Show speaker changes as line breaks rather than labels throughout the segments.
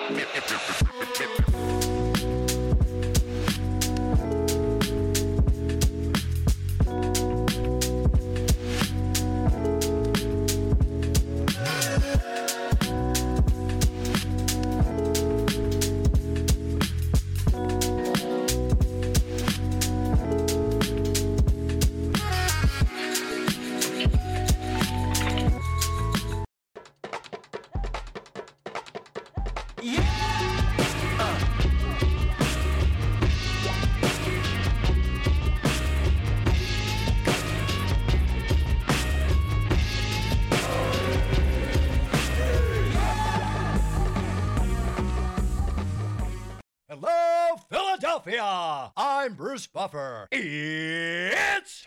Hello, Philadelphia! I'm Bruce Buffer. It's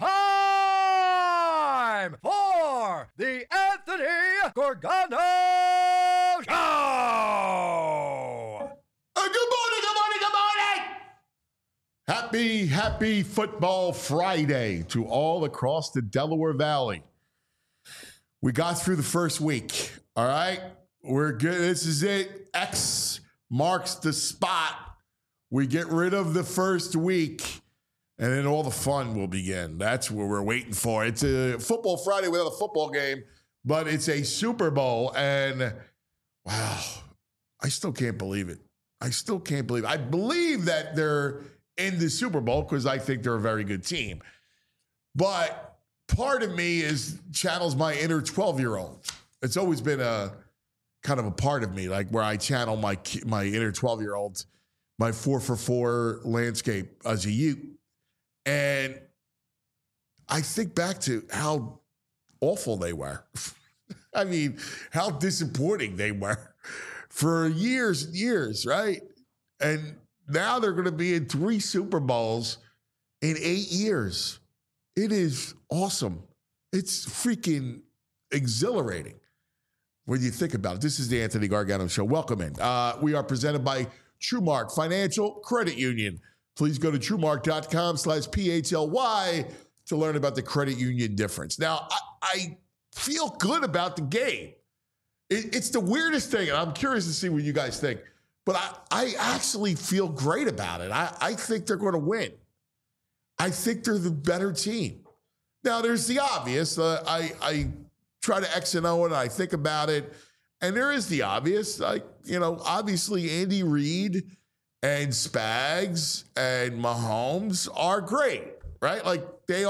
time for the Anthony Gorgano Show!
Good morning! Happy Football Friday to all across the Delaware Valley. We got through the first week, all right? We're good. This is it. X marks the spot. We get rid of the first week, and then all the fun will begin. That's what we're waiting for. It's a Football Friday without a football game, but it's a Super Bowl, and wow, I still can't believe it. I believe that they're in the Super Bowl because I think they're a very good team. But part of me channels my inner 12-year-old. It's always been a kind of a part of me, like where I channel my inner 12-year-old, my 4-for-4 landscape as a youth. And I think back to how awful they were. I mean, how disappointing they were for years and years, right? And now they're going to be in 3 Super Bowls in 8 years. It is awesome. It's freaking exhilarating when you think about it. This is the Anthony Gargano Show. Welcome in. We are presented by TrueMark Financial Credit Union. Please go to TrueMark.com/PHLY to learn about the credit union difference. Now, I feel good about the game. It's the weirdest thing, and I'm curious to see what you guys think, but I actually feel great about it. I think they're going to win. I think they're the better team. Now, there's the obvious. I try to X and O and I think about it. And there is the obvious, obviously Andy Reid and Spags and Mahomes are great, right? Like they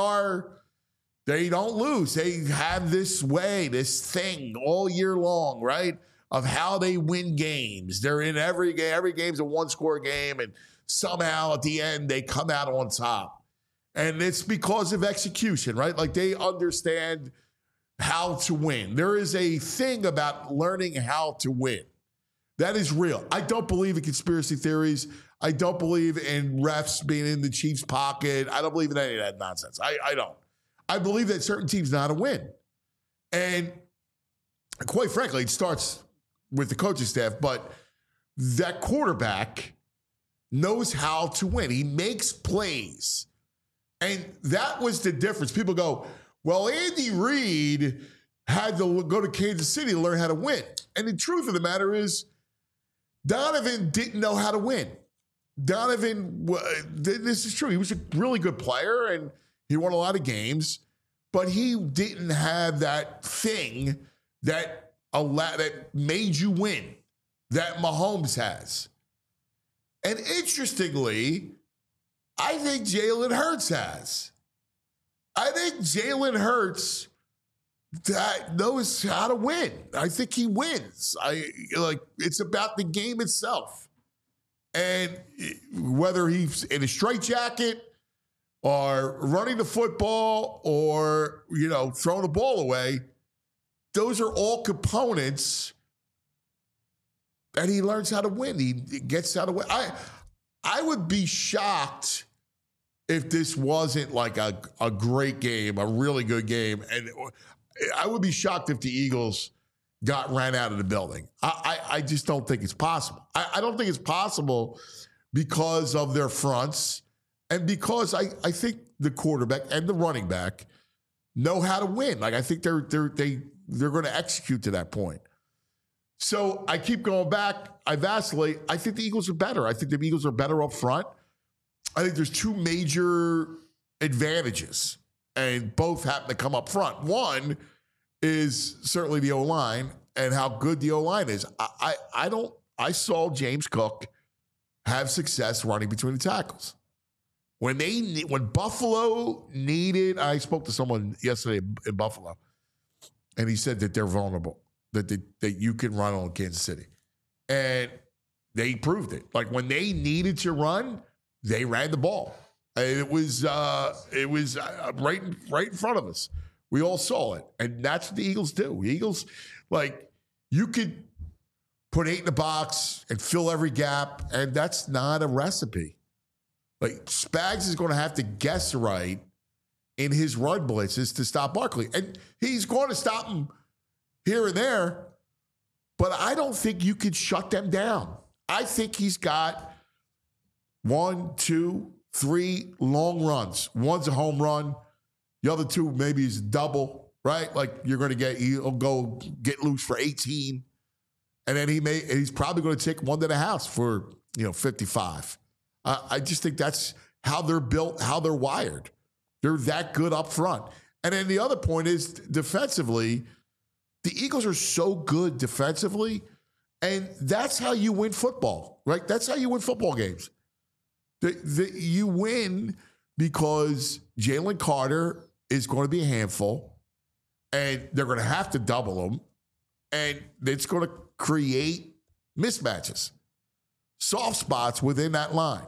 don't lose. They have this thing all year long, right? Of how they win games. They're in every game. Every game's a 1-score game. And somehow at the end, they come out on top. And it's because of execution, right? Like they understand how to win. There is a thing about learning how to win. That is real. I don't believe in conspiracy theories. I don't believe in refs being in the Chiefs' pocket. I don't believe in any of that nonsense. I don't. I believe that certain teams know how to win. And quite frankly, it starts with the coaching staff, but that quarterback knows how to win. He makes plays. And that was the difference. People go, well, Andy Reid had to go to Kansas City to learn how to win. And the truth of the matter is, Donovan didn't know how to win. Donovan, this is true. He was a really good player, and he won a lot of games, but he didn't have that thing that made you win that Mahomes has. And interestingly, I think Jalen Hurts has. I think Jalen Hurts that knows how to win. I think he wins. It's about the game itself. And whether he's in a straitjacket or running the football or, throwing the ball away, those are all components that he learns how to win. He gets how to win. I would be shocked if this wasn't like a great game, a really good game. And I would be shocked if the Eagles ran out of the building. I just don't think it's possible. I don't think it's possible because of their fronts and because I think the quarterback and the running back know how to win. Like I think they're going to execute to that point. So I keep going back. I vacillate. I think the Eagles are better. I think the Eagles are better up front. I think there's two major advantages, and both happen to come up front. One is certainly the O-line and how good the O-line is. I saw James Cook have success running between the tackles. When Buffalo needed, I spoke to someone yesterday in Buffalo, and he said that they're vulnerable, that you can run on Kansas City. And they proved it. Like when they needed to run, they ran the ball. It was right in front of us. We all saw it. And that's what the Eagles do. The Eagles, like, you could put 8 in the box and fill every gap, and that's not a recipe. Like, Spags is going to have to guess right in his run blitzes to stop Barkley. And he's going to stop him here and there, but I don't think you could shut them down. I think he's got 1, 2, 3 long runs. One's a home run. The other 2 maybe is double, right? Like he'll go get loose for 18. And then he's probably going to take one to the house for, 55. I just think that's how they're built, how they're wired. They're that good up front. And then the other point is defensively, the Eagles are so good defensively, and that's how you win football, right? That's how you win football games. You win because Jalen Carter is going to be a handful, and they're going to have to double him, and it's going to create mismatches, soft spots within that line.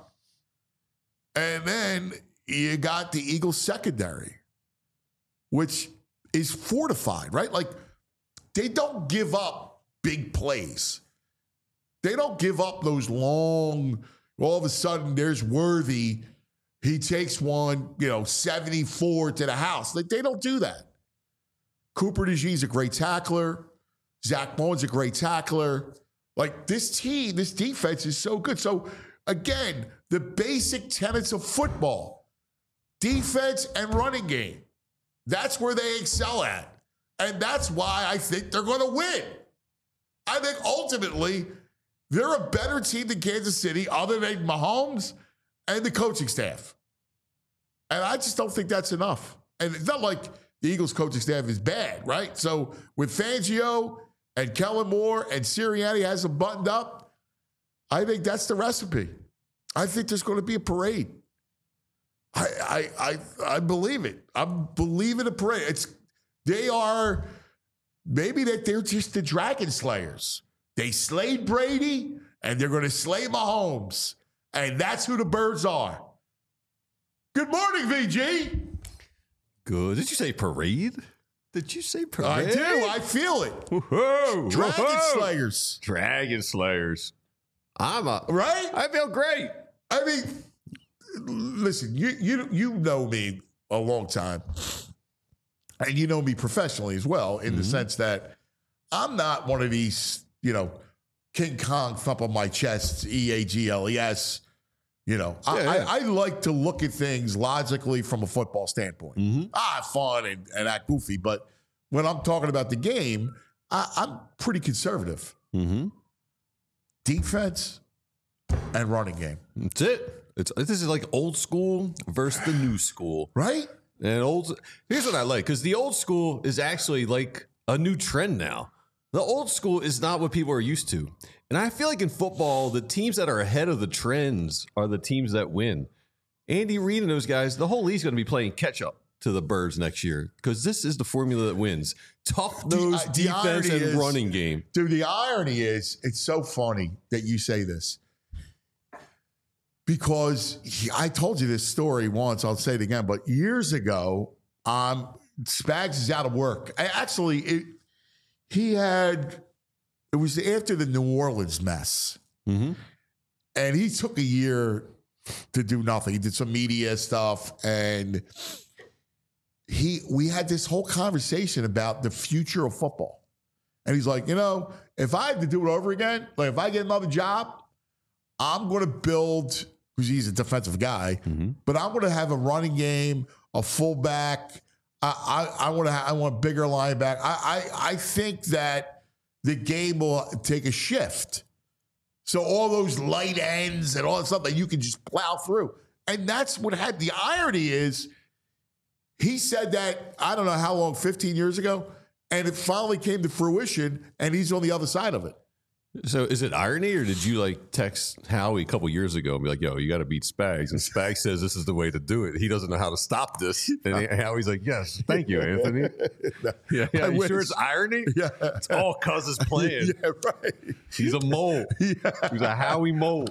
And then you got the Eagles secondary, which is fortified, right? Like, they don't give up big plays. They don't give up those long, all of a sudden there's Worthy. He takes one, 74 to the house. Like, they don't do that. Cooper DeJean's a great tackler. Zach Bowen's a great tackler. Like, this team, this defense is so good. So, again, the basic tenets of football, defense and running game, that's where they excel at. And that's why I think they're going to win. I think ultimately they're a better team than Kansas City other than Mahomes and the coaching staff. And I just don't think that's enough. And it's not like the Eagles coaching staff is bad, right? So with Fangio and Kellen Moore and Sirianni has them buttoned up, I think that's the recipe. I think there's going to be a parade. I believe it. I'm believing a parade. They are, maybe that they're just the Dragon Slayers. They slayed Brady, and they're going to slay Mahomes. And that's who the Birds are. Good morning, VG.
Good. Did you say parade? Did you say parade?
I do. I feel it.
Whoa.
Dragon Slayers.
Dragon Slayers.
Right?
I feel great.
I mean, listen, you know me a long time. And you know me professionally as well, in the sense that I'm not one of these, King Kong thump on my chest, EAGLES. I like to look at things logically from a football standpoint. Fun and act goofy. But when I'm talking about the game, I'm pretty conservative. Defense and running game.
That's it. This is like old school versus the new school.
Right?
And here's what I like, because the old school is actually like a new trend now. The old school is not what people are used to. And I feel like in football, the teams that are ahead of the trends are the teams that win. Andy Reid and those guys, the whole league's going to be playing catch up to the Birds next year, because this is the formula that wins. Tough nose defense and running game.
Dude, the irony is, it's so funny that you say this. Because I told you this story once, I'll say it again, but years ago, Spags is out of work. It was after the New Orleans mess. And he took a year to do nothing. He did some media stuff, and we had this whole conversation about the future of football. And he's like, if I had to do it over again, like if I get another job, I'm going to build, because he's a defensive guy, but I'm going to have a running game, a fullback. I want a bigger linebacker. I think that the game will take a shift. So all those light ends and all that stuff that you can just plow through. And that's what had the irony is he said that, I don't know how long, 15 years ago, and it finally came to fruition, and he's on the other side of it.
So is it irony, or did you like text Howie a couple years ago and be like, yo, you got to beat Spags? And Spags says this is the way to do it. He doesn't know how to stop this. And Howie's like, yes, thank you, Anthony. Yeah, you sure it's irony?
Yeah.
It's all cuz his plan.
Yeah, right.
He's a mole.
Yeah.
He's a Howie mole.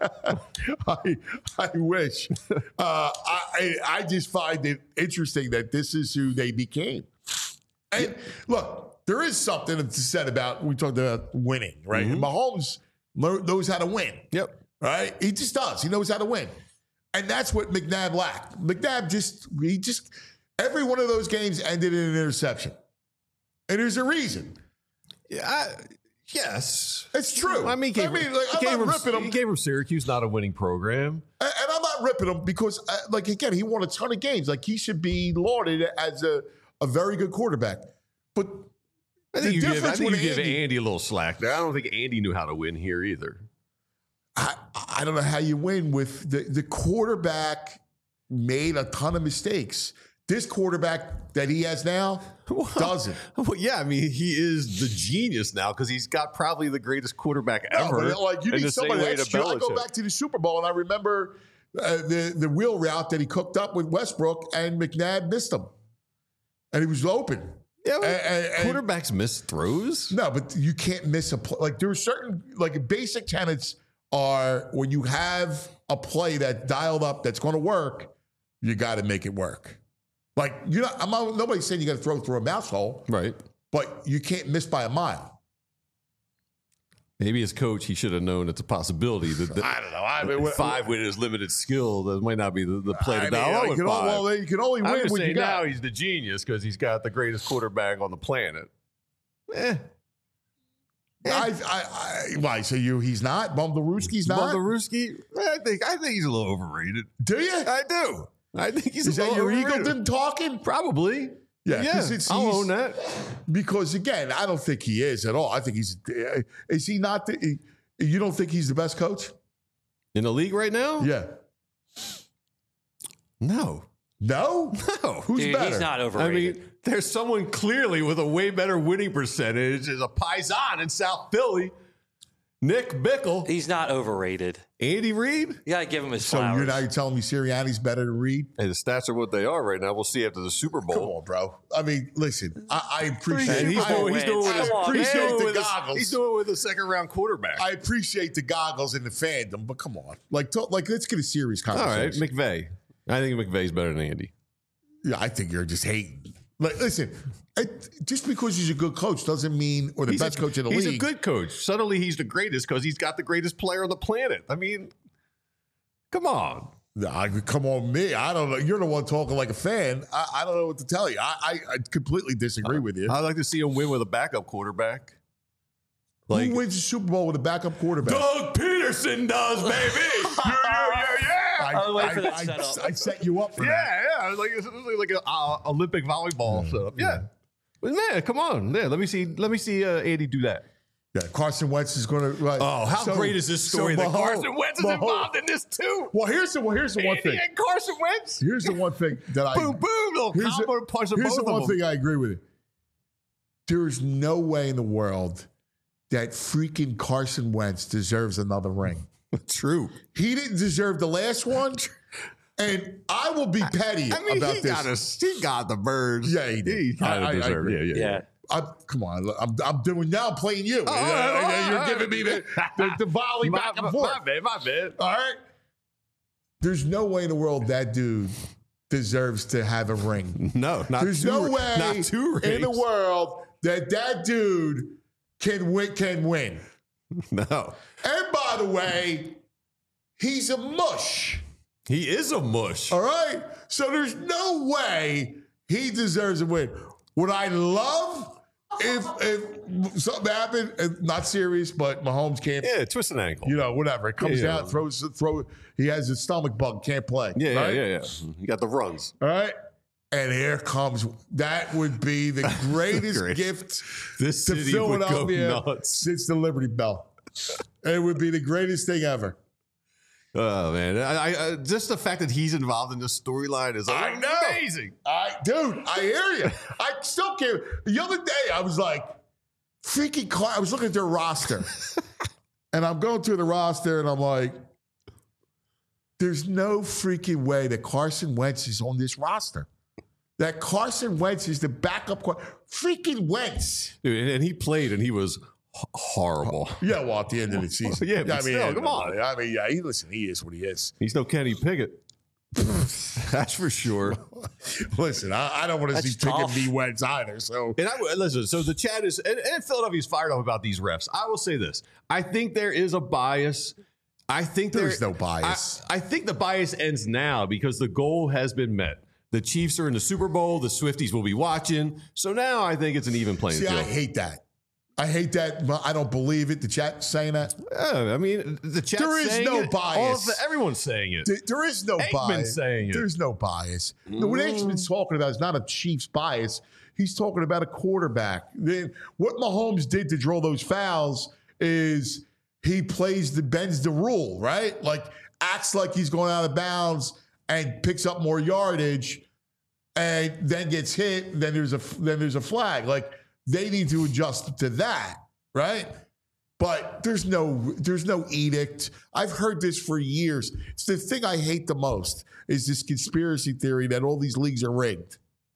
I wish. I just find it interesting that this is who they became. And look, there is something to said about, we talked about winning, right? And Mahomes knows how to win.
Yep.
Right? He just does. He knows how to win. And that's what McNabb lacked. McNabb just every one of those games ended in an interception. And there's a reason.
Yeah. Yes.
It's true.
I mean, I'm not ripping him. He came from Syracuse, not a winning program.
And I'm not ripping him because, again, he won a ton of games. Like, he should be lauded as a very good quarterback. But
I think you give Andy a little slack there. I don't think Andy knew how to win here either.
I don't know how you win with the quarterback made a ton of mistakes. This quarterback that he has now doesn't.
Well, yeah, I mean, he is the genius now because he's got probably the greatest quarterback ever.
But like, you need somebody extra. I go back to the Super Bowl and I remember the wheel route that he cooked up with Westbrook and McNabb missed him. And he was open.
Yeah, quarterbacks miss throws.
No, but you can't miss a play. Like, there are certain, like, basic tenets are when you have a play that's dialed up that's going to work, you got to make it work. Like, nobody's saying you got to throw through a mouse hole.
Right.
But you can't miss by a mile.
Maybe as coach, he should have known it's a possibility.
I don't know.
Five with his limited skill, that might not be the play to dial up with five.
Well, you can only win when you got.
Now he's the genius because he's got the greatest quarterback on the planet.
Why? So he's not? Bumblewski's not?
Bumblewski? I think he's a little overrated.
Do you?
I do. I think he's
Is
a little
that your
overrated.
Eagleton talking?
Probably.
Yeah,
I'll own that.
Because, again, I don't think he is at all. I think is he not? You don't think he's the best coach?
In the league right now?
Yeah.
No.
No?
No.
Who's better?
He's not overrated.
I mean, there's someone clearly with a way better winning percentage as a Paisan in South Philly. Nick Bickle.
He's not overrated.
Andy Reid.
You got to give him his
So
flowers.
you're telling me Sirianni's better than Reid?
Hey, the stats are what they are right now. We'll see after the Super Bowl.
Come on, bro. I mean, listen, I appreciate
And he's doing
the
with
goggles.
He's doing it with a second-round quarterback.
I appreciate the goggles and the fandom, but come on. Like, let's get a serious
All right,
conversation.
McVay. I think McVay's better than Andy.
Yeah, I think you're just hating. Like, listen, just because he's a good coach doesn't mean, or the best coach in the league.
He's a good coach. Suddenly he's the greatest because he's got the greatest player on the planet. I mean, come on.
Come on, me. I don't know. You're the one talking like a fan. I don't know what to tell you. I completely disagree with you.
I'd like to see him win with a backup quarterback.
Who wins the Super Bowl with a backup quarterback?
Doug Peterson does, baby. Yeah.
I'll wait for that setup.
I set you up for that.
Yeah. It was like an Olympic volleyball setup. Yeah. But man, come on. Yeah, let me see Andy do that.
Yeah, Carson Wentz is going to.
Oh, how great is this story that Carson Wentz is involved in this too?
Well, here's the one thing.
And Carson Wentz.
Here's the one thing that I.
Boom, little combo punch of both of them.
Here's the one thing I agree with you. There is no way in the world that freaking Carson Wentz deserves another ring.
True.
He didn't deserve the last one. And I will be petty about this.
He got the birds.
Yeah, he did.
He kind of deserved it. Yeah.
Come on, I'm doing now. I'm playing you. You're giving me the volley back and forth.
My bad.
All right. There's no way in the world that dude deserves to have a ring.
No, not
There's
two,
no way
not two rings.
in the world that dude can win.
No.
And by the way, he's a mush.
He is a mush.
All right? So there's no way he deserves a win. Would I love if something happened, not serious, but Mahomes can't,
twist an ankle.
Whatever. It comes out, throw. He has a stomach bug, can't play.
Yeah. You got the runs.
All right? And here comes, that would be the greatest gift
This
to
city would go
Philadelphia
nuts.
since the Liberty Bell. It would be the greatest thing ever.
Oh man, I just the fact that he's involved in this storyline is amazing.
Dude, I hear you. I still can't. The other day, I was like, freaking car. I was looking at their roster, and I'm going through the roster, and I'm like, there's no freaking way that Carson Wentz is on this roster. That Carson Wentz is the backup. Freaking Wentz.
Dude, and he played, and he was horrible.
Yeah, well, at the end of the season.
Yeah, but still, come on.
I mean, yeah, he is what he is.
He's no Kenny Pickett. That's for sure.
Listen, I don't want to see
tough.
Pickett v. Wentz either. So,
And listen, so the chat is, and Philadelphia's fired up about these refs. I will say this. I think there is a bias. I think
there's no bias.
I think the bias ends now because the goal has been met. The Chiefs are in the Super Bowl. The Swifties will be watching. So now I think it's an even playing field.
I hate that. I hate that. But I don't believe it. The chat's saying that.
I mean, the chat.
There is no bias.
Everyone's saying it.
There is no
Aikman's
bias.
saying it.
There's no bias. What Aikman's talking about is not a Chiefs bias. He's talking about a quarterback. Then what Mahomes did to draw those fouls is he bends the rule, right? Like acts like he's going out of bounds and picks up more yardage, and then gets hit. Then there's a flag. Like they need to adjust to that, right? But there's no edict. I've heard this for years. It's the thing I hate the most is this conspiracy theory that all these leagues are rigged.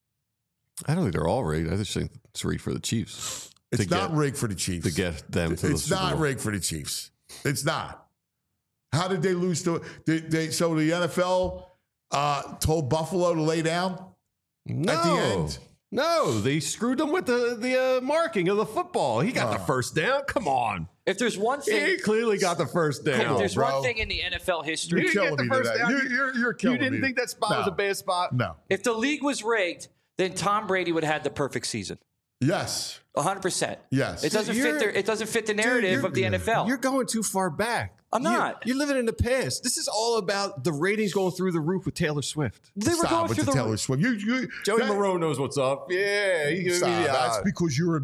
I don't think they're all rigged. I just think it's rigged for the Chiefs.
It's not rigged for the Chiefs.
To get them to the
It's
Super
not
Bowl.
rigged for the Chiefs. It's not. How did they lose to so the NFL told Buffalo to lay down
No.
at the end?
No, they screwed them with the marking of the football. He got the first down. Come on.
If there's one
He
thing,
clearly got the first down.
if there's
bro.
one thing in the NFL history,
You didn't
killing
get the
me
first
today.
down.
You're killing
You didn't
me.
think that spot was a bad spot?
No.
if the league was rigged, then Tom Brady would have had the perfect season.
Yes.
100%.
Yes.
It doesn't fit. It doesn't fit the narrative of the NFL.
You're going too far back.
I'm not.
You're living in the past. This is all about the ratings going through the roof with Taylor Swift.
They were
Stop
going
with
through
the
the
Taylor Swift.
Joey Moreau knows what's up. Yeah, he gives me
Stop.
the
That's
eye.
because you're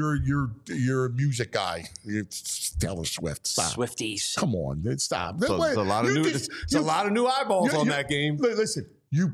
a music guy. You're Taylor Swift. Stop.
Swifties.
Come on, stop.
So there's a lot of new eyeballs on that game.
Listen,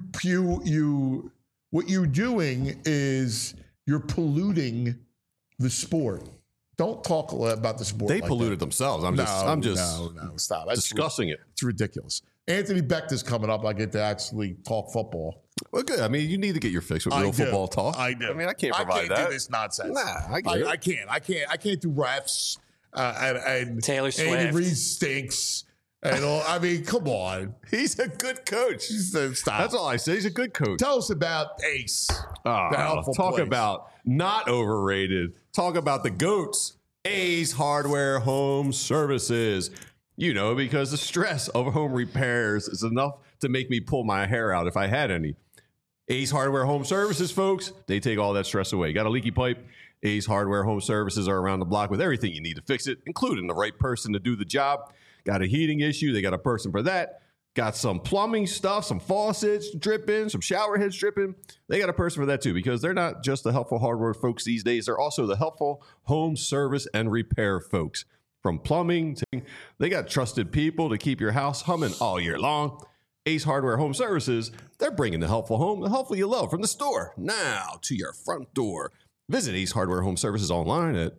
what you're doing is you're polluting the sport. Don't talk about the sport.
They
like
polluted
that.
themselves. I'm just
No, stop. That's
discussing it.
It's ridiculous. Anthony Becht coming up. I get to actually talk football.
Well, good. I mean, you need to get your fix with real football talk.
I do.
I mean, I can't provide
I
that.
do this nonsense.
Nah, I get it.
I can't do refs. And
Taylor Swift.
Andy Reid stinks. And all. I mean, come on.
He's a good coach.
Stop.
That's all I say. He's a good coach.
Tell us about Ace.
Oh,
the helpful
talk
place.
about not overrated. Talk about the GOATs. Ace Hardware Home Services. You know, because the stress of home repairs is enough to make me pull my hair out if I had any. Ace Hardware Home Services, folks, they take all that stress away. Got a leaky pipe? Ace Hardware Home Services are around the block with everything you need to fix it, including the right person to do the job. Got a heating issue? They got a person for that. Got some plumbing stuff, some faucets dripping, some shower heads dripping. They got a person for that too, because they're not just the helpful hardware folks these days. They're also the helpful home service and repair folks. From plumbing to, they got trusted people to keep your house humming all year long. Ace Hardware Home Services, they're bringing the helpful home, the helpful you love, from the store now to your front door. Visit Ace Hardware Home Services online at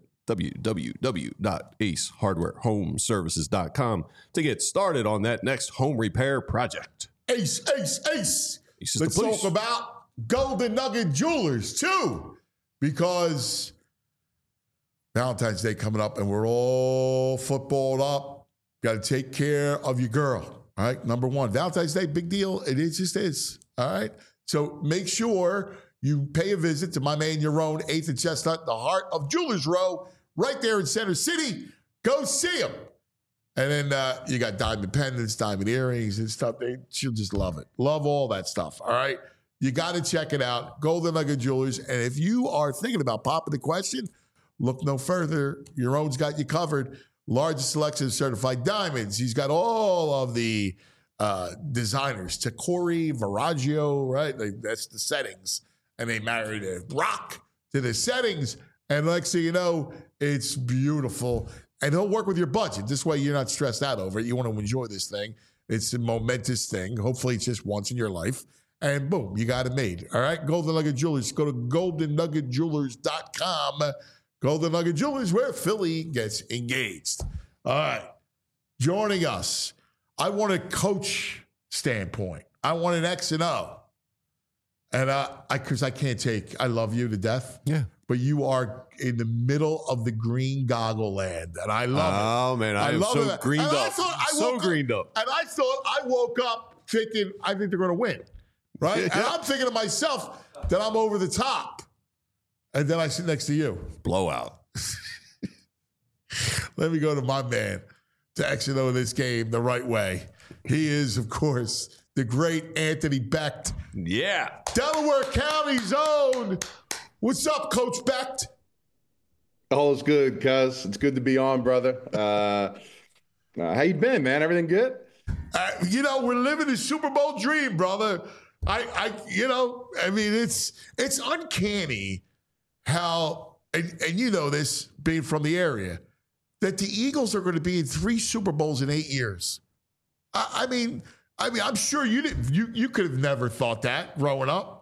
www.acehardwarehomeservices.com to get started on that next home repair project.
Ace.
Ace is
Let's
the police.
talk about Golden Nugget Jewelers, too, because Valentine's Day coming up and we're all footballed up. Got to take care of your girl, all right? Number one, Valentine's Day, big deal. It just is, all right? So make sure you pay a visit to my man Yaron, 8th and Chestnut, the heart of Jewelers Row, right there in Center City. Go see him. And then you got diamond pendants, diamond earrings and stuff. She'll just love it. Love all that stuff, all right? You got to check it out, Golden Nugget Jewelers. And if you are thinking about popping the question, look no further. Yaron's got you covered. Largest selection of certified diamonds. He's got all of the designers to Corey Viraggio, right? That's the settings. And they married a rock to the settings. And next thing you know, it's beautiful. And he'll work with your budget. This way you're not stressed out over it. You want to enjoy this thing. It's a momentous thing. Hopefully it's just once in your life. And boom, you got it made. All right, Golden Nugget Jewelers. Go to goldennuggetjewelers.com. Golden Nugget Jewelers, where Philly gets engaged. All right, joining us. I want a coach standpoint. I want an X and O. And because I can't take, I love you to death.
Yeah.
But you are in the middle of the green goggle land, and I love it.
Oh, man, I am so greened up. So greened up.
And I thought, I woke up thinking, I think they're going to win, right?
Yeah.
And I'm thinking to myself that I'm over the top. And then I sit next to you.
Blowout.
Let me go to my man to actually know this game the right way. He is, of course, the great Anthony Becht.
Yeah.
Delaware County's own. What's up, Coach Becht?
All is good, cuz. It's good to be on, brother. How you been, man? Everything good?
We're living the Super Bowl dream, brother. I mean, it's uncanny how, and you know this, being from the area, that the Eagles are going to be in 3 Super Bowls in 8 years. I mean, I'm sure you could have never thought that growing up.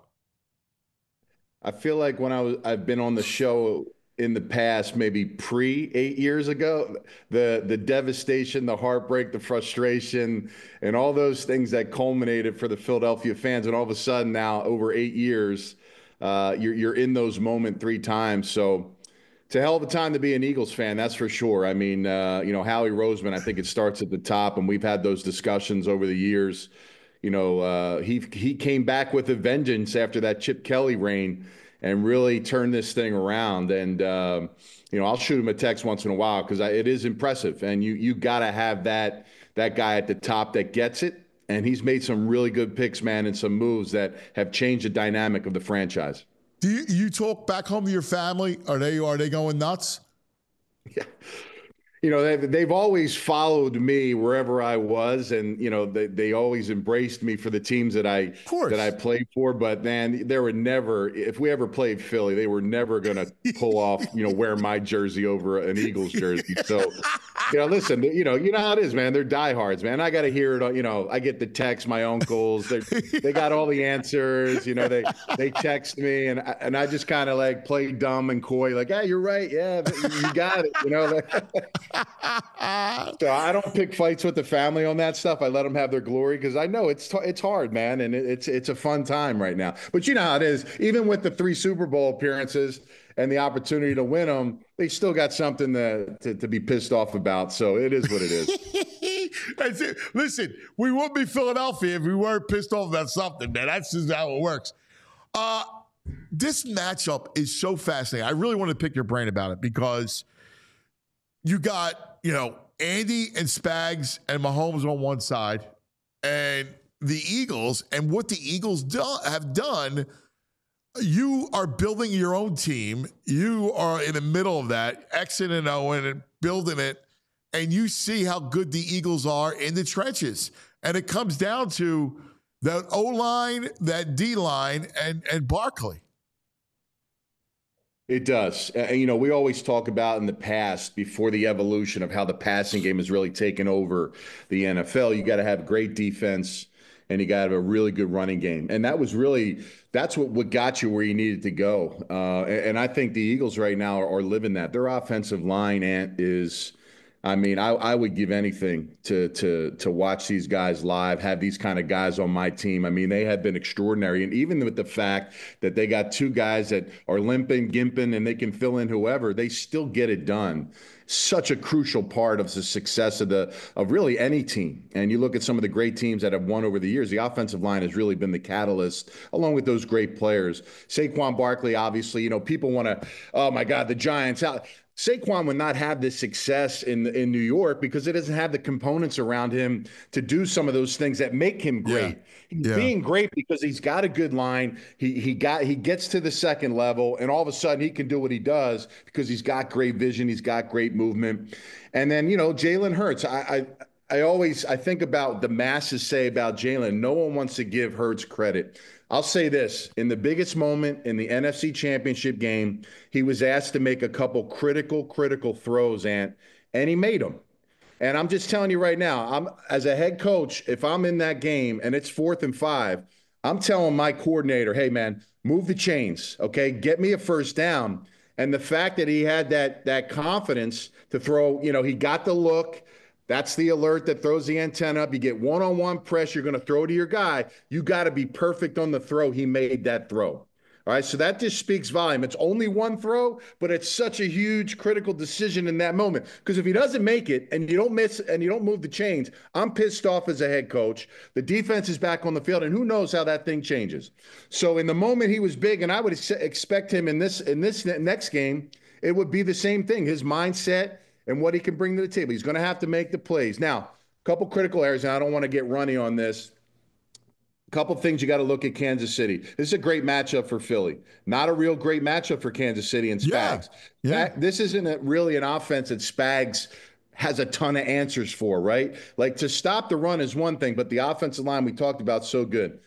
I feel like when I've been on the show in the past, maybe pre 8 years ago, the devastation, the heartbreak, the frustration, and all those things that culminated for the Philadelphia fans, and all of a sudden now, over 8 years, you're in those moments 3 times. So it's a hell of a time to be an Eagles fan, that's for sure. I mean, Howie Roseman, I think it starts at the top, and we've had those discussions over the years. He came back with a vengeance after that Chip Kelly reign and really turned this thing around. And, I'll shoot him a text once in a while because it is impressive. And you got to have that guy at the top that gets it. And he's made some really good picks, man, and some moves that have changed the dynamic of the franchise.
Do you talk back home to your family? Are they going nuts?
Yeah. They've always followed me wherever I was, and they always embraced me for the teams that I played for. But man, there were never, if we ever played Philly, they were never going to pull off, wear my jersey over an Eagles jersey. So, listen, you know how it is, man. They're diehards, man. I got to hear it. I get the text. My uncles, they got all the answers. They text me, and I just kind of like play dumb and coy, like, yeah, you're right, yeah, you got it, So I don't pick fights with the family on that stuff. I let them have their glory because I know it's hard, man, and it's a fun time right now. But you know how it is. Even with the 3 Super Bowl appearances and the opportunity to win them, they still got something to be pissed off about. So it is what it is.
That's it. Listen, we wouldn't be Philadelphia if we weren't pissed off about something, man. That's just how it works. This matchup is so fascinating. I really want to pick your brain about it because you got, Andy and Spags and Mahomes on one side and the Eagles. And what the Eagles have done, you are building your own team. You are in the middle of that, Xing and Owen and building it. And you see how good the Eagles are in the trenches. And it comes down to that O-line, that D-line, and Barkley.
It does. We always talk about in the past, before the evolution of how the passing game has really taken over the NFL, you got to have great defense and you got to have a really good running game. And that's what got you where you needed to go. And I think the Eagles right now are living that. Their offensive line is, I would give anything to watch these guys live, have these kind of guys on my team. They have been extraordinary. And even with the fact that they got 2 guys that are limping, gimping, and they can fill in whoever, they still get it done. Such a crucial part of the success of really any team. And you look at some of the great teams that have won over the years, the offensive line has really been the catalyst, along with those great players. Saquon Barkley, obviously, people want to, oh my God, the Giants out. Saquon would not have this success in New York because it doesn't have the components around him to do some of those things that make him great. He's being great because he's got a good line. He gets to the second level, and all of a sudden he can do what he does because he's got great vision. He's got great movement. And then, Jalen Hurts. I think about the masses say about Jalen. No one wants to give Hurts credit. I'll say this: in the biggest moment in the NFC Championship game, he was asked to make a couple critical throws, and he made them. And I'm just telling you right now, I'm as a head coach, if I'm in that game and it's 4th and 5, I'm telling my coordinator, hey man, move the chains, okay? Get me a first down. And the fact that he had that confidence to throw, he got the look. That's the alert that throws the antenna up. You get one-on-one pressure, you're going to throw to your guy. You got to be perfect on the throw. He made that throw. All right, so that just speaks volume. It's only one throw, but it's such a huge critical decision in that moment. Because if he doesn't make it and you don't miss and you don't move the chains, I'm pissed off as a head coach. The defense is back on the field, and who knows how that thing changes. So in the moment he was big, and I would expect him in this next game, it would be the same thing. His mindset and what he can bring to the table. He's going to have to make the plays. Now, a couple critical areas, and I don't want to get runny on this. Couple things you got to look at Kansas City. This is a great matchup for Philly. Not a real great matchup for Kansas City and Spags. Yeah. This isn't really an offense that Spags has a ton of answers for, right? Like to stop the run is one thing, but the offensive line we talked about so good.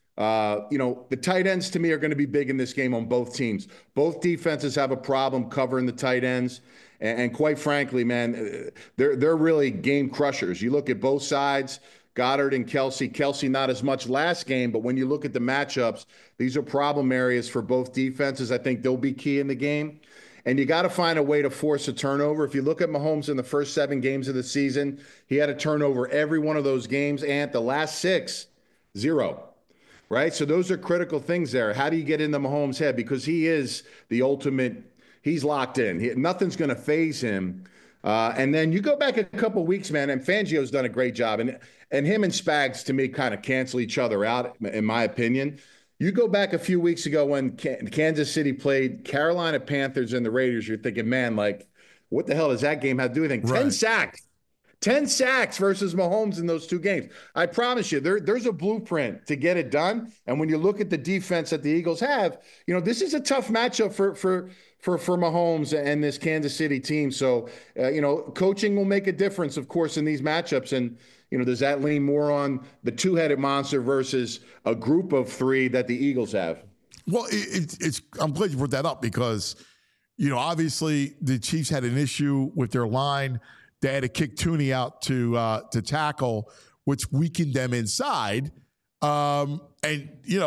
The tight ends to me are going to be big in this game on both teams. Both defenses have a problem covering the tight ends. And quite frankly, man, they're really game crushers. You look at both sides. Goddard and Kelsey. Kelsey not as much last game, but when you look at the matchups, these are problem areas for both defenses. I think they'll be key in the game. And you got to find a way to force a turnover. If you look at Mahomes in the first 7 games of the season, he had a turnover every one of those games, and the last 6, 0. Right? So those are critical things there. How do you get into Mahomes' head? Because he is the ultimate, he's locked in. Nothing's going to phase him. And then you go back a couple of weeks, man, and Fangio's done a great job. And him and Spags, to me, kind of cancel each other out, in my opinion. You go back a few weeks ago when Kansas City played Carolina Panthers and the Raiders, you're thinking, man, like, what the hell does that game have to do with anything? Right. 10 sacks. 10 sacks versus Mahomes in those 2 games. I promise you, there's a blueprint to get it done. And when you look at the defense that the Eagles have, this is a tough matchup for Mahomes and this Kansas City team. So, coaching will make a difference, of course, in these matchups. And, does that lean more on the 2-headed monster versus a group of 3 that the Eagles have?
Well, I'm glad you brought that up because, obviously the Chiefs had an issue with their line. They had to kick Tooney out to tackle, which weakened them inside. Now you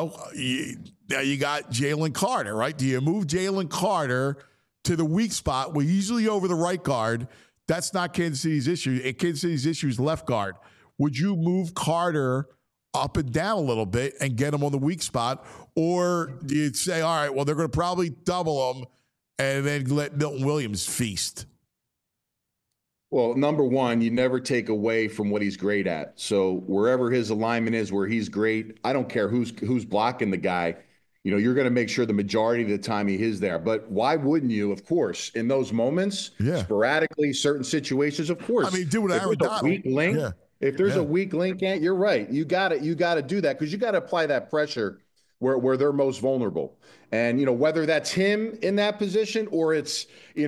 got Jalen Carter, right? Do you move Jalen Carter to the weak spot? Well, usually over the right guard. That's not Kansas City's issue. Kansas City's issue is left guard. Would you move Carter up and down a little bit and get him on the weak spot? Or do you say, all right, well, they're going to probably double him and then let Milton Williams feast?
Well, number one, you never take away from what he's great at. So wherever his alignment is, where he's great, I don't care who's blocking the guy. You're going to make sure the majority of the time he is there. But why wouldn't you, of course, in those moments, sporadically, certain situations, of course.
I mean, do what Aaron Donald.
Weak link. Yeah. If there's a weak link, you're right. You got to do that because you got to apply that pressure where they're most vulnerable. And, whether that's him in that position or it's,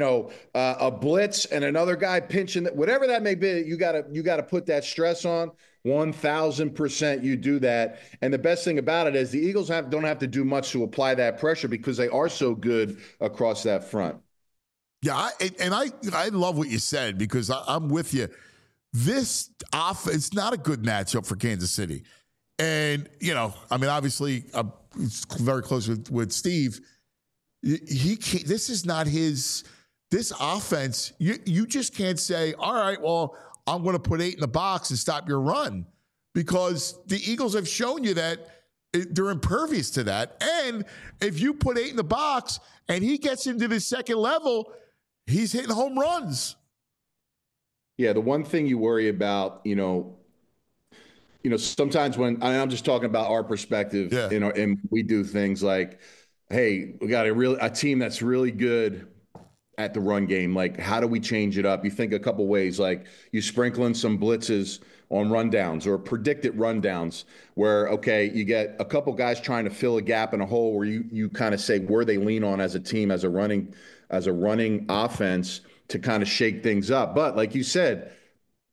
a blitz and another guy pinching, whatever that may be, you got to put that stress on. 1,000% you do that. And the best thing about it is the Eagles don't have to do much to apply that pressure because they are so good across that front.
Yeah, I love what you said because I'm with you. This offense not a good matchup for Kansas City. And, obviously, it's very close with Steve. He can't, this is not this offense. You just can't say, all right, well, I'm going to put 8 in the box and stop your run because the Eagles have shown you that they're impervious to that. And if you put 8 in the box and he gets into the second level, he's hitting home runs.
Yeah, the one thing you worry about, sometimes when I'm just talking about our perspective, and we do things like, hey, we got a team that's really good at the run game. Like, how do we change it up? You think a couple ways, like you sprinkle in some blitzes on rundowns or predicted rundowns where, okay, you get a couple guys trying to fill a gap in a hole where you kind of say where they lean on as a team, as a running offense to kind of shake things up. But like you said,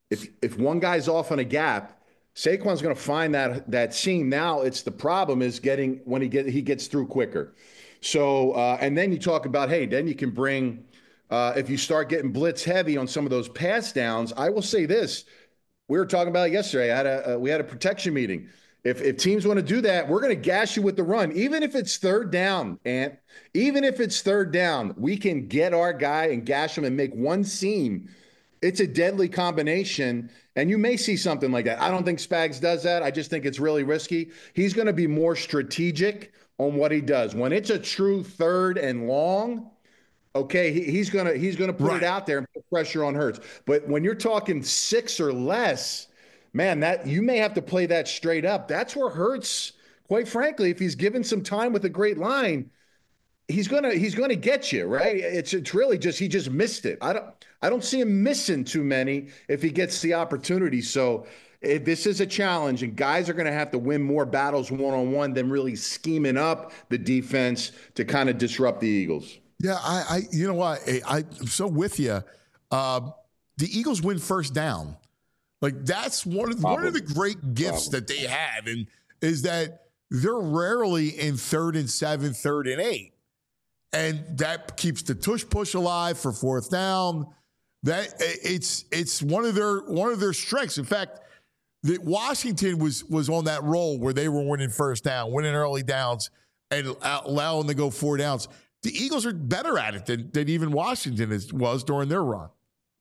if one guy's off on a gap, Saquon's going to find that seam. Now it's the problem is getting when he gets through quicker. So and then you talk about, hey, then you can bring if you start getting blitz heavy on some of those pass downs. I will say this: we were talking about it yesterday. We had a protection meeting. If teams want to do that, we're going to gash you with the run, even if it's third down. And even if it's third down, we can get our guy and gash him and make one seam. It's a deadly combination, and you may see something like that. I don't think Spags does that. I just think it's really risky. He's going to be more strategic on what he does. When it's a true third and long, okay, he's gonna put it out there and put pressure on Hurts. But when you're talking 6 or less, man, that you may have to play that straight up. That's where Hurts, quite frankly, if he's given some time with a great line, he's gonna get you, right? It's really just he just missed it. I don't see him missing too many if he gets the opportunity. So this is a challenge, and guys are going to have to win more battles one-on-one than really scheming up the defense to kind of disrupt the Eagles.
Yeah, I you know what? I'm so with you. The Eagles win first down. Like that's one of the great gifts that they have, and is that they're rarely in 3rd and 7, 3rd and 8. And that keeps the tush push alive for 4th down. That it's one of their strengths. In fact, that Washington was on that roll where they were winning first down, winning early downs, and allowing them to go 4 downs. The Eagles are better at it than even Washington was during their run.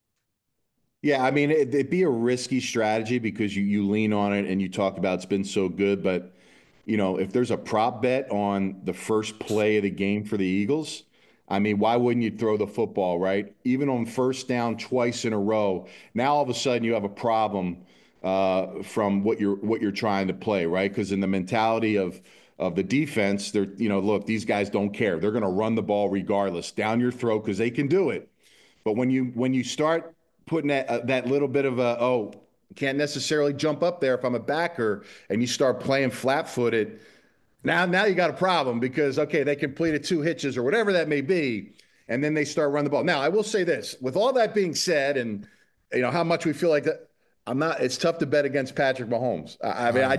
Yeah, I mean, it'd be a risky strategy because you lean on it and you talk about it's been so good. But, if there's a prop bet on the first play of the game for the Eagles, I mean, why wouldn't you throw the football, right? Even on first down twice in a row, now all of a sudden you have a problem from what you're trying to play, right? Because in the mentality of the defense, they're, look, these guys don't care. They're going to run the ball regardless, down your throat because they can do it. But when you start putting that little bit of can't necessarily jump up there if I'm a backer, and you start playing flat-footed, now you got a problem because, okay, they completed 2 hitches or whatever that may be, and then they start running the ball. Now, I will say this. With all that being said, and how much we feel like that, it's tough to bet against Patrick Mahomes. I mean,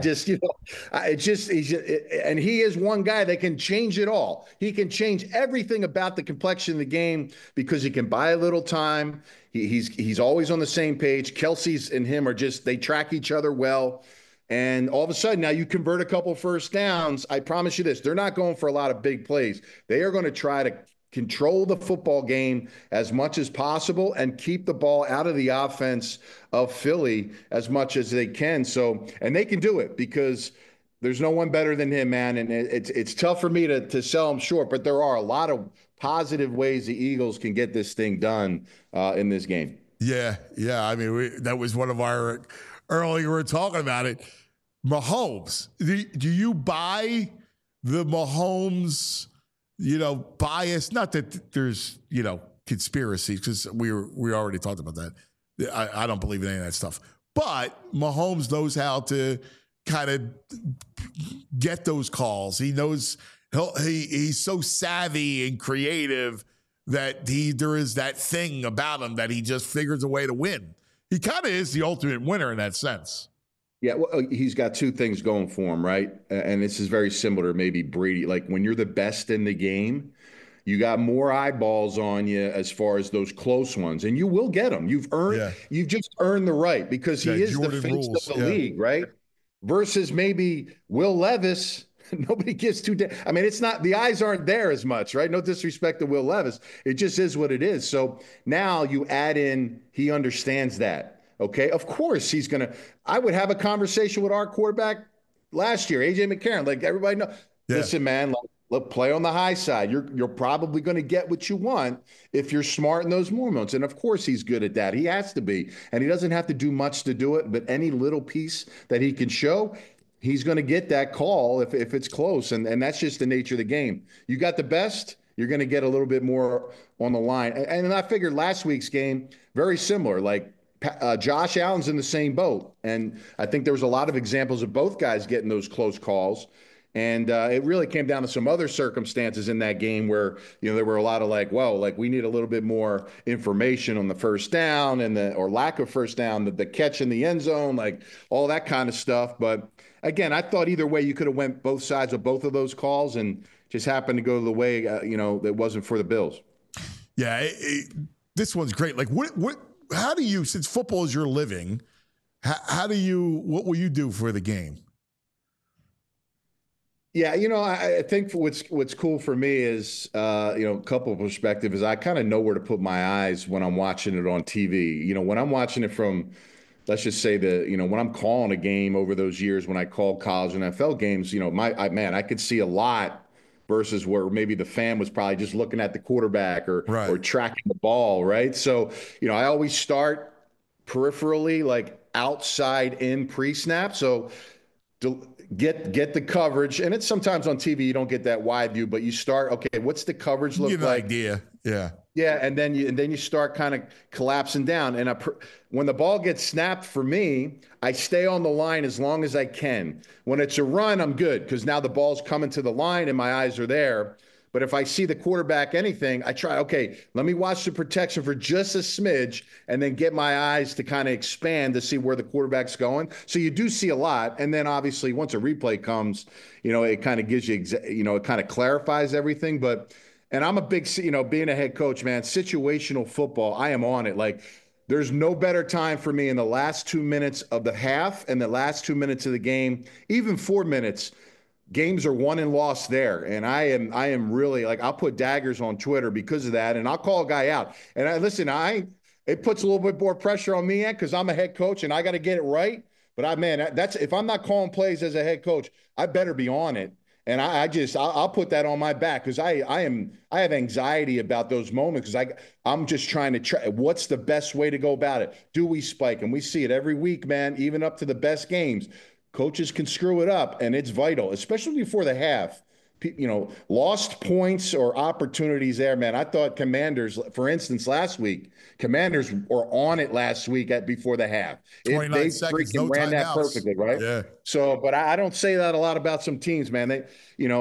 and he is one guy that can change it all. He can change everything about the complexion of the game because he can buy a little time. He's always on the same page. Kelsey's and him they track each other well. And all of a sudden, now you convert a couple first downs. I promise you this, they're not going for a lot of big plays. They are going to try to control the football game as much as possible and keep the ball out of the offense of Philly as much as they can. So, and they can do it because there's no one better than him, man. And it's tough for me to sell him short, but there are a lot of positive ways the Eagles can get this thing done in this game.
Yeah. I mean, that was one of our earlier. We were talking about it. Mahomes. Do you buy the Mahomes? Bias, not that there's, conspiracies, because we already talked about that. I don't believe in any of that stuff. But Mahomes knows how to kind of get those calls. He knows he's so savvy and creative that there is that thing about him that he just figures a way to win. He kind of is the ultimate winner in that sense.
Yeah, well, he's got 2 things going for him, right? And this is very similar to maybe Brady. Like when you're the best in the game, you got more eyeballs on you as far as those close ones, and you will get them. You've just earned the right because he is Jordan the face of the league, right? Versus maybe Will Levis. Nobody gives 2 damn. I mean, it's not, the eyes aren't there as much, right? No disrespect to Will Levis. It just is what it is. So now you add in, he understands that. Okay, of course he's going to – I would have a conversation with our quarterback last year, A.J. McCarron. Like everybody knows, listen, man, look, play on the high side. You're probably going to get what you want if you're smart in those moments. And, of course, he's good at that. He has to be. And he doesn't have to do much to do it, but any little piece that he can show, he's going to get that call if it's close. And that's just the nature of the game. You got the best, you're going to get a little bit more on the line. And I figured last week's game, very similar, like – Josh Allen's in the same boat. And I think there was a lot of examples of both guys getting those close calls. And it really came down to some other circumstances in that game where, there were a lot of we need a little bit more information on the first down or lack of first down, the catch in the end zone, like all that kind of stuff. But again, I thought either way you could have went both sides of both of those calls and just happened to go the way, that wasn't for the Bills.
Yeah, this one's great. Like, how do you, since football is your living, what will you do for the game?
Yeah, I think what's cool for me is, a couple of perspectives is I kind of know where to put my eyes when I'm watching it on TV. When I'm watching it from, let's just say when I'm calling a game over those years when I called college and NFL games, I could see a lot versus where maybe the fan was probably just looking at the quarterback or tracking the ball, right? So, I always start peripherally, like outside in pre-snap. So get the coverage, and it's sometimes on TV you don't get that wide view, but you start, okay, what's the coverage look like?
Idea, yeah.
Yeah, and then you start kind of collapsing down. And when the ball gets snapped for me, I stay on the line as long as I can. When it's a run, I'm good because now the ball's coming to the line and my eyes are there. But if I see the quarterback anything, I try, okay, let me watch the protection for just a smidge and then get my eyes to kind of expand to see where the quarterback's going. So you do see a lot. And then obviously once a replay comes, it kind of gives you, it kind of clarifies everything. And I'm a big, being a head coach, man, situational football, I am on it. Like, there's no better time for me in the last 2 minutes of the half and the last 2 minutes of the game, even 4 minutes. Games are won and lost there. And I am really, like, I'll put daggers on Twitter because of that. And I'll call a guy out. And it puts a little bit more pressure on me because I'm a head coach and I got to get it right. But that's, if I'm not calling plays as a head coach, I better be on it. And I'll put that on my back because I have anxiety about those moments because I'm just trying to try. What's the best way to go about it? Do we spike? And we see it every week, man, even up to the best games. Coaches can screw it up, and it's vital, especially before the half. Lost points or opportunities there, man. I thought Commanders, for instance, last week, Commanders were on it last week before the half.
29 seconds,
freaking ran that perfectly, right?
Yeah.
So, but I don't say that a lot about some teams, man. They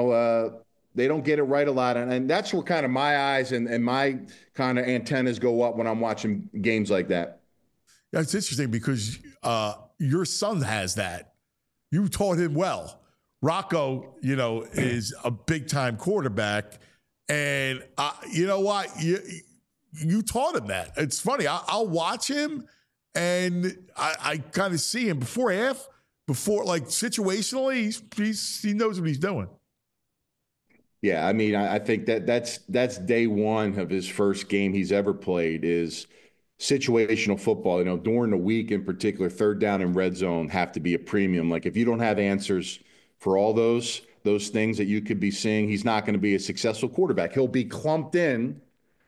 don't get it right a lot. And that's where kind of my eyes and my kind of antennas go up when I'm watching games like that.
Yeah, it's interesting because your son has that. You taught him well. Rocco, is a big-time quarterback. And you know what? You taught him that. It's funny. I'll watch him, and I kind of see him before like situationally, he knows what he's doing.
Yeah, I mean, I think that's day one of his first game he's ever played is situational football. During the week in particular, third down and red zone have to be a premium. Like if you don't have answers for all those things that you could be seeing, he's not going to be a successful quarterback. He'll be clumped in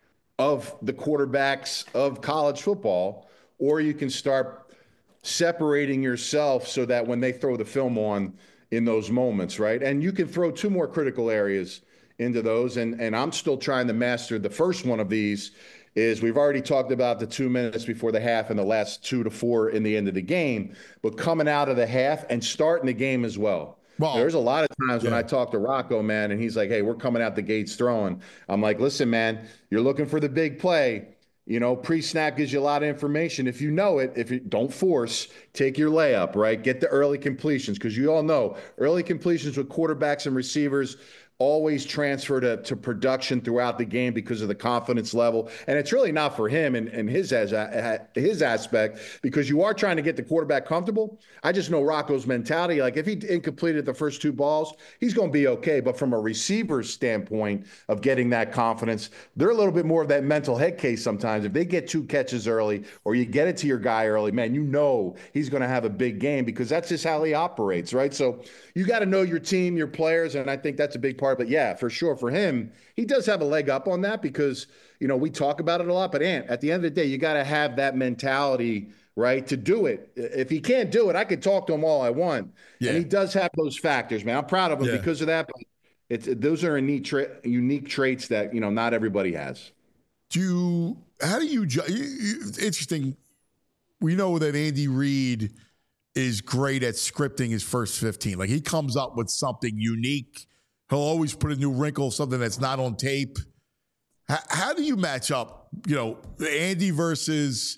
of the quarterbacks of college football, or you can start separating yourself so that when they throw the film on in those moments, right? And you can throw two more critical areas into those. And I'm still trying to master the first one of these is we've already talked about the 2 minutes before the half and the last 2 to 4 in the end of the game, but coming out of the half and starting the game as well. Well, there's a lot of times when I talk to Rocco, man, and he's like, hey, we're coming out the gates throwing. I'm like, listen, man, you're looking for the big play. Pre-snap gives you a lot of information. If you know it, if you don't force, take your layup, right? Get the early completions because you all know early completions with quarterbacks and receivers always transfer to production throughout the game because of the confidence level. And it's really not for him and his aspect because you are trying to get the quarterback comfortable. I just know Rocco's mentality. Like if he incompleted the first 2 balls, he's going to be okay. But from a receiver's standpoint of getting that confidence, they're a little bit more of that mental head case sometimes. If they get 2 catches early or you get it to your guy early, man, he's going to have a big game because that's just how he operates, right? So you got to know your team, your players, and I think that's a big part. But yeah, for sure, for him, he does have a leg up on that because, we talk about it a lot. But Ant, at the end of the day, you got to have that mentality, right, to do it. If he can't do it, I could talk to him all I want. Yeah. And he does have those factors, man. I'm proud of him because of that. But those are unique traits that, not everybody has.
How do you judge? Interesting. We know that Andy Reid is great at scripting his first 15. Like he comes up with something unique. He'll always put a new wrinkle, something that's not on tape. How do you match up, Andy versus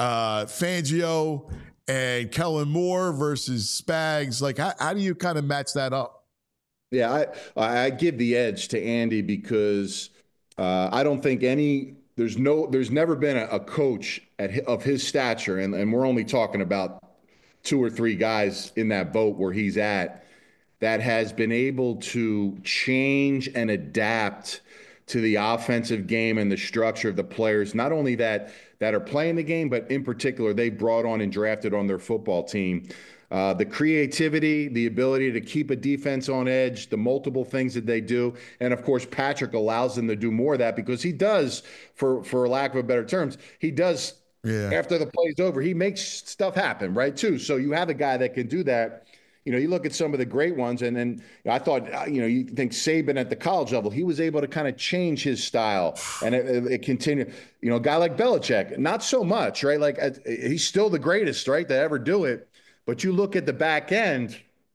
Fangio and Kellen Moore versus Spags? Like, how do you kind of match that up?
Yeah, I give the edge to Andy because I don't think there's never been a coach of his stature, and we're only talking about 2 or 3 guys in that boat where he's at, that has been able to change and adapt to the offensive game and the structure of the players, not only that are playing the game, but in particular, they brought on and drafted on their football team. The creativity, the ability to keep a defense on edge, the multiple things that they do. And of course, Patrick allows them to do more of that because he does, for lack of a better terms, he does, after the play's over, he makes stuff happen, right, too. So you have a guy that can do that. You look at some of the great ones, and then I thought, you think Saban at the college level, he was able to kind of change his style, and it continued. A guy like Belichick, not so much, right? Like he's still the greatest, right, to ever do it. But you look at the back end,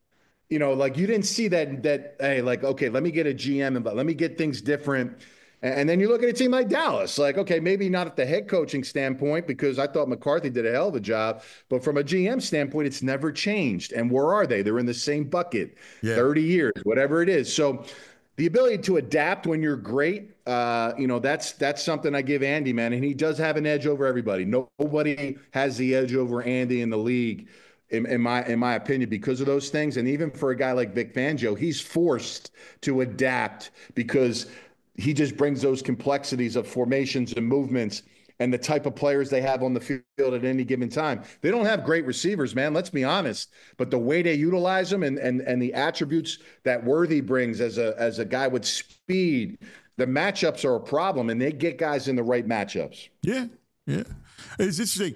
like you didn't see that, hey, like, okay, let me get a GM and let me get things different. And then you look at a team like Dallas, like, okay, maybe not at the head coaching standpoint, because I thought McCarthy did a hell of a job, but from a GM standpoint, it's never changed. And where are they? They're in the same bucket, 30 years, whatever it is. So the ability to adapt when you're great, that's something I give Andy, man. And he does have an edge over everybody. Nobody has the edge over Andy in the league, in my opinion, because of those things. And even for a guy like Vic Fangio, he's forced to adapt because he just brings those complexities of formations and movements and the type of players they have on the field at any given time. They don't have great receivers, man. Let's be honest. But the way they utilize them and the attributes that Worthy brings as a guy with speed, the matchups are a problem, and they get guys in the right matchups.
Yeah. It's interesting.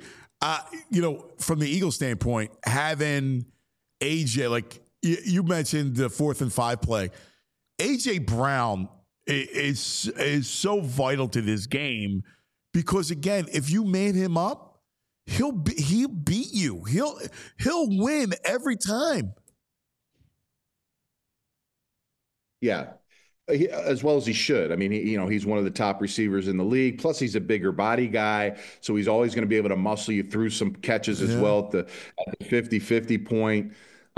From the Eagles standpoint, having AJ, like you mentioned the 4th and 5 play, AJ Brown is so vital to this game because, again, if you man him up, he'll beat you. He'll win every time. Yeah.
As well as he should. I mean, he's one of the top receivers in the league. Plus, he's a bigger body guy, so he's always going to be able to muscle you through some catches as well at the 50-50 point.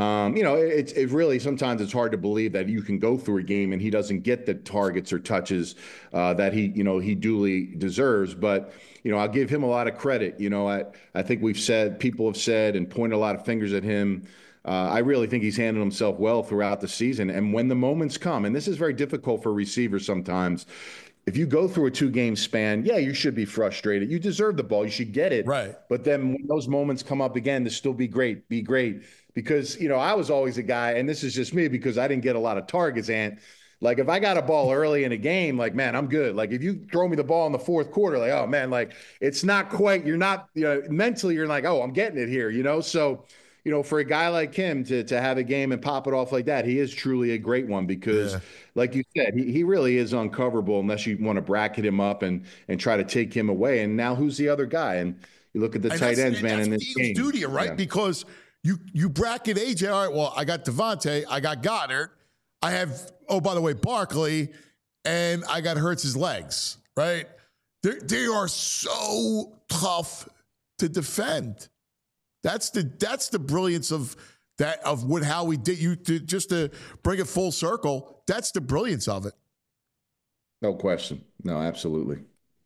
It really, sometimes it's hard to believe that you can go through a game and he doesn't get the targets or touches that he duly deserves. But, I'll give him a lot of credit. I think people have said and pointed a lot of fingers at him. I really think he's handled himself well throughout the season. And when the moments come, and this is very difficult for receivers sometimes, if you go through a 2-game span, you should be frustrated. You deserve the ball. You should get it.
Right.
But then when those moments come up again, to still be great. Because, I was always a guy, and this is just me because I didn't get a lot of targets, Ant. Like, if I got a ball early in a game, like, man, I'm good. Like, if you throw me the ball in the 4th quarter, like, oh, man, like, it's not quite, you're not, mentally, you're like, oh, I'm getting it here, So, for a guy like him to have a game and pop it off like that, he is truly a great one because, like you said, he really is uncoverable unless you want to bracket him up and try to take him away. And now who's the other guy? And you look at the tight ends, man, in this game.
Duty, right? Yeah. Because you bracket AJ. All right, well, I got Devontae, I got Goddard, I have, oh, by the way, Barkley, and I got Hurts' legs, right? They are so tough to defend. That's the brilliance of that, of how we did you just to bring it full circle. That's the brilliance of it.
No question. No, absolutely.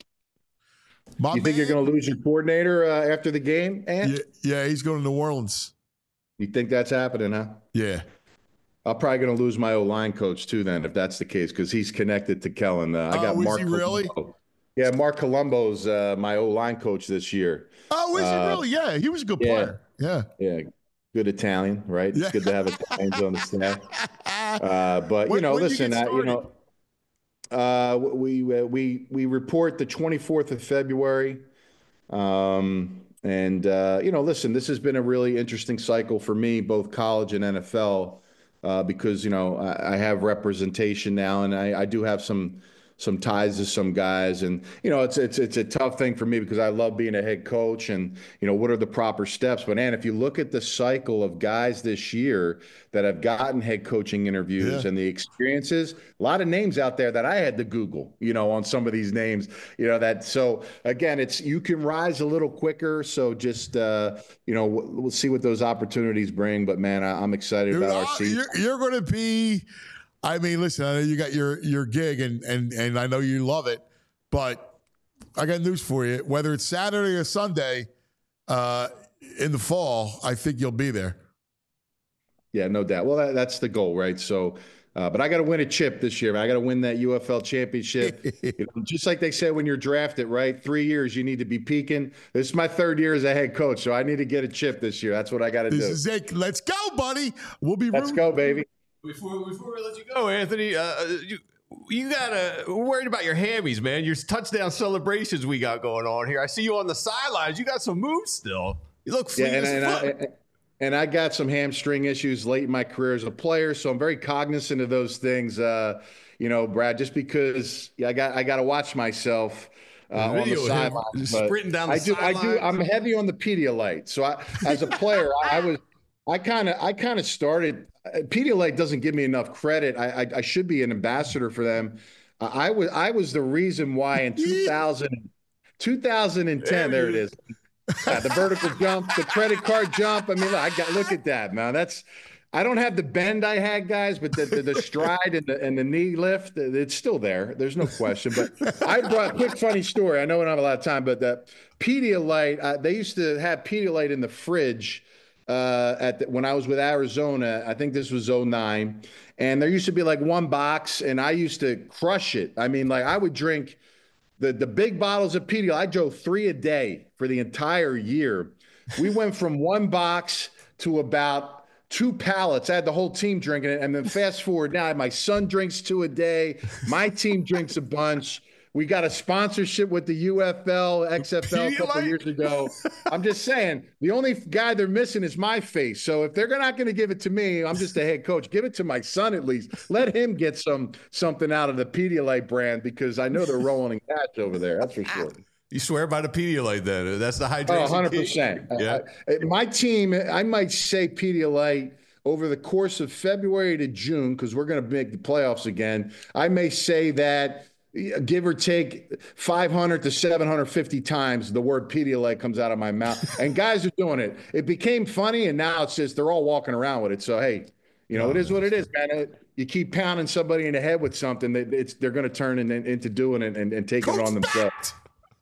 You think you're going to lose your coordinator after the game, Ant?
Yeah, he's going to New Orleans.
You think that's happening, huh?
Yeah.
I'm probably going to lose my O-line coach too then, if that's the case, because he's connected to Kellen. I got Mark.
Is he really?
Yeah, Mark Colombo's my O-line coach this year.
Oh, is he really? Yeah, he was a good player. Yeah.
Good Italian, right? It's good to have Italians on the staff. But listen, we report the 24th of February, listen, this has been a really interesting cycle for me, both college and NFL, because I have representation now, and I do have some ties to some guys. And, it's a tough thing for me because I love being a head coach and, what are the proper steps? But, if you look at the cycle of guys this year that have gotten head coaching interviews and the experiences, a lot of names out there that I had to Google, on some of these names, so again, you can rise a little quicker. So just, we'll see what those opportunities bring. But man, I'm excited about our season.
You're going to be, listen, I know you got your gig and I know you love it, but I got news for you. Whether it's Saturday or Sunday in the fall, I think you'll be there.
Yeah, no doubt. Well, that's the goal, right? So, but I got to win a chip this year. I got to win that UFL championship. Just like they say when you're drafted, right? 3 years, you need to be peaking. This is my 3rd year as a head coach, so I need to get a chip this year. That's what I got to do.
This is it. Let's go, buddy. We'll be.
Let's go, baby.
Before we let you go, Anthony, we're worried about your hammies, man. Your touchdown celebrations we got going on here. I see you on the sidelines. You got some moves still. You look fleet as fuck.
And I got some hamstring issues late in my career as a player, so I'm very cognizant of those things. Brad, just because I got to watch myself on the sidelines.
Sprinting down the sidelines.
I'm heavy on the Pedialyte. So as a player, I kind of started. Pedialyte doesn't give me enough credit. I should be an ambassador for them. I was the reason why in 2010. There it is. Yeah, the vertical jump, the credit card jump. Look at that, man. I don't have the bend I had, guys, but the stride and the knee lift, it's still there. There's no question. But I brought a quick funny story. I know we don't have a lot of time, but the Pedialyte, they used to have Pedialyte in the fridge when I was with Arizona. I think this was 2009. And there used to be like one box, and I used to crush it. I would drink the big bottles of Pedialyte. I drove 3 a day for the entire year. We went from one box to about 2 pallets. I had the whole team drinking it. And then fast forward now, my son drinks 2 a day. My team drinks a bunch. We got a sponsorship with the UFL, XFL a couple of years ago. I'm just saying, the only guy they're missing is my face. So if they're not going to give it to me, I'm just a head coach. Give it to my son at least. Let him get something out of the Pedialyte brand because I know they're rolling in cash over there. That's for sure.
You swear by the Pedialyte then? That's the hydration.
100%.
Yeah.
My team, I might say Pedialyte over the course of February to June, because we're going to make the playoffs again. I may say that, give or take 500 to 750 times the word Pedialyte comes out of my mouth. And guys are doing it. It became funny, and now it's just they're all walking around with it. So, hey, it is what it is, man. You keep pounding somebody in the head with something, they're going to turn into doing it and taking it on themselves.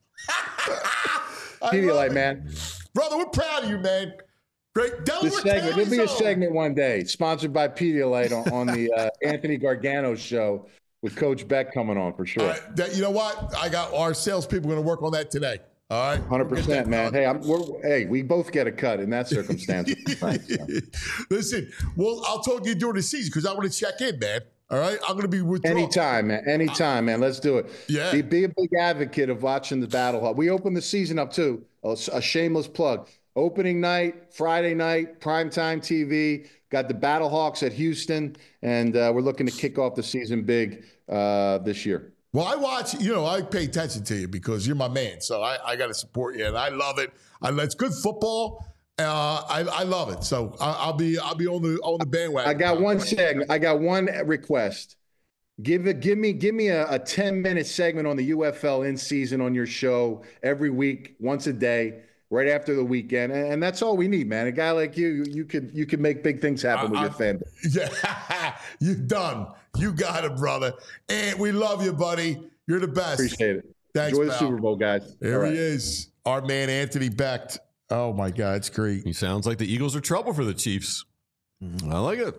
Pedialyte, man.
Brother, we're proud of you, man. Great.
There'll be a segment one day sponsored by Pedialyte on the Anthony Gargano show with Coach Beck coming on for sure.
You know what? I got our salespeople going to work on that today. All right.
100%, man. Hey, we both get a cut in that circumstance.
Listen, I'll talk to you during the season because I want to check in, man. All right, I'm going to be withdrawn.
Anytime, man. Let's do it.
Yeah.
Be a big advocate of watching the Battle Hawk. We open the season up too. A shameless plug. Opening night, Friday night, primetime TV. Got the Battle Hawks at Houston, and we're looking to kick off the season big this year.
Well, I watch. I pay attention to you because you're my man. So I got to support you, and I love it. It's good football. I love it. So I'll be on the bandwagon.
I got one segment. I got one request. Give me a 10-minute segment on the UFL in season on your show every week, once a day, right after the weekend, and that's all we need, man. A guy like you could make big things happen with your fan base.
Yeah, you done. You got it, brother. And we love you, buddy. You're the best.
Appreciate it.
Thanks,
Enjoy the
pal.
Super Bowl, guys.
There he is, our man Anthony Becht. Oh my God, it's great.
He sounds like the Eagles are trouble for the Chiefs. I like it.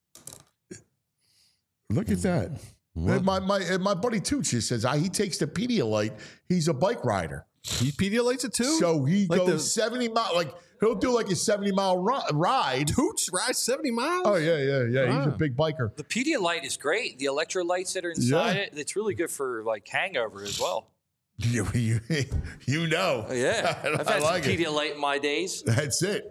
Look at that. My buddy Tucci says he takes the Pedialyte. He's a bike rider.
He Pedialytes it too?
So he goes 70 miles. Like he'll do like a 70-mile ride.
Tooch rides 70 miles?
Oh, yeah. He's a big biker.
The Pedialyte is great. The electrolytes that are inside it, it's really good for like hangover as well.
You know.
Yeah. I've had
like
some Pedialyte in my days.
That's it.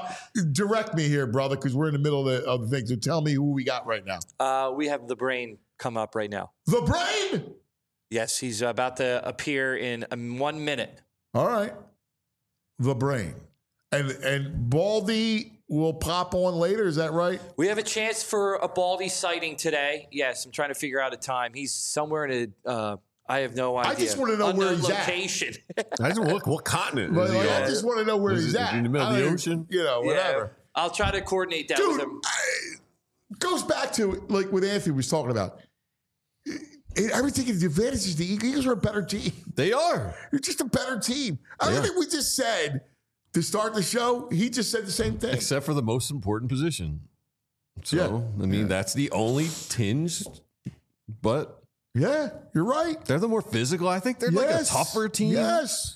Direct me here, brother, because we're in the middle of the thing. So tell me who we got right now.
We have the Brain come up right now.
The Brain?
Yes, he's about to appear in 1 minute.
All right. The Brain. And Baldy will pop on later, is that right?
We have a chance for a Baldy sighting today. Yes, I'm trying to figure out a time. He's somewhere in I have no idea.
I just want to know where he's
location.
I just what continent?
But,
is he
I
on?
just want to know where he's at.
In the middle of the ocean?
Whatever.
Yeah, I'll try to coordinate that
Dude,
with him.
Goes back to like what Anthony was talking about. Everything is the advantages. The Eagles are a better team.
They are.
You're just a better team. Everything we just said to start the show, he just said the same thing.
Except for the most important position. So, I mean, that's the only tinge, but
yeah, you're right.
they're the more physical. I think they're like a tougher team.
Yes.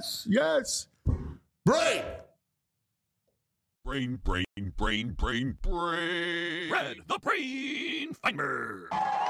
Brain.
Brain. Red, the Brain Finder.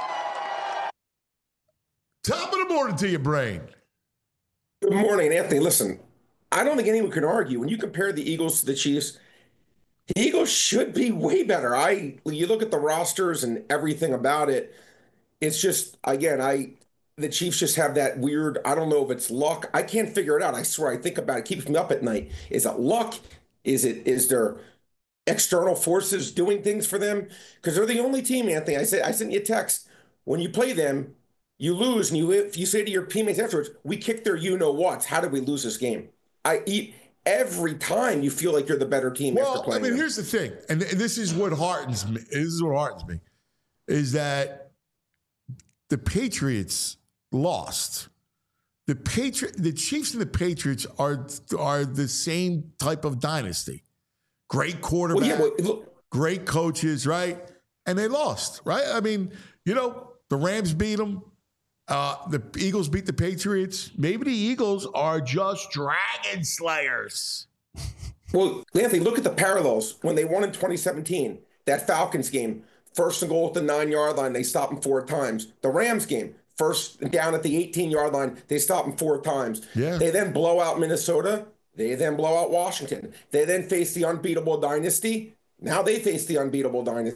Top of the morning to you, Brain.
Good morning, Anthony. Listen, I don't think anyone can argue. When you compare the Eagles to the Chiefs, the Eagles should be way better. You look at the rosters and everything about it. It's just, again, the Chiefs just have that weird, I don't know if it's luck. I can't figure it out. I swear, I think about it. It keeps me up at night. Is it luck? Is there external forces doing things for them? Because they're the only team, Anthony. I sent you a text. When you play them, you lose, and if you say to your teammates afterwards, we kicked their you-know-whats. How did we lose this game? Every time you feel like you're the better team after playing.
Well, I mean,
them.
here's the thing, and this is what heartens me. Is that the Patriots lost. The Chiefs and the Patriots are the same type of dynasty. Great quarterback, great coaches, right? And they lost, right? I mean, the Rams beat them. The Eagles beat the Patriots. Maybe the Eagles are just dragon slayers.
Well, Anthony, look at the parallels. When they won in 2017, that Falcons game, first and goal at the 9-yard line, they stopped them 4 times. The Rams game, first down at the 18-yard line, they stopped them 4 times.
Yeah.
They then blow out Minnesota. They then blow out Washington. They then face the unbeatable dynasty. Now they face the unbeatable dynasty.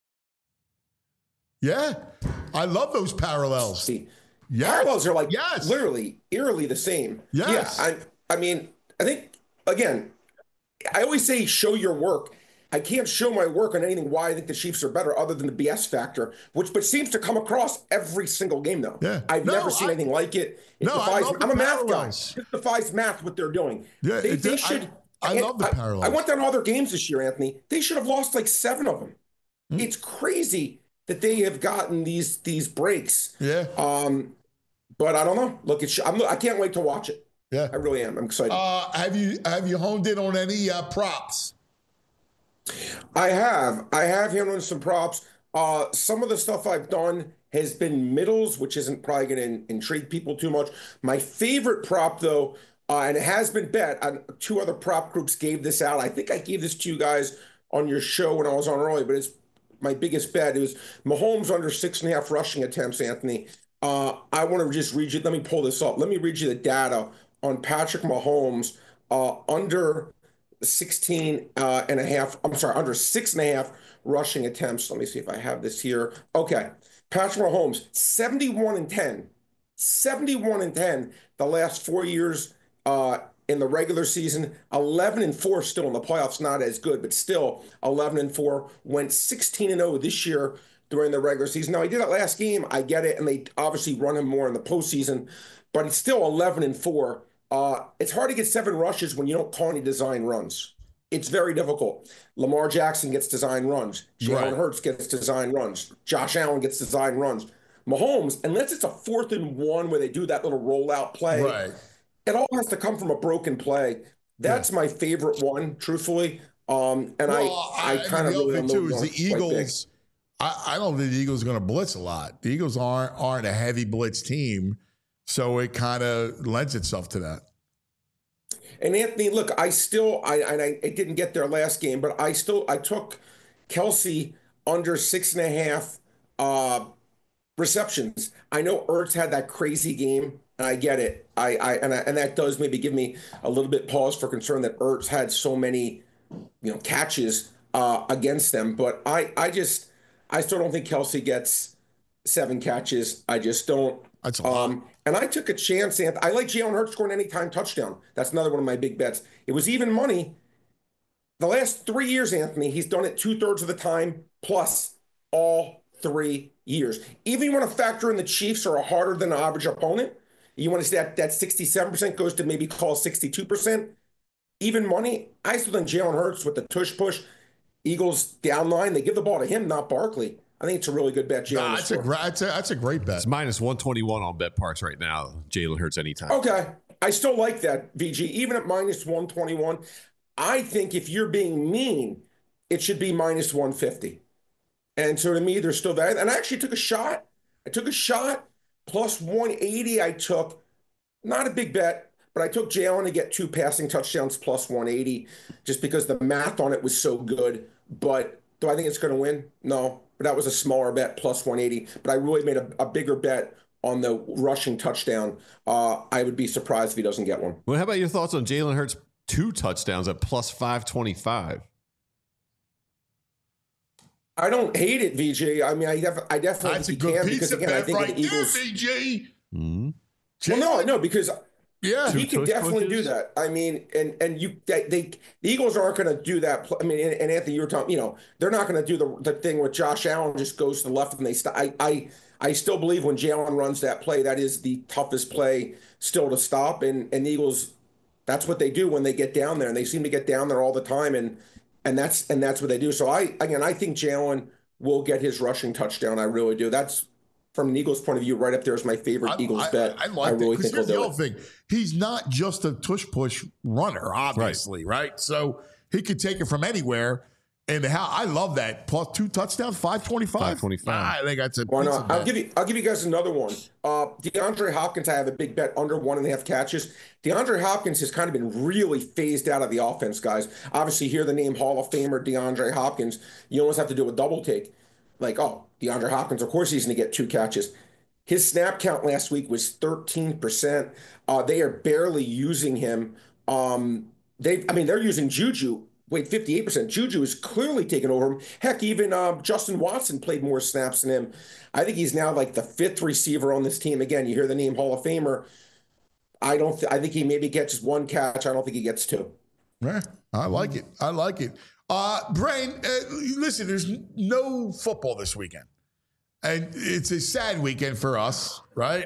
Yeah. I love those parallels. Yes.
Parallels are like literally eerily the same.
Yes.
Yeah. I mean, I think, again, I always say show your work. I can't show my work on anything why I think the Chiefs are better other than the BS factor, which seems to come across every single game, though.
Yeah.
I've never seen anything like it. I'm a math guy. It defies math what they're doing.
Yeah,
they should.
I love the parallels.
I went down all their games this year, Anthony. They should have lost like 7 of them. It's crazy that they have gotten these breaks.
Yeah.
But I don't know. Look, I can't wait to watch it.
Yeah.
I really am. I'm excited.
Have you honed in on any props?
I have him on some props. Some of the stuff I've done has been middles, which isn't probably going to intrigue people too much. My favorite prop, though, and it has been bet, 2 other prop groups gave this out. I think I gave this to you guys on your show when I was on early, but it's my biggest bet. It was Mahomes under 6.5 rushing attempts, Anthony. I want to just read you. Let me pull this up. Let me read you the data on Patrick Mahomes under 6.5 rushing attempts. Let me see if I have this here. Okay. Patrick Mahomes, 71-10. 71-10 the last 4 years in the regular season. 11-4 still in the playoffs, not as good, but still 11-4. Went 16-0 this year during the regular season. Now, he did it last game. I get it, and they obviously run him more in the postseason, but it's still 11-4. It's hard to get 7 rushes when you don't call any design runs. It's very difficult. Lamar Jackson gets design runs. Jalen Hurts gets design runs. Josh Allen gets design runs. Mahomes, unless it's a 4th and 1 where they do that little rollout play, it all has to come from a broken play. That's my favorite one, truthfully. I kind of really
too is the Eagles. I don't think the Eagles are going to blitz a lot. The Eagles aren't a heavy blitz team, so it kind of lends itself to that.
And Anthony, look, I didn't get their last game, but I took Kelsey under 6.5 receptions. I know Ertz had that crazy game, and I get it. And that does maybe give me a little bit pause for concern that Ertz had so many, catches against them. But I still don't think Kelsey gets 7 catches. I just don't.
That's a lot.
And I took a chance. I like Jalen Hurts scoring anytime touchdown. That's another one of my big bets. It was even money. The last 3 years, Anthony, he's done it 2/3 of the time, plus all 3 years. Even you want to factor in the Chiefs are a harder than average opponent. You want to say that 67% goes to maybe call 62%. Even money, I still think Jalen Hurts with the tush push. Eagles down line, they give the ball to him, not Barkley. I think it's a really good bet.
That's a great bet.
It's minus 121 on BetParks right now. Jalen Hurts anytime.
Okay. I still like that, VG. Even at minus 121, I think if you're being mean, it should be minus 150. And so to me, there's still that. And I actually took a shot. Plus 180 I took. Not a big bet, but I took Jalen to get 2 passing touchdowns plus 180 just because the math on it was so good. But do I think it's going to win? No. But that was a smaller bet, plus 180. But I really made a bigger bet on the rushing touchdown. I would be surprised if he doesn't get one.
Well, how about your thoughts on Jalen Hurts 2 touchdowns at plus 525?
I don't hate it, VJ. I mean, I definitely
That's a good pizza bet right there, VJ.
Mm-hmm.
Well, no, because
yeah,
he can definitely do that. I mean, and the Eagles aren't going to do that. I mean, and Anthony, you were talking, they're not going to do the thing where Josh Allen just goes to the left and they stop. I still believe when Jalen runs that play, that is the toughest play still to stop. And the Eagles, that's what they do when they get down there, and they seem to get down there all the time. And that's what they do. So I think Jalen will get his rushing touchdown. I really do. That's from an Eagles point of view, right up there is my favorite Eagles bet.
I like
really
that.
think he'll do it.
Thing. He's not just a tush push runner, obviously, right? So he could take it from anywhere. And I love that. Plus 2 touchdowns, 525.
525.
I think that's a
Why
pizza
not?
bet.
I'll give you guys another one. DeAndre Hopkins, I have a big bet under 1.5 catches. DeAndre Hopkins has kind of been really phased out of the offense, guys. Obviously, hear the name Hall of Famer DeAndre Hopkins. You almost have to do a double take. Like, oh, DeAndre Hopkins, of course he's going to get 2 catches. His snap count last week was 13%. They are barely using him. They're using Juju. Wait, 58%. Juju is clearly taking over him. Heck, even Justin Watson played more snaps than him. I think he's now like the 5th receiver on this team. Again, you hear the name Hall of Famer. I think he maybe gets just 1 catch. I don't think he gets 2.
Yeah, I like it. Brain, listen, there's no football this weekend. And it's a sad weekend for us, right?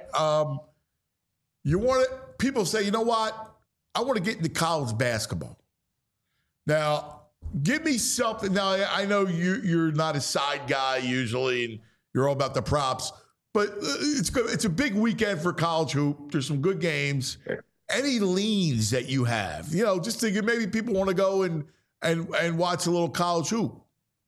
People say, you know what? I want to get into college basketball. Now, give me something. Now, I know you're not a side guy usually, and you're all about the props, but it's good. It's a big weekend for college hoop. There's some good games. Any leans that you have, just to maybe people want to go and watch a little college hoop.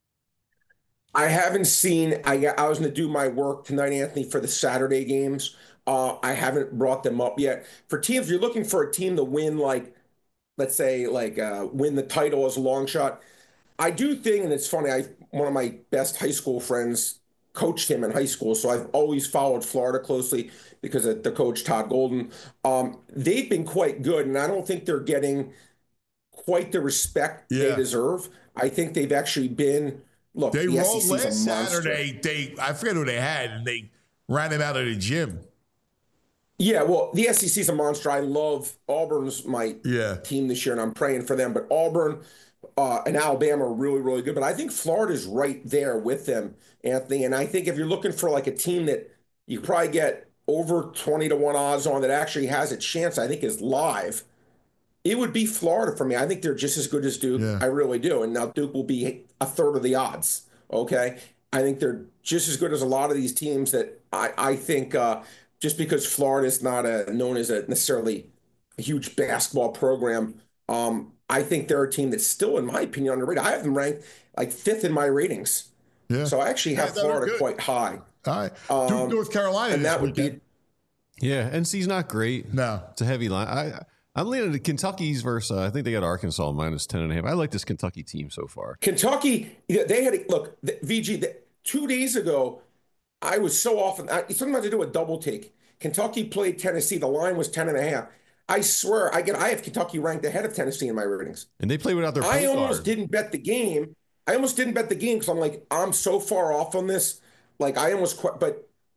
I haven't seen. I was going to do my work tonight, Anthony, for the Saturday games. I haven't brought them up yet. For teams, if you're looking for a team to win, let's say, win the title as a long shot. I do think, and it's funny, one of my best high school friends coached him in high school, so I've always followed Florida closely because of the coach, Todd Golden. They've been quite good, and I don't think they're getting quite the respect they deserve. I think they've actually been, look,
they
the
rolled
SEC's
last
a monster.
Saturday. I forget who they had, and they ran him out of the gym.
Yeah, well, the SEC's a monster. I love Auburn's my team this year, and I'm praying for them. But Auburn and Alabama are really, really good. But I think Florida's right there with them, Anthony. And I think if you're looking for a team that you probably get over 20-1 odds on that actually has a chance, I think is live, it would be Florida for me. I think they're just as good as Duke. Yeah. I really do. And now Duke will be 1/3 of the odds, okay? I think they're just as good as a lot of these teams that I think just because Florida is not known as necessarily a huge basketball program, I think they're a team that's still, in my opinion, underrated. I have them ranked 5th in my ratings. Yeah. So I actually have Florida quite high.
All right. Duke, North Carolina.
And that would be.
Yeah, NC's not great.
No.
It's a heavy line. I'm leaning to Kentucky's versus, I think they got Arkansas minus 10.5. I like this Kentucky team so far.
Kentucky, they had, VG, 2 days ago, I was so often, sometimes I do a double take. Kentucky played Tennessee. The line was 10.5. I swear, I have Kentucky ranked ahead of Tennessee in my ratings.
And they play without their point
guard.
I
almost didn't bet the game because I'm so far off on this. I almost quit. But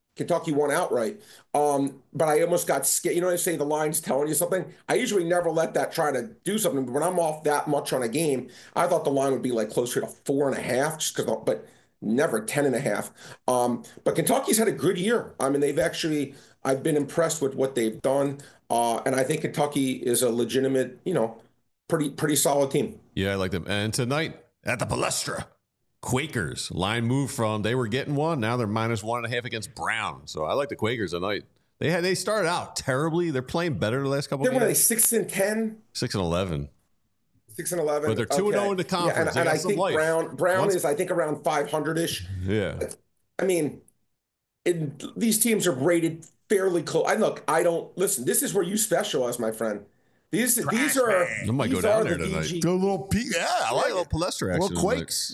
Kentucky won outright. But I almost got scared. You know, they say the line's telling you something. I usually never let that try to do something. But when I'm off that much on a game, I thought the line would be like closer to 4.5, just because, but never 10.5. But Kentucky's had a good year. I mean, I've been impressed with what they've done. And I think Kentucky is a legitimate, pretty solid team.
Yeah, I like them. And tonight at the Palestra, Quakers line moved from they were getting one, now they're -1.5 against Brown. So I like the Quakers tonight. They started out terribly. They're playing better the last couple of games.
They're 6-10,
6-11.
6-11.
But they're 2-0 in the conference.
Yeah, and I think Brown is, I think, around 500-ish.
Yeah.
I mean, these teams are rated fairly close. Listen, this is where you specialize, my friend. These are
I might go down there tonight.
The little
I like a little Palestra action.
Little Quakes.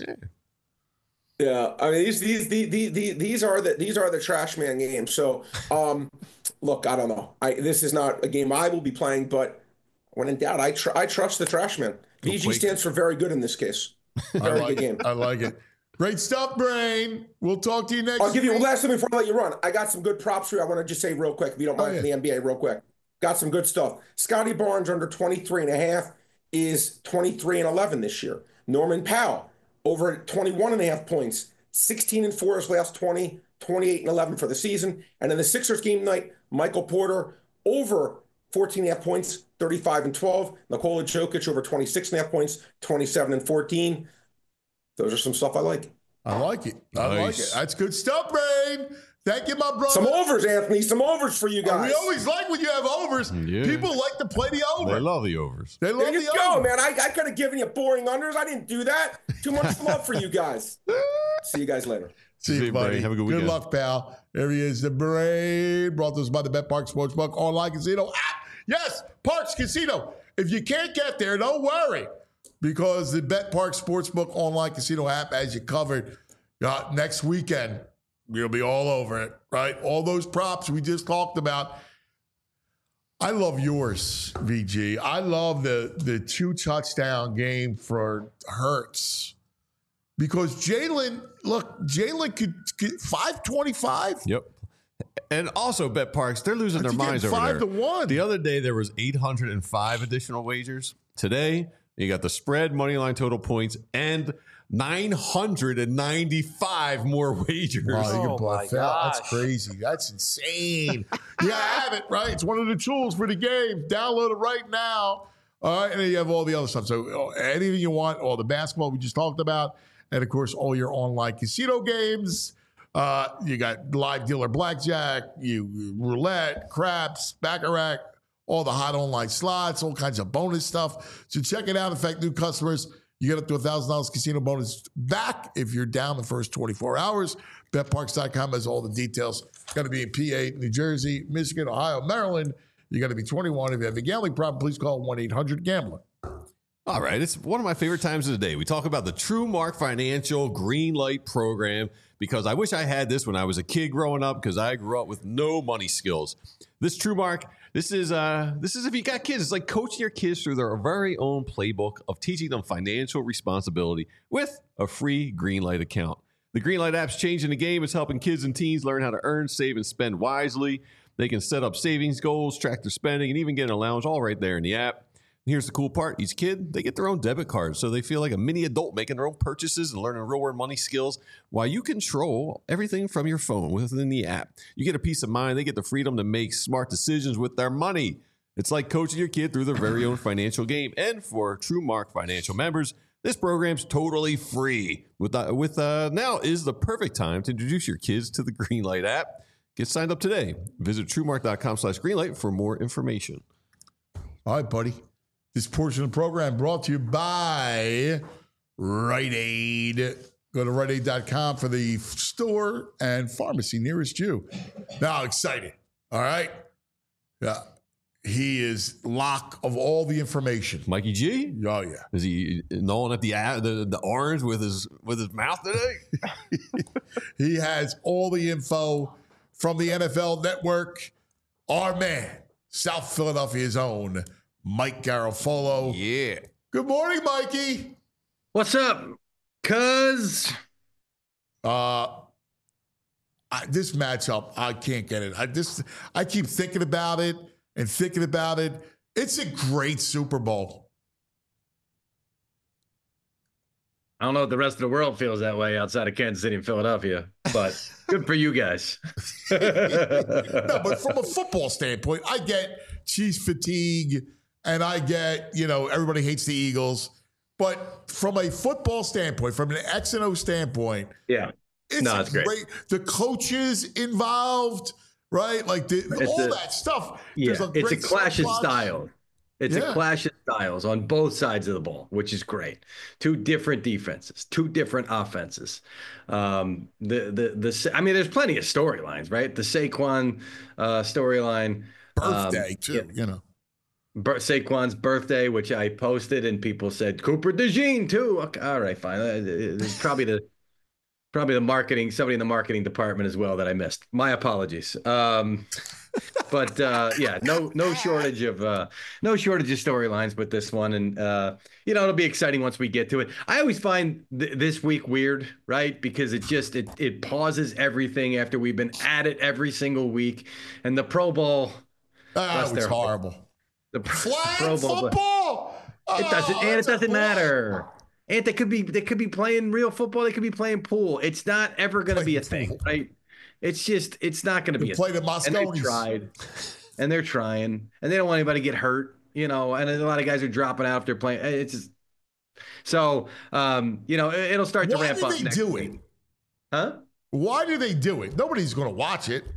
Yeah, I mean these are the trash man games. So, look, I don't know. This is not a game I will be playing, but when in doubt, I trust the trash man. VG stands for very good in this case. Very good game.
I like it. Great stuff, Brain. We'll talk to you next week.
I'll give you one last thing before I let you run. I got some good props for you. I want to just say real quick, if you don't mind, for the NBA real quick. Got some good stuff. Scotty Barnes under 23.5 is 23-11 this year. Norman Powell over 21.5 points, 16-4 his last 20, 28-11 for the season. And in the Sixers game tonight, Michael Porter over 14.5 points, 35-12. Nikola Jokic over 26.5 points, 27-14. Those are some stuff I like.
I like it. I like it. That's good stuff, Brain. Thank you, my brother.
Some overs, Anthony. Some overs for you guys.
We always like when you have overs. Yeah. People like to play the over.
They love the overs.
There you go, man. I could have given you boring unders. I didn't do that. Too much love for you guys. See you guys later.
See you, buddy.
Have a good weekend.
Good luck, pal. There he is, the Brain. Brought to us by the BetParx Sportsbook online casino app. Yes, Parx Casino. If you can't get there, don't worry, because the BetParx Sportsbook online casino app has you covered. Next weekend, we'll be all over it, right? All those props we just talked about. I love yours, VG. I love the 2-touchdown game for Hurts, because Jalen could 525.
Yep. And also, BetParx, they're losing their minds over there.
5-1.
The other day, there was 805 additional wagers. Today, you got the spread, money line, total points, and 995 more wagers.
Oh my gosh. That's crazy. That's insane. You have it, right? It's one of the tools for the game. Download it right now. All right, and then you have all the other stuff. So anything you want, all the basketball we just talked about, and of course, all your online casino games. You got live dealer blackjack, roulette, craps, baccarat, all the hot online slots, all kinds of bonus stuff. So check it out. In fact, new customers, you get up to $1,000 casino bonus back if you're down the first 24 hours. BetParx.com has all the details. It's going to be in PA, New Jersey, Michigan, Ohio, Maryland. You got to be 21. If you have a gambling problem, please call 1-800-GAMBLER.
All right, it's one of my favorite times of the day. We talk about the TrueMark Financial Green Light Program, because I wish I had this when I was a kid growing up, because I grew up with no money skills. This TrueMark, this is if you got kids. It's like coaching your kids through their very own playbook of teaching them financial responsibility with a free Green Light account. The Green Light app's changing the game. It's helping kids and teens learn how to earn, save, and spend wisely. They can set up savings goals, track their spending, and even get an allowance all right there in the app. Here's the cool part. Each kid, they get their own debit card, so they feel like a mini adult making their own purchases and learning real-world money skills while you control everything from your phone within the app. You get a peace of mind. They get the freedom to make smart decisions with their money. It's like coaching your kid through their very own financial game. And for TrueMark Financial members, this program's totally free. Now is the perfect time to introduce your kids to the Greenlight app. Get signed up today. Visit TrueMark.com/Greenlight for more information.
All right, buddy. This portion of the program brought to you by Rite Aid. Go to RiteAid.com for the store and pharmacy nearest you. Now, excited. All right. Yeah. He is lock of all the information.
Mikey G?
Oh, yeah.
Is he gnawing at the orange with his mouth today?
He has all the info from the NFL Network. Our man, South Philadelphia's own Mike Garafolo.
Yeah.
Good morning, Mikey.
What's up, cuz?
this matchup, I can't get it. I keep thinking about it and thinking about it. It's a great Super Bowl.
I don't know if the rest of the world feels that way outside of Kansas City and Philadelphia, but good for you guys.
No, but from a football standpoint, I get Chiefs fatigue and I get, everybody hates the Eagles. But from a football standpoint, from an X and O standpoint,
yeah,
it's great. The coaches involved, right? Like that stuff.
Yeah, it's a clash of styles. It's a clash of styles on both sides of the ball, which is great. Two different defenses, two different offenses. I mean, there's plenty of storylines, right? The Saquon storyline,
birthday too,
Saquon's birthday, which I posted, and people said Cooper DeJean too. Okay, all right, fine. It's probably the marketing, somebody in the marketing department as well that I missed. My apologies. But no shortage of storylines with this one, and it'll be exciting once we get to it. I always find this week weird, right? Because it pauses everything after we've been at it every single week, and the Pro Bowl.
That was horrible.
The
flag
Pro Bowl,
football.
It doesn't matter. And they could be playing real football. They could be playing pool. It's not ever going to be a thing, right? It's not going to be a thing. And they're trying, and they don't want anybody to get hurt, and a lot of guys are dropping out if they're playing. It's just, so, it'll start to ramp up. Why do they do it? Huh?
Why do they do it? Nobody's going to watch it.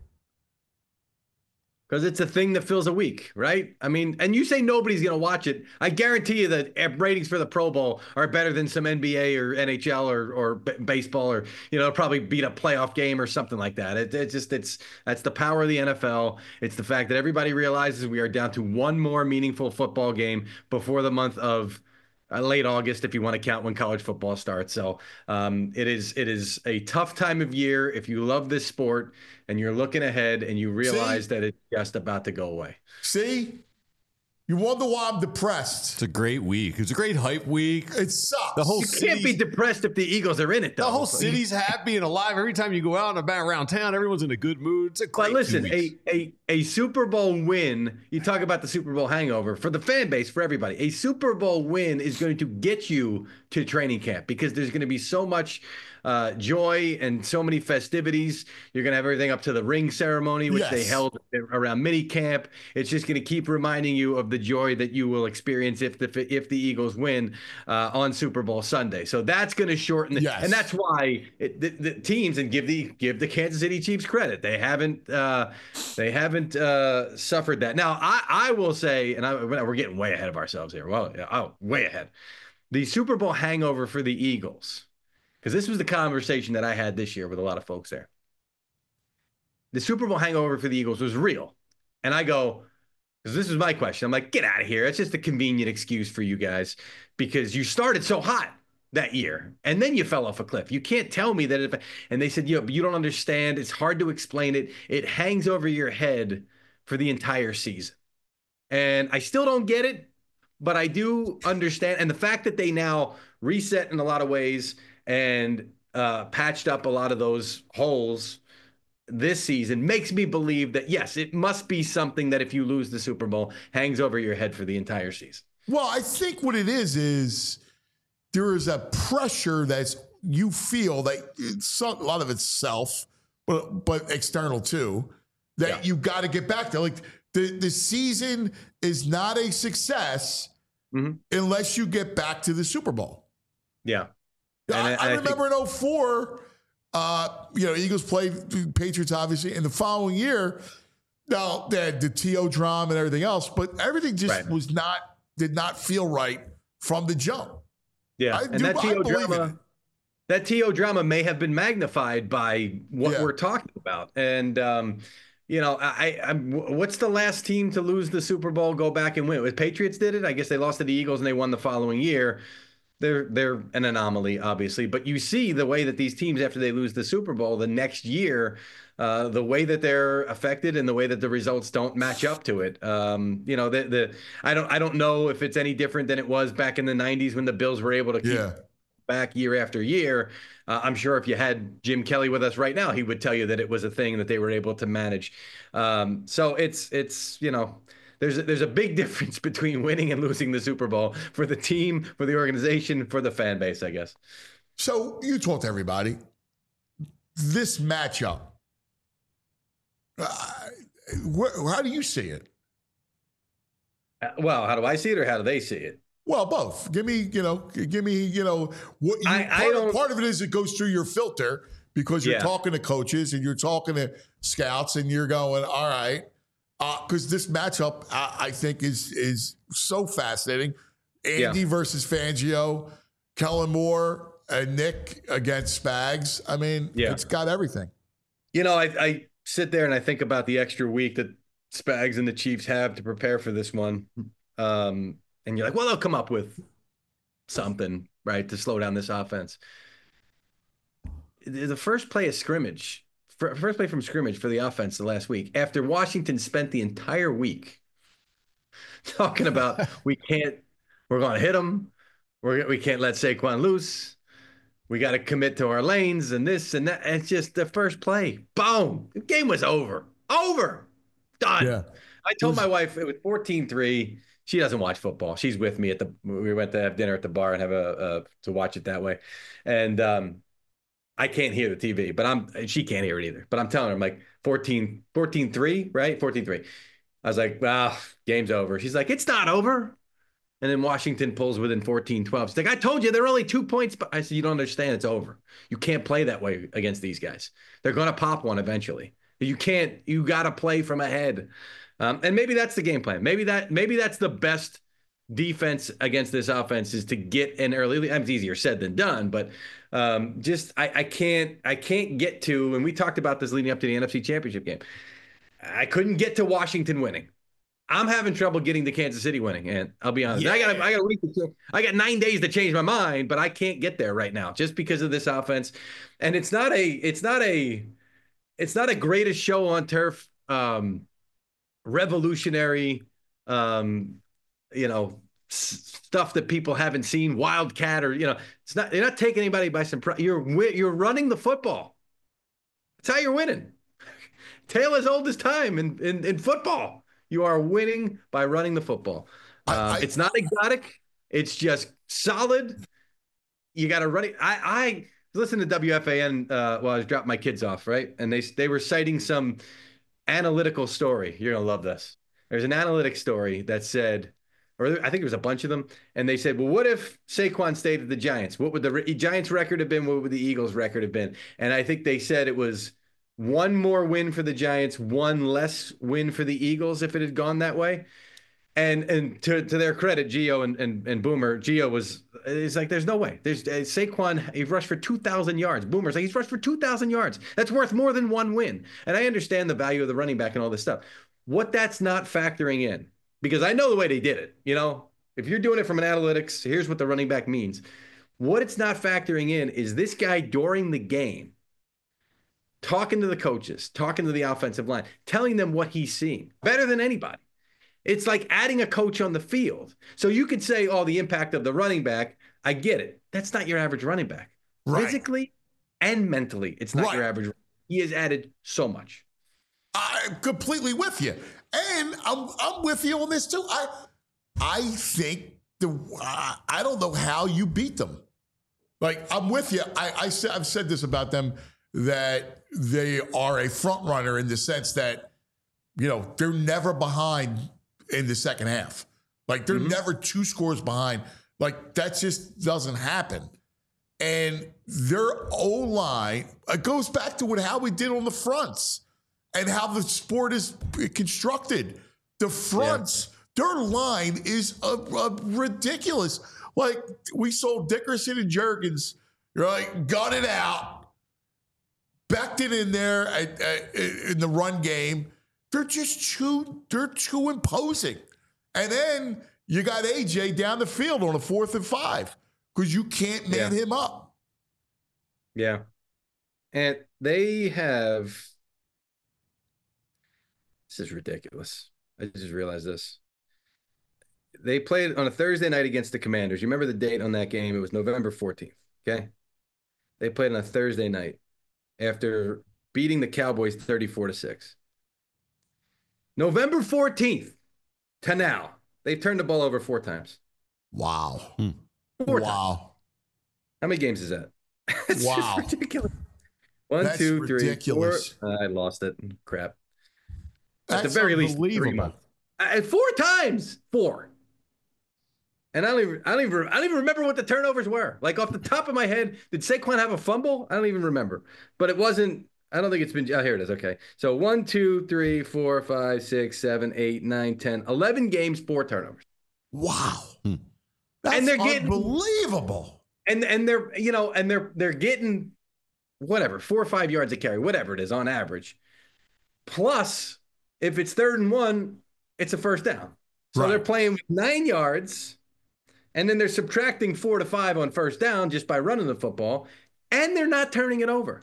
Because it's a thing that fills a week, right? I mean, and you say nobody's going to watch it. I guarantee you that ratings for the Pro Bowl are better than some NBA or NHL or baseball, or, probably beat a playoff game or something like that. That's the power of the NFL. It's the fact that everybody realizes we are down to one more meaningful football game before the month of late August, if you want to count when college football starts. So it is a tough time of year if you love this sport and you're looking ahead and you realize that it's just about to go away.
See? You wonder why I'm depressed.
It's a great week. It's a great hype week.
It sucks.
You can't be depressed if the Eagles are in it, though.
The whole city's happy and alive. Every time you go out and about around town, everyone's in a good mood. It's a great
a Super Bowl win, you talk about the Super Bowl hangover, for the fan base, for everybody, a Super Bowl win is going to get you to training camp because there's going to be so much joy and so many festivities. You're going to have everything up to the ring ceremony, which they held around mini camp. It's just going to keep reminding you of the joy that you will experience if the Eagles win on Super Bowl Sunday. So that's going to shorten and that's why the teams, and give the Kansas City Chiefs credit, they haven't suffered that. Now I will say, and we're getting way ahead of ourselves here. Well, way ahead. The Super Bowl hangover for the Eagles, because this was the conversation that I had this year with a lot of folks there. The Super Bowl hangover for the Eagles was real. And I go, because this was my question. I'm like, get out of here. It's just a convenient excuse for you guys because you started so hot that year and then you fell off a cliff. You can't tell me that. And they said, but you don't understand. It's hard to explain it. It hangs over your head for the entire season. And I still don't get it, but I do understand. And the fact that they now reset in a lot of ways and patched up a lot of those holes this season makes me believe that, yes, it must be something that if you lose the Super Bowl, hangs over your head for the entire season.
Well, I think what it is there is a pressure that you feel that a lot of it's self, but external too, that you got to get back there. Like the season is not a success unless you get back to the Super Bowl.
Yeah.
I remember in 2004, Eagles played Patriots, obviously, and the following year, now they had the T.O. drama and everything else, but everything just did not feel right from the jump.
Yeah, that T.O. drama may have been magnified by what we're talking about. And, what's the last team to lose the Super Bowl, go back and win? The Patriots did it. I guess they lost to the Eagles and they won the following year. They're an anomaly, obviously, but you see the way that these teams, after they lose the Super Bowl the next year, the way that they're affected and the way that the results don't match up to it. I don't know if it's any different than it was back in the 90s when the Bills were able to keep back year after year. I'm sure if you had Jim Kelly with us right now, he would tell you that it was a thing that they were able to manage. So it's there's a big difference between winning and losing the Super Bowl for the team, for the organization, for the fan base, I guess.
So you talk to everybody. This matchup, how do you see it?
Well, how do I see it, or how do they see it?
Well, both. Give me, what part of it is it goes through your filter because you're talking to coaches and you're talking to scouts and you're going, all right, because this matchup I think is so fascinating. Andy versus Fangio, Kellen Moore and Nick against Spags. I mean, it's got everything.
I sit there and I think about the extra week that Spags and the Chiefs have to prepare for this one. And you're like, well, they'll come up with something, right, to slow down this offense. The first play of scrimmage, first play from scrimmage for the offense the last week, after Washington spent the entire week talking about we're going to hit them. We can't let Saquon loose. We got to commit to our lanes and this and that. It's just the first play. Boom. The game was over. Done. Yeah. I told my wife it was 14-3. She doesn't watch football. She's with me we went to have dinner at the bar and have to watch it that way. And I can't hear the TV, but she can't hear it either. But I'm telling her, I'm like 14-3, right? 14-3. I was like, game's over. She's like, it's not over. And then Washington pulls within 14-12. She's like, I told you, they're only 2 points. But I said, you don't understand. It's over. You can't play that way against these guys. They're going to pop one eventually. You got to play from ahead. And maybe that's the game plan. Maybe that's the best defense against this offense is to get an early. It's easier said than done, but I can't get to, and we talked about this leading up to the NFC Championship game. I couldn't get to Washington winning. I'm having trouble getting to Kansas City winning, and I'll be honest. Yeah. I got 9 days to change my mind, but I can't get there right now just because of this offense. And it's not a greatest show on turf, revolutionary, stuff that people haven't seen, Wildcat, or it's not. You're not taking anybody by surprise. You're running the football. That's how you're winning. Tale as old as time in football. You are winning by running the football. It's not exotic. It's just solid. You got to run it. I listened to WFAN while I was dropping my kids off, right? And they were citing some analytical story. You're going to love this. There's an analytic story that said, or I think it was a bunch of them, and they said, well, what if Saquon stayed at the Giants? What would the Giants record have been? What would the Eagles record have been? And I think they said it was one more win for the Giants, one less win for the Eagles if it had gone that way. And to their credit, Gio and Boomer, Gio it's like, there's no way. There's Saquon, he rushed for 2,000 yards. Boomer's like, he's rushed for 2,000 yards. That's worth more than one win. And I understand the value of the running back and all this stuff. What that's not factoring in, because I know the way they did it. If you're doing it from an analytics, here's what the running back means. What it's not factoring in is this guy during the game, talking to the coaches, talking to the offensive line, telling them what he's seeing better than anybody. It's like adding a coach on the field. So you could say, the impact of the running back, I get it. That's not your average running back. Right. Physically and mentally, it's not your average. He has added so much.
I'm completely with you. And I'm with you on this too. I think I don't know how you beat them. Like, I'm with you. I've said this about them, that they are a front runner in the sense that, they're never behind in the second half. Like, they're never 2 scores behind. Like, that just doesn't happen. And their O-line, it goes back to how we did on the fronts and how the sport is constructed. The fronts, their line is ridiculous. Like, we saw Dickerson and Juergens, got it out. Becton in there in the run game. They're just too imposing. And then you got AJ down the field on a 4th and 5 because you can't man him up.
Yeah. And they have, this is ridiculous. I just realized this. They played on a Thursday night against the Commanders. You remember the date on that game? It was November 14th. Okay. They played on a Thursday night after beating the Cowboys 34-6. November 14th to now, they've turned the ball over 4 times.
Wow.
4 times.
Wow.
How many games is that? It's
Wow.
just ridiculous. 1,
That's
2, 3,
ridiculous.
4. I lost it. Crap.
That's
At the very least, 3
unbelievable.
months. 4 times. 4. And I don't even remember what the turnovers were. Like off the top of my head, did Saquon have a fumble? I don't even remember. But it wasn't. I don't think it's been. Oh, here it is. Okay. So 1, 2, 3, 4, 5, 6, 7, 8, 9, 10, 11 games, 4 turnovers.
Wow. That's
And they're getting-
unbelievable.
And they're they're getting whatever 4 or 5 yards a carry, whatever it is on average. Plus, if it's 3rd and 1, it's a first down. So
Right.
they're playing with 9 yards, and then they're subtracting 4 to 5 on first down just by running the football, and they're not turning it over.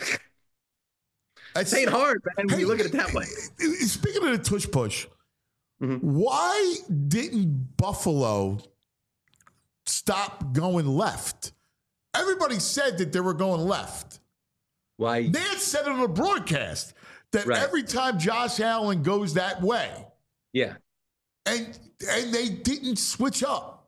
It ain't hard, man, when you look at it that way.
Speaking of the tush push,
Mhm.
why didn't Buffalo stop going left? Everybody said that they were going left.
Why?
Nance said it on the broadcast that
Right.
every time Josh Allen goes that way,
Yeah.
and they didn't switch up.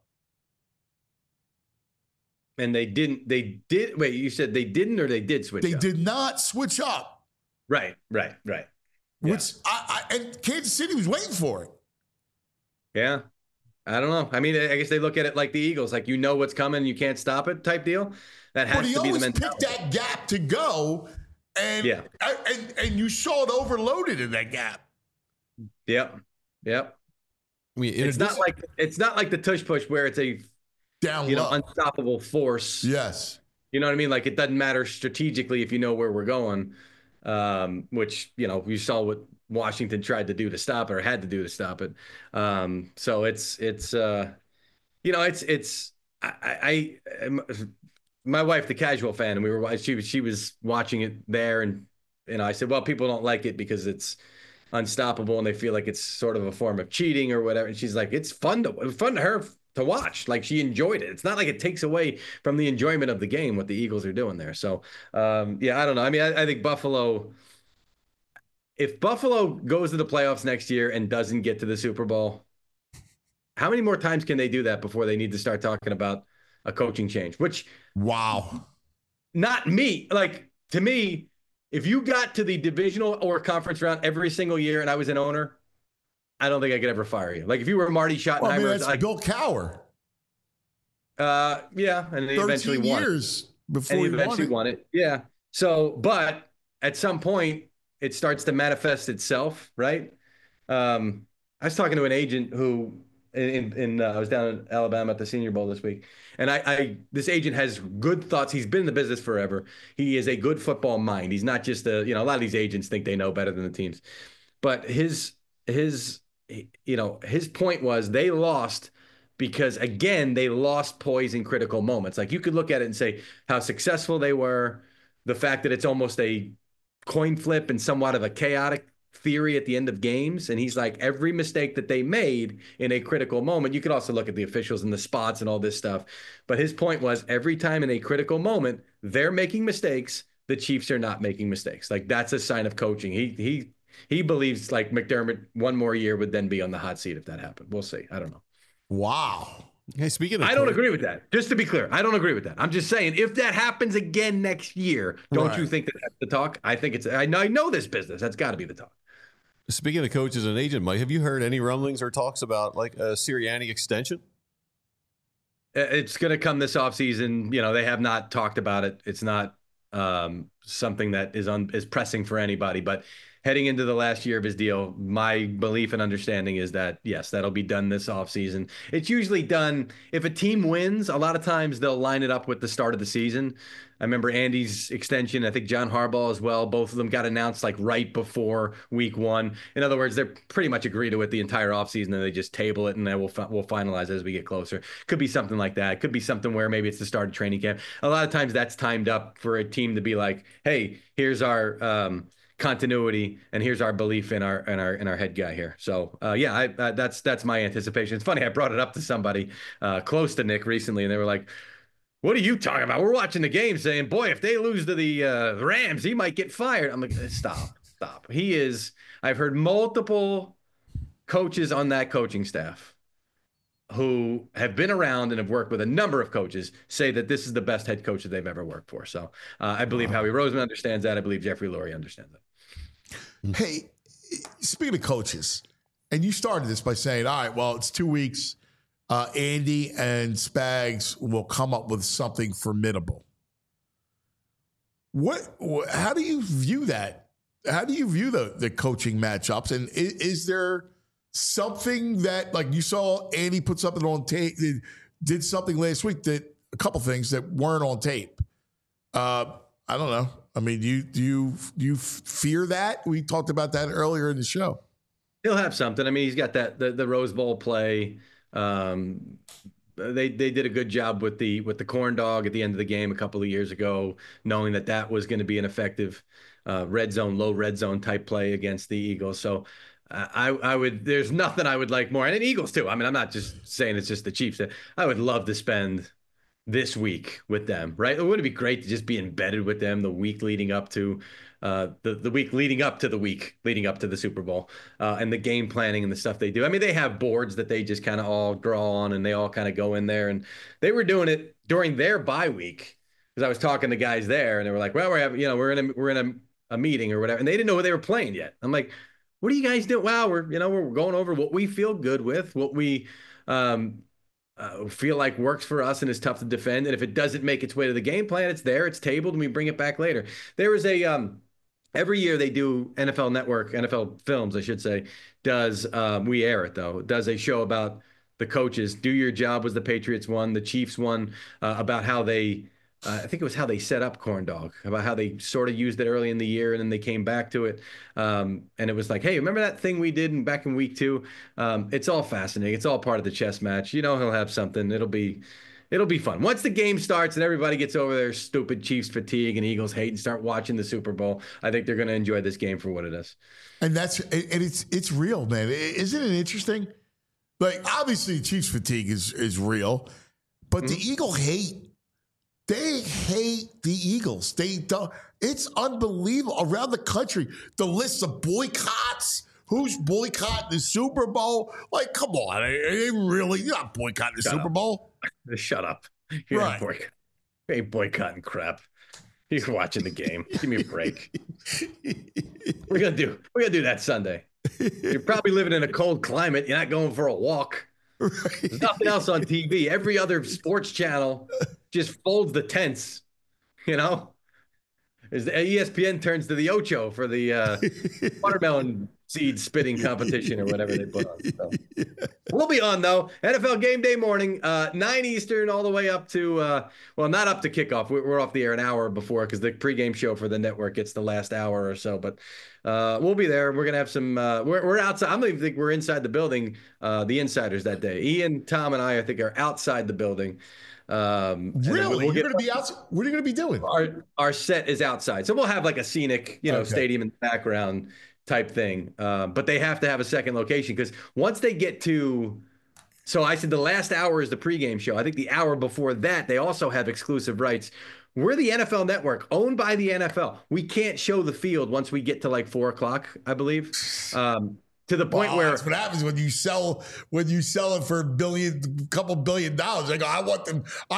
And they didn't. They did. Wait, you said they didn't, or they did switch?
They
up?
did not switch up,
Right.
which and Kansas City was waiting for it.
Yeah. I don't know. I mean, I guess they look at it like the Eagles, like you know what's coming, you can't stop it type deal. That has
But he
to be the
always
mentality.
picked that gap to go, and
Yeah.
and you saw it overloaded in that gap.
Yep.
I mean,
It's not like the tush push where it's a
Down
you know
low.
unstoppable force.
Yes.
You know what I mean? Like it doesn't matter strategically if you know where we're going, which you know we saw what Washington tried to do to stop it or had to do to stop it. So it's you know it's my wife, the casual fan, and she was watching it there, and you know I said, well, people don't like it because it's unstoppable and they feel like it's sort of a form of cheating or whatever. And she's like, it's fun to her to watch. Like she enjoyed it. It's not like it takes away from the enjoyment of the game what the Eagles are doing there. So yeah, I don't know. I mean, I think if Buffalo goes to the playoffs next year and doesn't get to the Super Bowl, how many more times can they do that before they need to start talking about a coaching change? Which
Wow.
not me. Like to me, if you got to the divisional or conference round every single year and I was an owner, I don't think I could ever fire you. Like if you were Marty Schottenheimer,
Well, I mean,
it's
that's
like,
Bill Cowher.
yeah, and he
13
eventually won.
years before
And he
he
eventually
won
won it. Yeah. So, but at some point, it starts to manifest itself, right? I was talking to an agent who, I was down in Alabama at the Senior Bowl this week, and this agent has good thoughts. He's been in the business forever. He is a good football mind. He's not just a lot of these agents think they know better than the teams, but his point was they lost because again, they lost poise in critical moments. Like you could look at it and say how successful they were, the fact that it's almost a coin flip and somewhat of a chaotic theory at the end of games. And he's like, every mistake that they made in a critical moment, you could also look at the officials and the spots and all this stuff. But his point was every time in a critical moment, they're making mistakes. The Chiefs are not making mistakes. Like that's a sign of coaching. He believes like McDermott one more year would then be on the hot seat if that happened. We'll see. I don't know.
Wow.
Hey, speaking of,
I don't agree with that. Just to be clear, I don't agree with that. I'm just saying, if that happens again next year, don't
Right.
you think that that's the talk? I think it's. I know this business. That's got to be the talk.
Speaking of coaches and agent, Mike, have you heard any rumblings or talks about like a Sirianni extension?
It's going to come this offseason. You know, they have not talked about it. It's not something that is pressing for anybody. But heading into the last year of his deal, my belief and understanding is that, yes, that'll be done this offseason. It's usually done if a team wins. A lot of times they'll line it up with the start of the season. I remember Andy's extension. I think John Harbaugh as well. Both of them got announced like right before week one. In other words, they're pretty much agree to it the entire offseason, and they just table it, and then we'll finalize as we get closer. Could be something like that. Could be something where maybe it's the start of training camp. A lot of times that's timed up for a team to be like, hey, here's our continuity, and here's our belief in our head guy here. So yeah, that's my anticipation. It's funny, I brought it up to somebody close to Nick recently, and they were like, what are you talking about? We're watching the game saying, boy, if they lose to the Rams, he might get fired. I'm like, stop. I've heard multiple coaches on that coaching staff who have been around and have worked with a number of coaches say that this is the best head coach that they've ever worked for. So I believe Howie Roseman understands that. I believe Jeffrey Lurie understands that.
Hey, speaking of coaches, and you started this by saying, all right, well, it's 2 weeks. Andy and Spags will come up with something formidable. How do you view that? How do you view the coaching matchups? And is there something that, like you saw Andy put something on tape, did something last week that a couple things that weren't on tape? I don't know. I mean, do you fear that? We talked about that earlier in the show.
He'll have something. I mean, he's got the Rose Bowl play. They did a good job with the corn dog at the end of the game a couple of years ago, knowing that was going to be an effective low red zone type play against the Eagles. So I would, there's nothing I would like more. And the Eagles too. I mean, I'm not just saying it's just the Chiefs. I would love to spend this week with them, right? It would be great to just be embedded with them the week leading up to the week leading up to the week leading up to the Super Bowl and the game planning and the stuff they do. I mean, they have boards that they just kind of all draw on and they all kind of go in there, and they were doing it during their bye week because I was talking to guys there and they were like, well, we're in a meeting or whatever, and they didn't know who they were playing yet. I'm like, what are you guys doing? Wow, we're going over what we feel good with, what we feel like works for us and is tough to defend. And if it doesn't make its way to the game plan, it's there, it's tabled, and we bring it back later. There was every year they do NFL Films, I should say, we air it though, does a show about the coaches. Do Your Job was the Patriots one, the Chiefs one, about how they, I think it was how they set up corn dog, about how they sort of used it early in the year and then they came back to it. And it was like, hey, remember that thing we did back in week 2? It's all fascinating. It's all part of the chess match. He'll have something. It'll be fun. Once the game starts and everybody gets over their stupid Chiefs fatigue and Eagles hate and start watching the Super Bowl, I think they're going to enjoy this game for what it is.
And it's real, man. Isn't it interesting? Like, obviously Chiefs fatigue is real, but the Eagle hate, they hate the Eagles. They don't. It's unbelievable. Around the country, the lists of boycotts. Who's boycotting the Super Bowl? Like, come on. You're not boycotting the Super Bowl.
Shut up. You're not boycotting. You ain't boycotting crap. You're watching the game. Give me a break. We're gonna do that Sunday. You're probably living in a cold climate. You're not going for a walk. Right. There's nothing else on TV. Every other sports channel just folds the tents, As the ESPN turns to the Ocho for the watermelon seed spitting competition or whatever they put on. So. We'll be on, though. NFL Game Day morning, 9 Eastern, all the way up to, not up to kickoff. We're off the air an hour before because the pregame show for the network gets the last hour or so. But we'll be there. We're going to have some, we're outside. I don't even think we're inside the building, the insiders that day. Ian, Tom, and I think, are outside the building.
Really? You're going to be outside? What are you going to be doing?
Our set is outside. So we'll have like a scenic, stadium in the background type thing. But they have to have a second location because once they get to, so I said the last hour is the pregame show. I think the hour before that, they also have exclusive rights. We're the NFL Network, owned by the NFL. We can't show the field once we get to like 4:00, I believe. To the point where
that's what happens when you sell it for couple $1 billion. I go, I want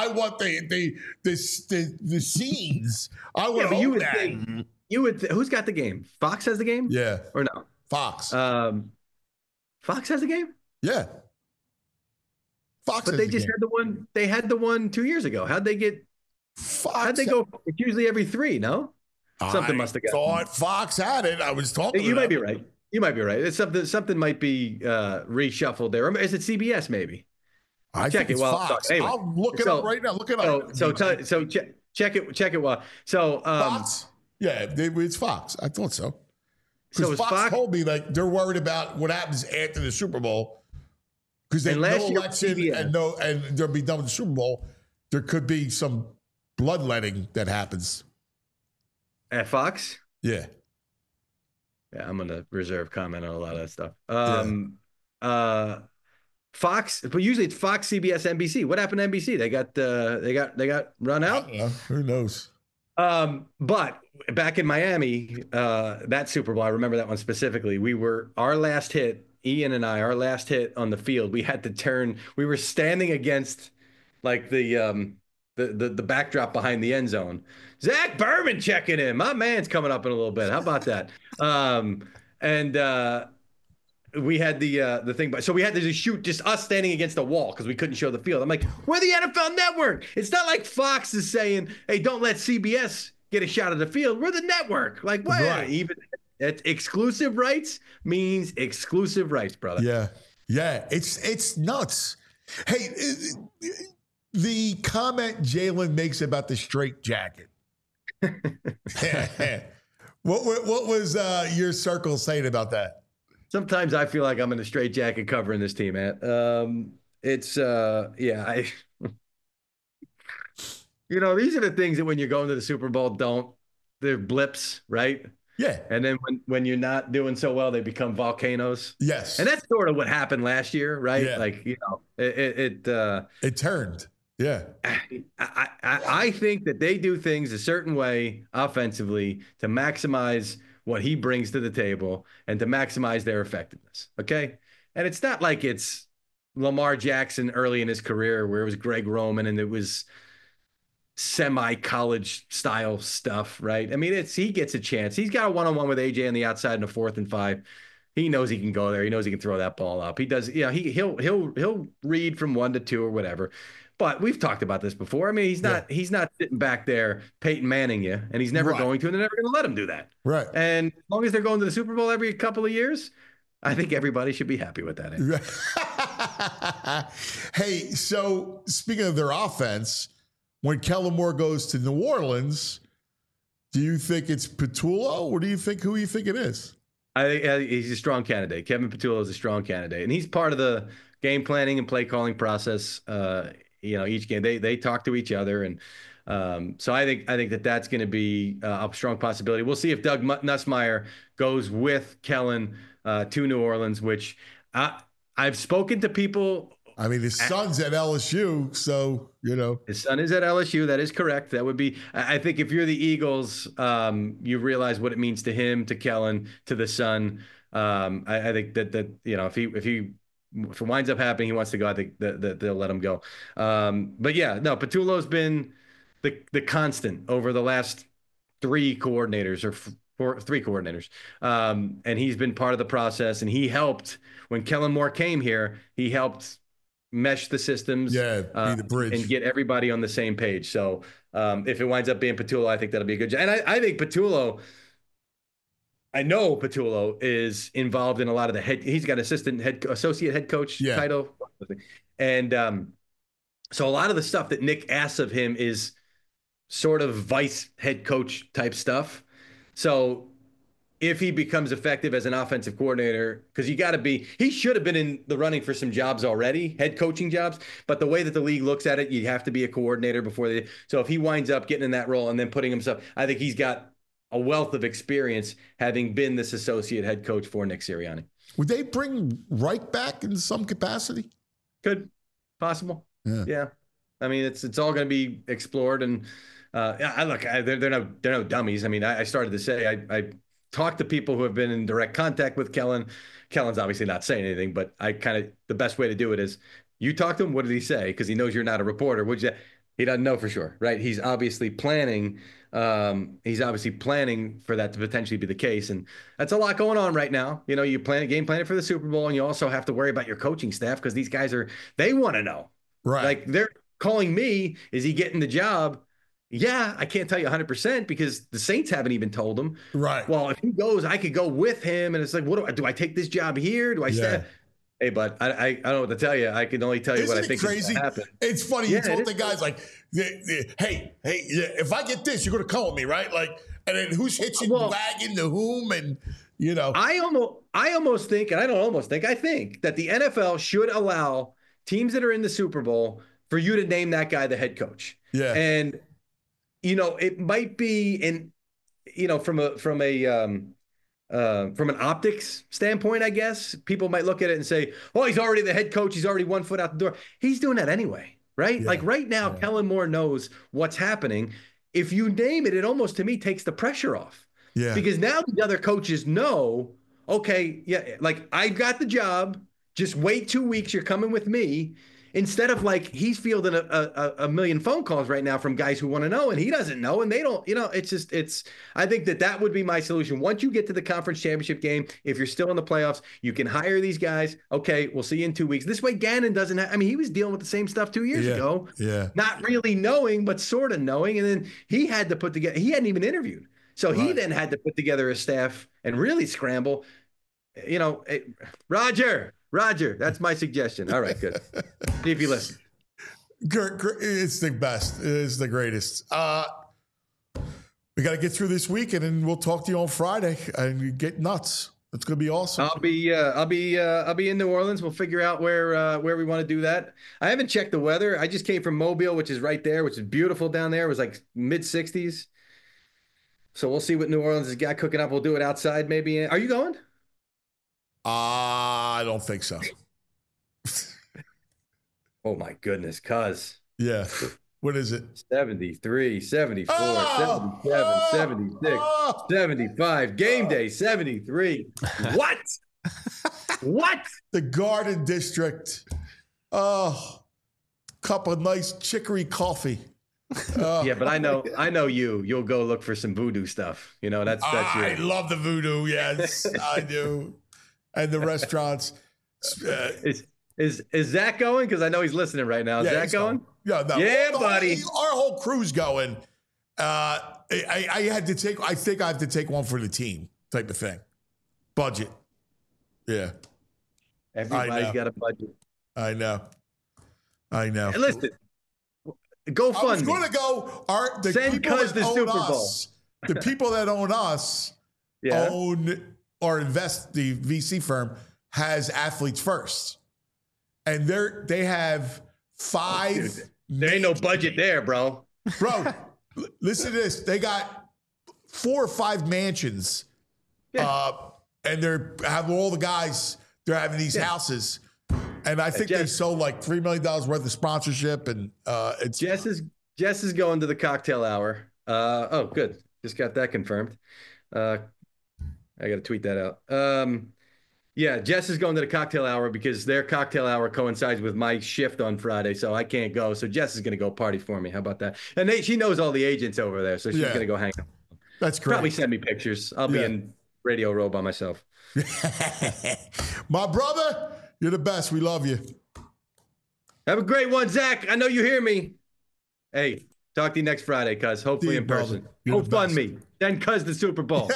the scenes. I want to own that.
Who's got the game? Fox has the game?
Yeah.
Or no?
Fox.
Fox has the game?
Yeah.
Fox. But they just had the one. They had the one 2 years ago. How'd they get? How'd they go? It's usually every 3. No. Something must have got.
Thought Fox had it. I was talking.
You might be right. You might be right. It's something might be reshuffled there. Or is it CBS maybe?
I check it. Fox. Anyway, I'll look it up right now. Look it up.
So check it. While
Fox. Yeah, it's Fox. I thought so. Because Fox told me like they're worried about what happens after the Super Bowl because they know election and they'll be done with the Super Bowl. There could be some bloodletting that happens
at Fox.
Yeah.
Yeah, I'm gonna reserve comment on a lot of that stuff. Fox, but usually it's Fox, CBS, NBC. What happened to NBC? They got run out.
Who knows?
But back in Miami, that Super Bowl, I remember that one specifically. Our last hit, Ian and I, our last hit on the field, we had to turn. We were standing against like the backdrop behind the end zone. Zach Berman checking in. My man's coming up in a little bit. How about that? We had the thing, but so we had to just shoot just us standing against a wall because we couldn't show the field. I'm like, we're the NFL Network. It's not like Fox is saying, hey, don't let CBS get a shot of the field. We're the network. Like, what?
Right.
Even exclusive rights means exclusive rights, brother.
Yeah. It's nuts. Hey, the comment Jalen makes about the straight jacket. What was your circle saying about that?
Sometimes I feel like I'm in a straight jacket covering this team, man. These are the things that when you're going to the Super Bowl, they're blips, right?
Yeah.
And then when you're not doing so well, they become volcanoes.
Yes.
And that's sort of what happened last year, right?
Yeah.
Like, it
turned. Yeah.
I think that they do things a certain way offensively to maximize what he brings to the table and to maximize their effectiveness. Okay. And it's not like it's Lamar Jackson early in his career where it was Greg Roman and it was semi-college style stuff, right? I mean, he gets a chance. He's got a one-on-one with AJ on the outside in a 4th and 5. He knows he can go there. He knows he can throw that ball up. He does, he'll read from 1 to 2 or whatever. But we've talked about this before. I mean, he's not sitting back there Peyton Manning you, and he's never going to, and they're never going to let him do that.
Right.
And as long as they're going to the Super Bowl every couple of years, I think everybody should be happy with that.
Hey, so speaking of their offense, when Kellen Moore goes to New Orleans, do you think it's Patullo, or who you think it is?
I think he's a strong candidate. Kevin Patullo is a strong candidate, and he's part of the game planning and play calling process. Each game they talk to each other, and so I think that's going to be a strong possibility. We'll see if Doug Nussmeier goes with Kellen to New Orleans, which I've spoken to people.
I mean, his son's at LSU, so
his son is at LSU. That is correct. That would be. I think if you're the Eagles, you realize what it means to him, to Kellen, to the son. I think that if it winds up happening, he wants to go. I think that they'll let him go. But yeah, no, Patullo's been the constant over the last 3 coordinators or 3 coordinators. And he's been part of the process, and he helped when Kellen Moore came here. He helped mesh the systems,
be the bridge,
and get everybody on the same page. So if it winds up being Patullo, I think that'll be a good job. And I think Patullo. I know Patullo is involved in a lot of he's got associate head coach title. And so a lot of the stuff that Nick asks of him is sort of vice head coach type stuff. So if he becomes effective as an offensive coordinator, because he should have been in the running for some jobs already, head coaching jobs. But the way that the league looks at it, you have to be a coordinator before so if he winds up getting in that role and then putting himself, I think he's got a wealth of experience having been this associate head coach for Nick Sirianni.
Would they bring Reich back in some capacity?
Could. Possible. Yeah. I mean, it's all going to be explored. And they're no dummies. I mean, I started to say, I talked to people who have been in direct contact with Kellen. Kellen's obviously not saying anything, but the best way to do it is you talk to him. What did he say? Because he knows you're not a reporter. He doesn't know for sure, right? He's obviously planning. He's obviously planning for that to potentially be the case. And that's a lot going on right now. You game planning for the Super Bowl, and you also have to worry about your coaching staff because these guys they want to know.
Right.
Like they're calling me, is he getting the job? Yeah, I can't tell you 100% because the Saints haven't even told him.
Right.
Well, if he goes, I could go with him. And it's like, do I take this job here? Do I stay? Hey, bud, I don't know what to tell you. I can only tell you what I think is going to happen.
It's funny. You told the guys like, hey, if I get this, you're going to call me, right? Like, and then who's hitching wagon to whom? And,
I almost think, and I don't almost think, I think that the NFL should allow teams that are in the Super Bowl for you to name that guy the head coach.
Yeah.
And, it might be from a from an optics standpoint, I guess people might look at it and say, "Oh, he's already the head coach. He's already 1 foot out the door." He's doing that anyway, right?
Yeah.
Like right now, Kellen Moore knows what's happening. If you name it, it almost to me takes the pressure off.
Yeah.
Because now the other coaches know, okay, yeah, like I got the job. Just wait 2 weeks. You're coming with me. Instead of like he's fielding a million phone calls right now from guys who want to know and he doesn't know and they don't, I think that would be my solution. Once you get to the conference championship game, if you're still in the playoffs, you can hire these guys. Okay, we'll see you in 2 weeks. This way Gannon doesn't have, he was dealing with the same stuff 2 years ago.
Yeah.
Not really knowing, but sort of knowing. And then he had to put together, he hadn't even interviewed. So he then had to put together a staff and really scramble. Roger, that's my suggestion. All right, good. See if you listen.
It's the best. It's the greatest. We got to get through this week, and then we'll talk to you on Friday and get nuts. It's going to be awesome.
I'll be in New Orleans. We'll figure out where we want to do that. I haven't checked the weather. I just came from Mobile, which is right there, which is beautiful down there. It was like mid-60s. So we'll see what New Orleans has got cooking up. We'll do it outside maybe. Are you going?
I don't think so.
Oh, my goodness, cuz.
Yeah. What is it?
73, 74, 77, 76, 75. Game day, 73. What? What?
The Garden District. Oh, cup of nice chicory coffee.
Yeah, but I know you'll go look for some voodoo stuff. That's
I
your...
love the voodoo. Yes, I do. And the restaurants.
Is Zach going? Because I know he's listening right now. Is Zach going?
Yeah, no.
Yeah, buddy.
Our whole crew's going. I think I have to take one for the team type of thing. Budget. Yeah.
Everybody's got a budget.
I know. Hey,
listen, go fund.
I was going to go.
Send Cuz the Super Bowl.
The people that own us own or invest, the VC firm has Athletes First. And they have 5.
There ain't no budget there, bro.
Bro, listen to this. They got 4 or 5 mansions. And they're having all the guys, they're having these houses. And I think they sold like $3 million worth of sponsorship. And it's
Jess is going to the cocktail hour. Oh, good. Just got that confirmed. I got to tweet that out. Yeah, Jess is going to the cocktail hour because their cocktail hour coincides with my shift on Friday, so I can't go. So Jess is going to go party for me. How about that? And she knows all the agents over there, so she's going to go hang out.
That's great.
Probably send me pictures. I'll be in Radio Row by myself.
My brother, you're the best. We love you.
Have a great one, Zach. I know you hear me. Hey, talk to you next Friday, cuz. Hopefully in person. Go fund me. Then cuz the Super Bowl.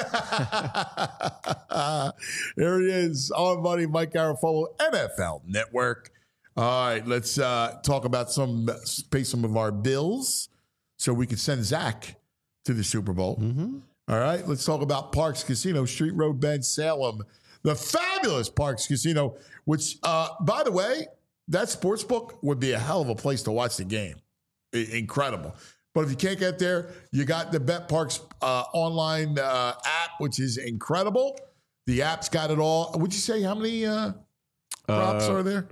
There he is. Our buddy Mike Garafolo, NFL Network. All right, let's pay some of our bills so we can send Zach to the Super Bowl. Mm-hmm. All right, let's talk about Parks Casino, Street Road Bend, Salem. The fabulous Parks Casino, which, by the way, that sportsbook would be a hell of a place to watch the game. Incredible. But if you can't get there, you got the BetParks online app, which is incredible. The app's got it all. Would you say how many props are there?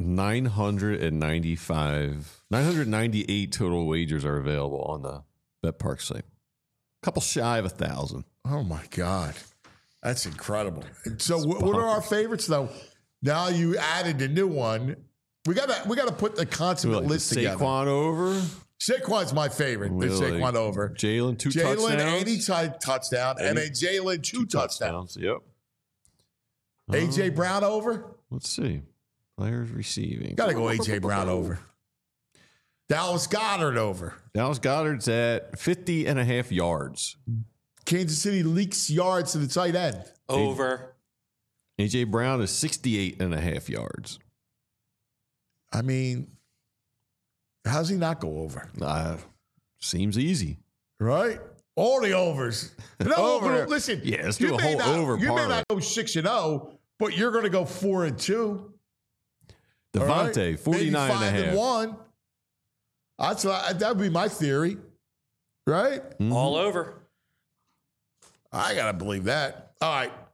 998 total wagers are available on the BetParks site. A couple shy of 1,000.
Oh, my God. That's incredible. And so what are our favorites, though? Now you added a new one. We gotta put the consummate list together.
Saquon over?
Saquon's my favorite.
Really?
Saquon over.
Jalen, 2 touchdowns.
Jalen, anytime touchdown. And then Jalen, 2 touchdowns.
Yep.
A.J. Brown over?
Let's see. Players receiving.
Got to go A.J. Brown over. Dallas Goedert over.
Dallas Goedert's at 50.5 yards.
Kansas City leaks yards to the tight end.
Over.
A.J. Brown is 68.5 yards.
I mean, how's he not go over?
Seems easy.
Right? All the overs. No, over. Listen.
Yeah, let's do a whole over
You
parlay.
may not go 6-0, but you're going to go 4-2.
Devontae, 49.5.
5-1. That would be my theory. Right?
Mm-hmm.
All over.
I got to believe that. All right.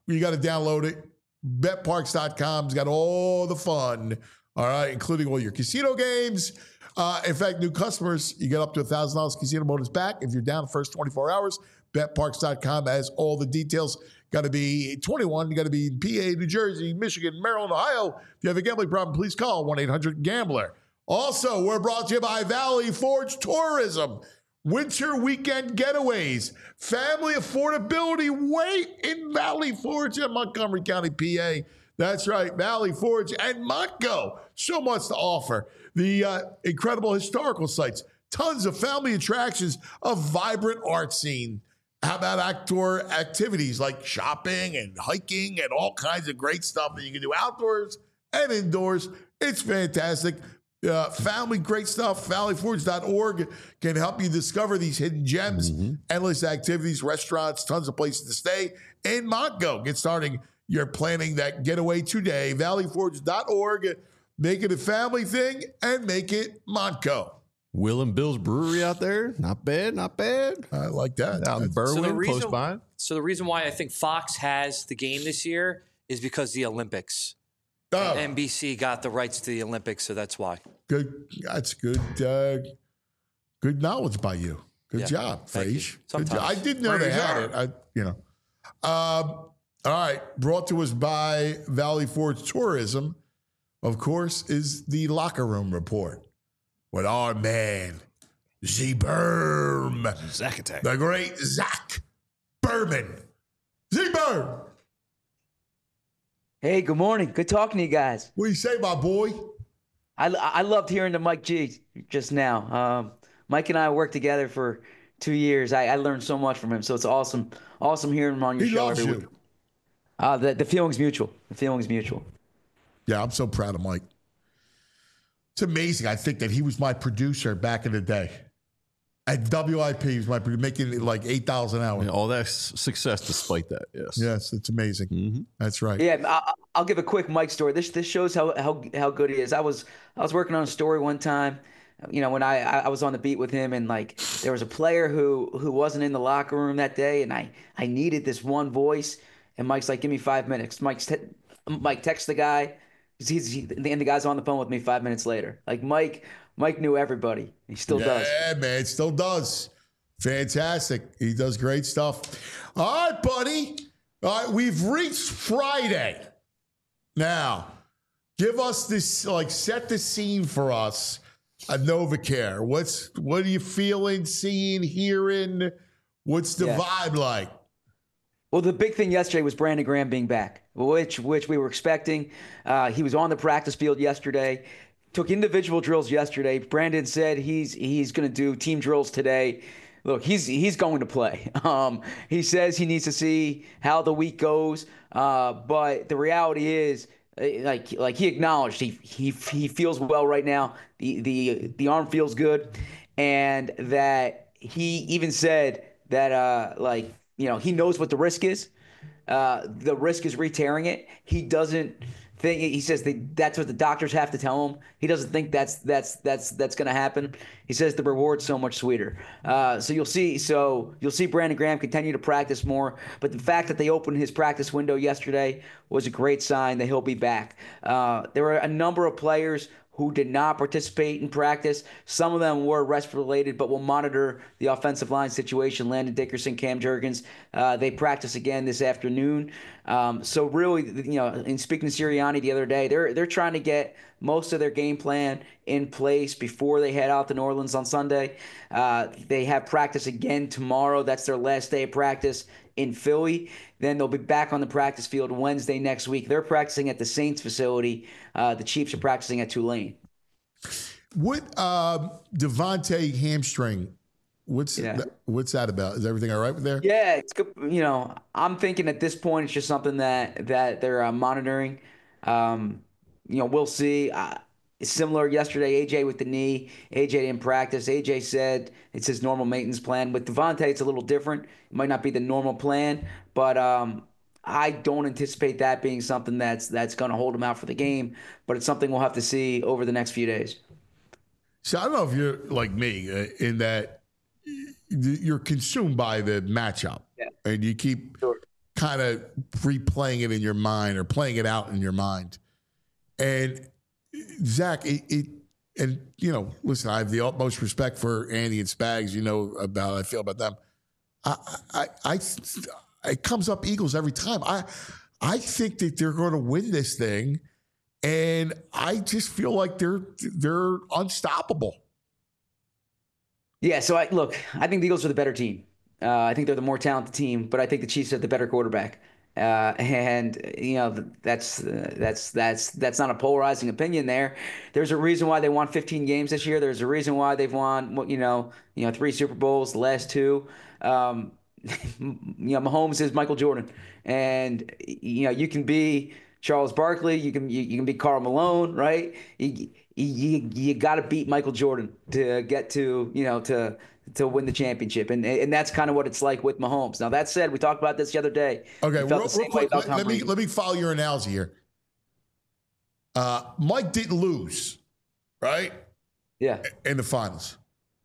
you got to download it. BetParks.com's got all the fun, all right, including all your casino games. In fact, new customers, you get up to $1,000 casino bonus back if you're down the first 24 hours. BetParks.com has all the details. Got to be 21. You got to be in PA, New Jersey, Michigan, Maryland, Ohio. If you have a gambling problem, please call 1-800-GAMBLER. Also, we're brought to you by Valley Forge Tourism. Winter weekend getaways. Family affordability. Wait in Valley Forge in Montgomery County, PA. That's right, Valley Forge and Montgo. So much to offer. The incredible historical sites. Tons of family attractions. A vibrant art scene. How about outdoor activities like shopping and hiking and all kinds of great stuff that you can do outdoors and indoors. It's fantastic. Family, great stuff. ValleyForge.org can help you discover these hidden gems, endless activities, restaurants, tons of places to stay in Montgo. Get starting your planning that getaway today. ValleyForge.org. Make it a family thing and make it Montgo.
Will and Bill's Brewery out there. Not bad, not bad.
I like that.
Out in Berwyn, close by.
So the reason why I think Fox has the game this year is because the Olympics. NBC got the rights to the Olympics, so that's why.
Good. That's good. Good knowledge by you. Good job, Frage. Good job. I didn't know they had it. All right. Brought to us by Valley Forge Tourism, of course, is the Locker Room Report with our man, Z-Berm.
Zach Attack.
The great Zach Berman. Z-Berm.
Hey, good morning. Good talking to you guys.
What do you say, my boy?
I loved hearing the Mike G just now. Mike and I worked together for 2 years. I learned so much from him, so it's awesome hearing him on your show every week. The feeling's mutual. The feeling's mutual.
Yeah, I'm so proud of Mike. It's amazing. I think that he was my producer back in the day. At WIP, he was my producer, making it like $8 an hour.
Yeah, all that success despite that, yes.
Yes, it's amazing. That's right.
Yeah, I'll give a quick Mike story. This shows how good he is. I was working on a story one time, when I was on the beat with him, and like there was a player who wasn't in the locker room that day, and I needed this one voice, and Mike's like, give me 5 minutes. Mike texts the guy, and the guy's on the phone with me 5 minutes later. Like Mike knew everybody. He still does.
Yeah, man, still does. Fantastic. He does great stuff. All right, buddy. All right, we've reached Friday. Now, give us this, set the scene for us at NovaCare. What are you feeling, seeing, hearing? What's the vibe like?
Well, the big thing yesterday was Brandon Graham being back, which we were expecting. He was on the practice field yesterday. Took individual drills yesterday. Brandon said he's going to do team drills today. Look, he's going to play. He says he needs to see how the week goes. But the reality is, like he acknowledged, he feels well right now. The arm feels good, and that he even said that he knows what the risk is. The risk is re-tearing it. He doesn't think. He says that's what the doctors have to tell him. He doesn't think that's going to happen. He says the reward's so much sweeter. So you'll see Brandon Graham continue to practice more. But the fact that they opened his practice window yesterday was a great sign that he'll be back. There were a number of players who did not participate in practice. Some of them were rest-related, but we'll monitor the offensive line situation. Landon Dickerson, Cam Jurgens, they practice again this afternoon. So really, in speaking to Sirianni the other day, they're trying to get most of their game plan in place before they head out to New Orleans on Sunday. They have practice again tomorrow. That's their last day of practice in Philly. Then they'll be back on the practice field Wednesday next week. They're practicing at the Saints facility. The Chiefs are practicing at Tulane.
What Devontae hamstring? What's that about? Is everything all right with there?
Yeah, it's good. I'm thinking at this point it's just something that they're monitoring. We'll see. Similar yesterday, AJ with the knee. AJ didn't practice. AJ said it's his normal maintenance plan. With Devontae, it's a little different. It might not be the normal plan, but I don't anticipate that being something that's going to hold him out for the game. But it's something we'll have to see over the next few days.
So I don't know if you're like me in that you're consumed by the matchup, and you keep kind of replaying it in your mind or playing it out in your mind. And Zach, and listen, I have the utmost respect for Andy and Spags. You know about how I feel about them. It comes up Eagles every time. I think that they're going to win this thing, and I just feel like they're unstoppable.
Yeah. So I think the Eagles are the better team. I think they're the more talented team, but I think the Chiefs have the better quarterback. And that's not a polarizing opinion there. There's a reason why they won 15 games this year. There's a reason why they've won 3 Super Bowls, the last 2. Mahomes is Michael Jordan, and you can be Charles Barkley, you can be Karl Malone, right? You got to beat Michael Jordan to get to win the championship, and that's kind of what it's like with Mahomes. Now that said, we talked about this the other day.
Okay, real quick, let me follow your analogy here. Mike didn't lose, right?
Yeah,
in the finals,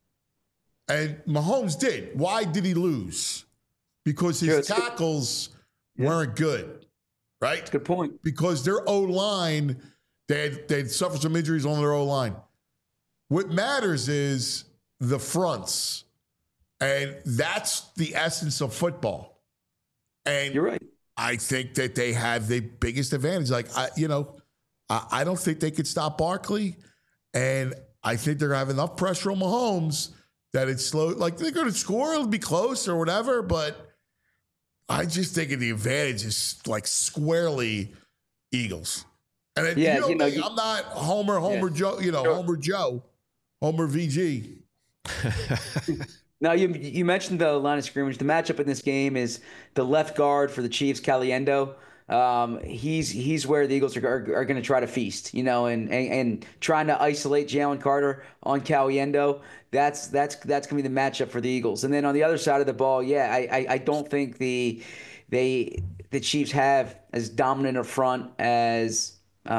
and Mahomes did. Why did he lose? Because his tackles weren't good, right?
That's a good point.
Because their O-line, they'd suffered some injuries on their O-line. What matters is the fronts, and that's the essence of football. And
you're right.
I think that they have the biggest advantage. Like I don't think they could stop Barkley, and I think they're gonna have enough pressure on Mahomes that it's slow. Like they're gonna score, it'll be close or whatever. But I just think the advantage is like squarely Eagles. And then, I'm not Homer Joe, Homer Joe, Homer VG.
Now, you mentioned the line of scrimmage. The matchup in this game is the left guard for the Chiefs, Caliendo. He's where the Eagles are going to try to feast, and trying to isolate Jalen Carter on Caliendo. That's going to be the matchup for the Eagles. And then on the other side of the ball, I don't think the Chiefs have as dominant a front as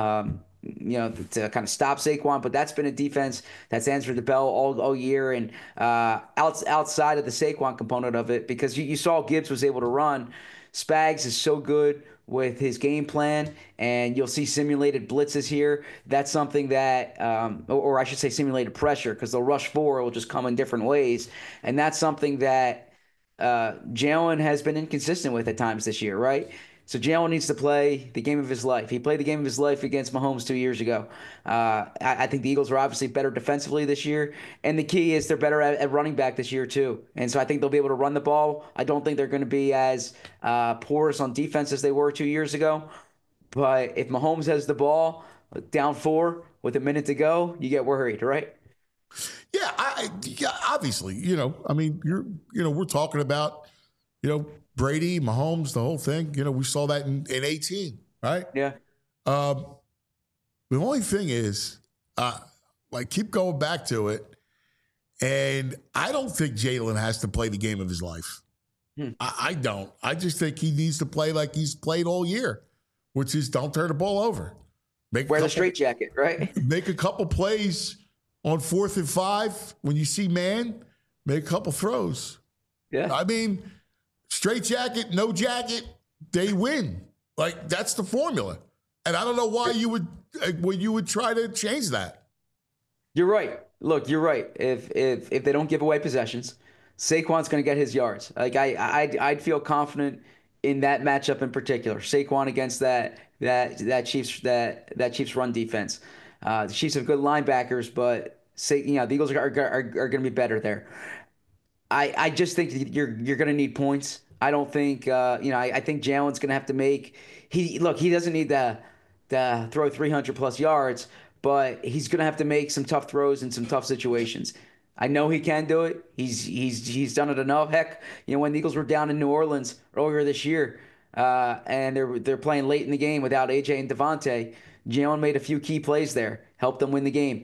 to kind of stop Saquon, but that's been a defense that's answered the bell all year. And outside of the Saquon component of it, because you saw Gibbs was able to run, Spags is so good with his game plan, and you'll see simulated blitzes here. That's something that, or I should say simulated pressure, because they'll rush 4, it will just come in different ways. And that's something that Jalen has been inconsistent with at times this year, right? So Jalen needs to play the game of his life. He played the game of his life against Mahomes 2 years ago. I think the Eagles are obviously better defensively this year. And the key is they're better at running back this year too. And so I think they'll be able to run the ball. I don't think they're going to be as porous on defense as they were 2 years ago. But if Mahomes has the ball down 4 with a minute to go, you get worried, right?
Yeah, obviously, we're talking about, Brady, Mahomes, the whole thing. We saw that in 18, right?
Yeah.
The only thing is, keep going back to it, and I don't think Jalen has to play the game of his life. I don't. I just think he needs to play like he's played all year, which is don't turn the ball over.
Wear the straitjacket, right?
Make a couple plays on 4th and 5. When you see man, make a couple throws.
Yeah.
I mean, straight jacket, no jacket, they win. Like, that's the formula. And I don't know why you would try to change that.
You're right. Look, you're right. If they don't give away possessions, Saquon's going to get his yards. Like I'd feel confident in that matchup in particular. Saquon against that Chiefs run defense. The Chiefs have good linebackers, but the Eagles are going to be better there. I just think you're going to need points. I don't think I think Jalen's going to have to make. He doesn't need to throw 300 plus yards, but he's going to have to make some tough throws in some tough situations. I know he can do it. He's done it enough. Heck, when the Eagles were down in New Orleans earlier this year, and they're playing late in the game without AJ and Devontae, Jalen made a few key plays there, helped them win the game.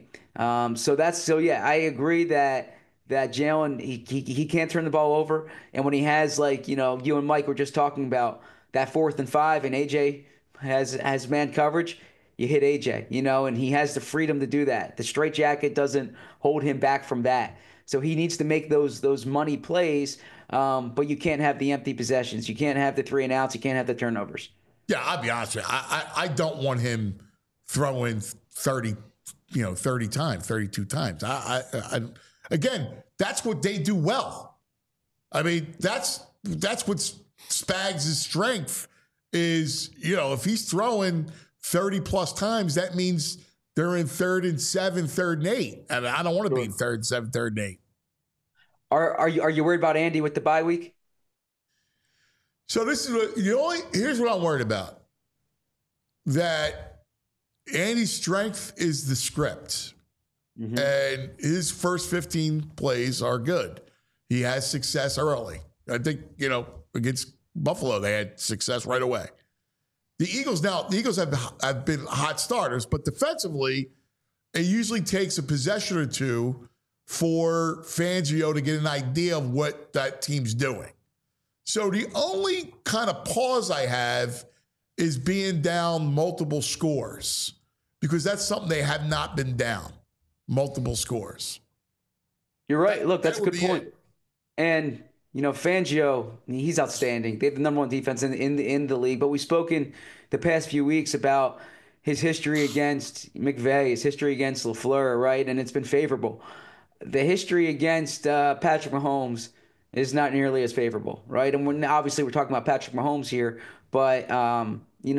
I agree that Jalen he can't turn the ball over, and when he has you and Mike were just talking about that 4th and 5, and AJ has man coverage, you hit AJ, and he has the freedom to do that. The straitjacket doesn't hold him back from that. So he needs to make those money plays, but you can't have the empty possessions. You can't have the 3 and outs. You can't have the turnovers.
Yeah, I'll be honest with you. I don't want him throwing 30 times, 32 times. Again, that's what they do well. I mean, that's what Spags' strength is. If he's throwing 30 plus times, that means they're in 3rd and 7, 3rd and 8. And I don't want to be in 3rd and 7, 3rd and 8.
Are you worried about Andy with the bye week?
So this is here's what I'm worried about. That Andy's strength is the script. Mm-hmm. And his first 15 plays are good. He has success early. I think, against Buffalo, they had success right away. The Eagles have been hot starters, but defensively, it usually takes a possession or two for Fangio to get an idea of what that team's doing. So the only kind of pause I have is being down multiple scores, because that's something they have not been down, multiple scores.
You're right. Look, that's a good point. And, Fangio, he's outstanding. They have the number 1 defense in the league. But we've spoken the past few weeks about his history against McVay, his history against LaFleur, right? And it's been favorable. The history against Patrick Mahomes is not nearly as favorable, right? And obviously we're talking about Patrick Mahomes here, but I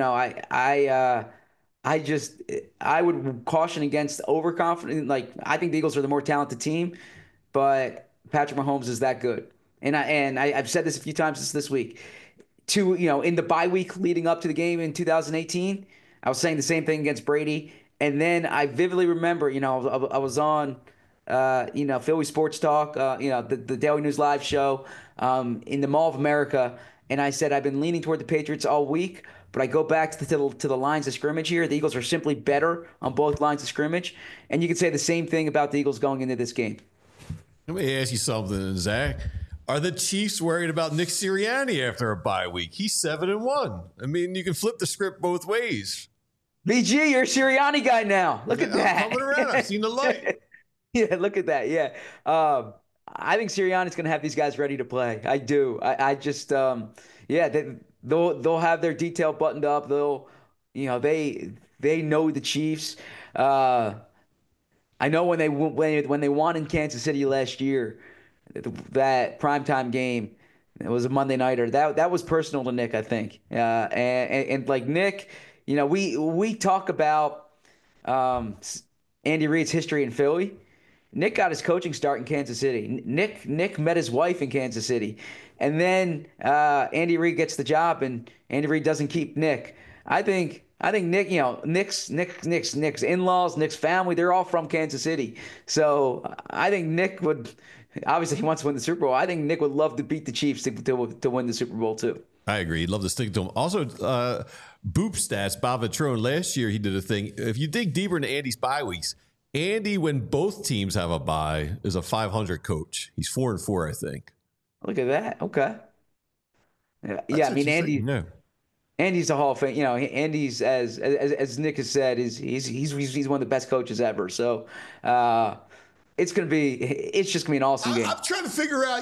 would caution against overconfident. Like, I think the Eagles are the more talented team, but Patrick Mahomes is that good. And I've said this a few times this week. In the bye week leading up to the game in 2018, I was saying the same thing against Brady. And then I vividly remember, I was on Philly Sports Talk, the Daily News Live show in the Mall of America. And I said, I've been leaning toward the Patriots all week, but I go back to the lines of scrimmage here. The Eagles are simply better on both lines of scrimmage. And you could say the same thing about the Eagles going into this game.
Let me ask you something, Zach. Are the Chiefs worried about Nick Sirianni after a bye week? He's 7-1. I mean, you can flip the script both ways.
BG, you're a Sirianni guy now. Look at that.
I'm coming around. I've seen the light.
Yeah, look at that. Yeah. I think Sirianni's going to have these guys ready to play. I do. I just, they'll have their detail buttoned up. They know the Chiefs. I know when they won in Kansas City last year, that primetime game, it was a Monday nighter. That was personal to Nick, I think. And like Nick, we talk about Andy Reid's history in Philly. Nick got his coaching start in Kansas City. Nick met his wife in Kansas City. And then Andy Reid gets the job, and Andy Reid doesn't keep Nick. I think Nick, Nick's in-laws, Nick's family, they're all from Kansas City. So I think Nick would, obviously he wants to win the Super Bowl. I think Nick would love to beat the Chiefs to win the Super Bowl too.
I agree. He'd love to stick to him. Also, Boop Stats, Bob Vitrone, last year he did a thing. If you dig deeper into Andy's bye weeks, Andy, when both teams have a bye, is a 500 coach. He's 4-4, I think.
Look at that. Okay. Yeah, I mean, Andy. No. Andy's a Hall of Fame. Andy's as Nick has said, he's one of the best coaches ever. So it's just gonna be an awesome game.
I'm trying to figure out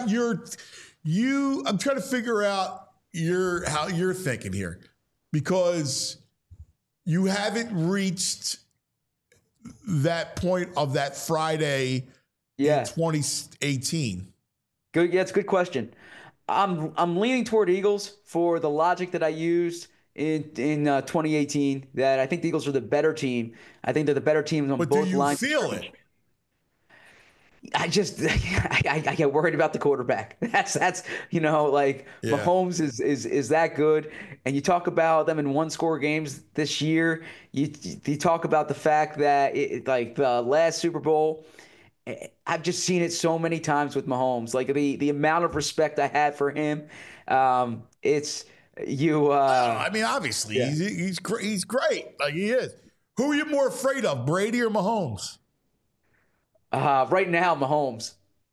how you're thinking here, because you haven't reached that point of that Friday in 2018.
Good. Yeah, it's a good question. I'm leaning toward Eagles for the logic that I used in 2018, that I think the Eagles are the better team. I think they're the better team on both lines.
But do you feel it?
I get worried about the quarterback. That's Mahomes is that good. And you talk about them in 1-score games this year. You talk about the fact that the last Super Bowl, I've just seen it so many times with Mahomes. Like the amount of respect I had for him. It's you.
I mean, obviously, yeah. he's great. Like he is. Who are you more afraid of, Brady or Mahomes?
Right now, Mahomes.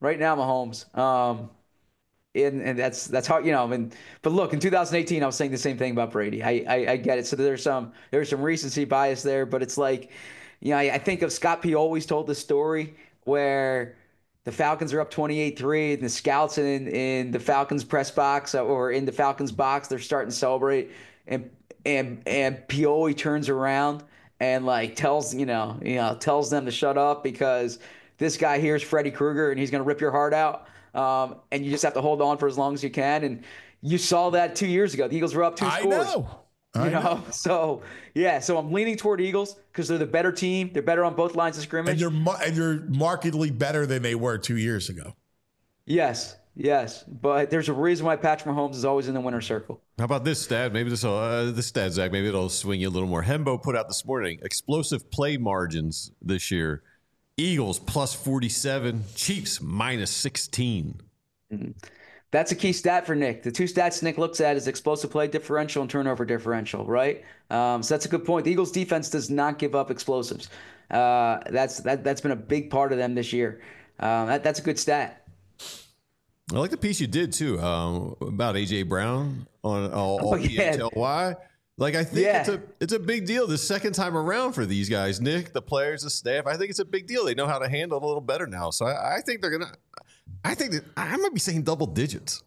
And that's hard, but look, in 2018, I was saying the same thing about Brady. I get it. So there's some recency bias there, but it's like, I think of Scott P. always told the story where the Falcons are up 28-3, and the scouts in the Falcons press box or in the Falcons box, they're starting to celebrate, and Pioli turns around and like tells them to shut up because this guy here is Freddy Krueger and he's going to rip your heart out, and you just have to hold on for as long as you can. And you saw that 2 years ago. The Eagles were up 2 scores. I know. So I'm leaning toward Eagles because they're the better team. They're better on both lines of scrimmage.
And you're markedly better than they were 2 years ago.
Yes. But there's a reason why Patrick Mahomes is always in the winner's circle.
How about this stat? Maybe this stat, Zach, maybe it'll swing you a little more. Hembo put out this morning, explosive play margins this year. Eagles plus 47, Chiefs minus 16. Mm-hmm.
That's a key stat for Nick. The two stats Nick looks at is explosive play differential and turnover differential, right? So that's a good point. The Eagles defense does not give up explosives. That's been a big part of them this year. That's a good stat.
I like the piece you did too about AJ Brown on PHLY. Like I think it's a big deal the second time around for these guys, Nick, the players, the staff. I think it's a big deal. They know how to handle it a little better now. So I think they're gonna. I think that I might be saying double digits.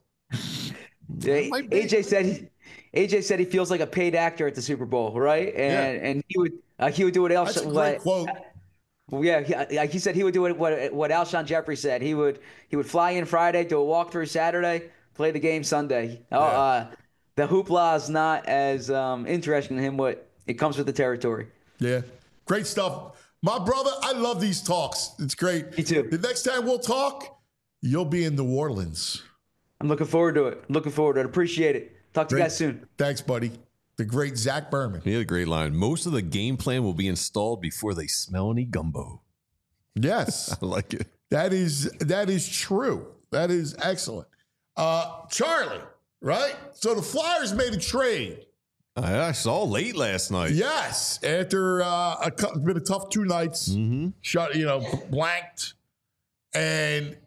AJ said he feels like a paid actor at the Super Bowl, right? And he would do what else.
That's a great quote.
Yeah, he said he would do what Alshon Jeffrey said. He would fly in Friday, do a walkthrough Saturday, play the game Sunday. The hoopla is not as interesting to him. What it comes with the territory.
Yeah, great stuff, my brother. I love these talks. It's great.
Me too.
The next time we'll talk, you'll be in New Orleans.
I'm looking forward to it. Appreciate it. Talk to you guys soon.
Thanks, buddy. The great Zach Berman.
He had a great line. Most of the game plan will be installed before they smell any gumbo.
Yes.
I like it.
That is true. That is excellent. Charlie, right? So the Flyers made a trade.
I saw late last night.
Yes. After it's been a tough 2 nights.
Mm-hmm.
Blanked. And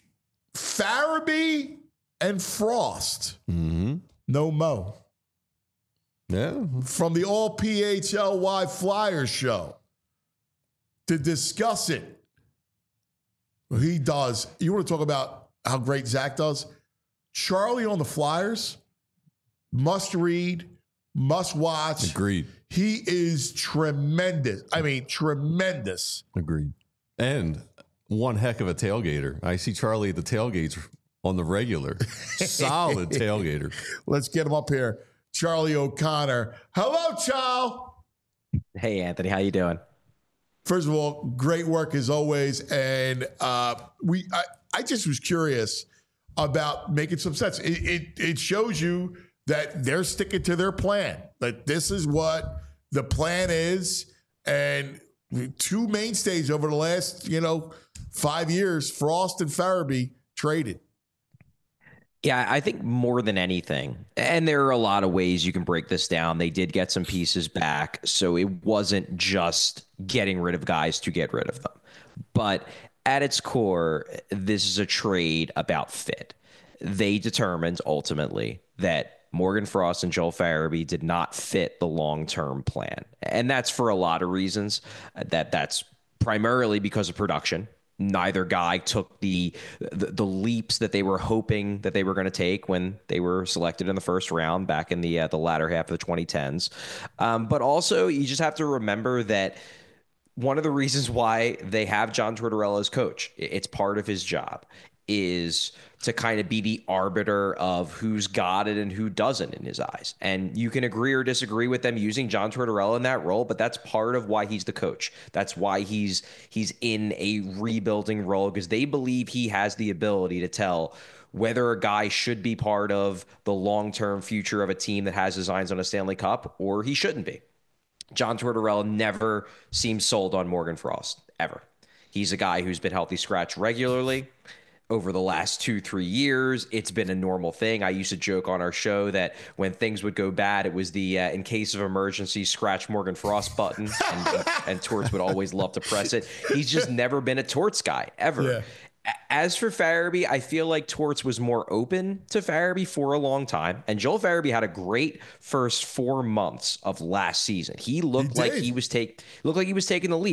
Farabee and Frost.
Mm-hmm.
No mo.
Yeah.
From the All PHLY Flyers show to discuss it. He does. You want to talk about how great Zach does? Charlie on the Flyers, must read, must watch.
Agreed.
He is tremendous. I mean, tremendous.
Agreed. And one heck of a tailgater. I see Charlie at the tailgates on the regular. Solid tailgater.
Let's get him up here. Charlie O'Connor. Hello, Charles.
Hey, Anthony. How you doing?
First of all, great work as always. And I just was curious about making some sense. It shows you that they're sticking to their plan. That this is what the plan is. And 2 mainstays over the last, 5 years, Frost and Farabee traded.
Yeah, I think more than anything, and there are a lot of ways you can break this down. They did get some pieces back, so it wasn't just getting rid of guys to get rid of them. But at its core, this is a trade about fit. They determined ultimately that Morgan Frost and Joel Farabee did not fit the long-term plan. And that's for a lot of reasons. That's primarily because of production. Neither guy took the leaps that they were hoping that they were going to take when they were selected in the first round back in the latter half of the 2010s. But also, you just have to remember that one of the reasons why they have John Tortorella as coach, it's part of his job, is to kind of be the arbiter of who's got it and who doesn't in his eyes. And you can agree or disagree with them using John Tortorella in that role, but that's part of why he's the coach. That's why he's in a rebuilding role, because they believe he has the ability to tell whether a guy should be part of the long-term future of a team that has designs on a Stanley Cup or he shouldn't be. John Tortorella never seems sold on Morgan Frost, ever. He's a guy who's been healthy scratch regularly. Over the last 2-3 years, it's been a normal thing. I used to joke on our show that when things would go bad, it was the in case of emergency, scratch Morgan Frost button, and Torts would always love to press it. He's just never been a Torts guy, ever. Yeah. As for Farabee, I feel like Torts was more open to Farabee for a long time. And Joel Farabee had a great first 4 months of last season. He looked like he was taking the leap.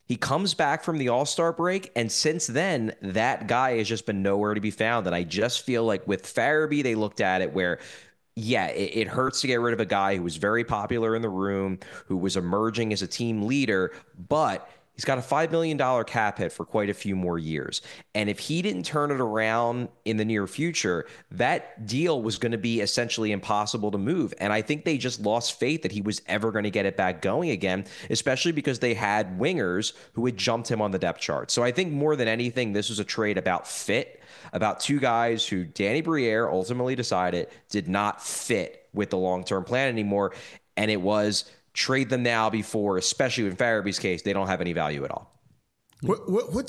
He comes back from the All-Star break, and since then, that guy has just been nowhere to be found. And I just feel like with Farabee, they looked at it where, yeah, it hurts to get rid of a guy who was very popular in the room, who was emerging as a team leader, but he's got a $5 million cap hit for quite a few more years. And if he didn't turn it around in the near future, that deal was going to be essentially impossible to move. And I think they just lost faith that he was ever going to get it back going again, especially because they had wingers who had jumped him on the depth chart. So I think more than anything, this was a trade about fit, about two guys who Danny Briere ultimately decided did not fit with the long-term plan anymore. And it was trade them now before, especially in Farabee's case, they don't have any value at all.
What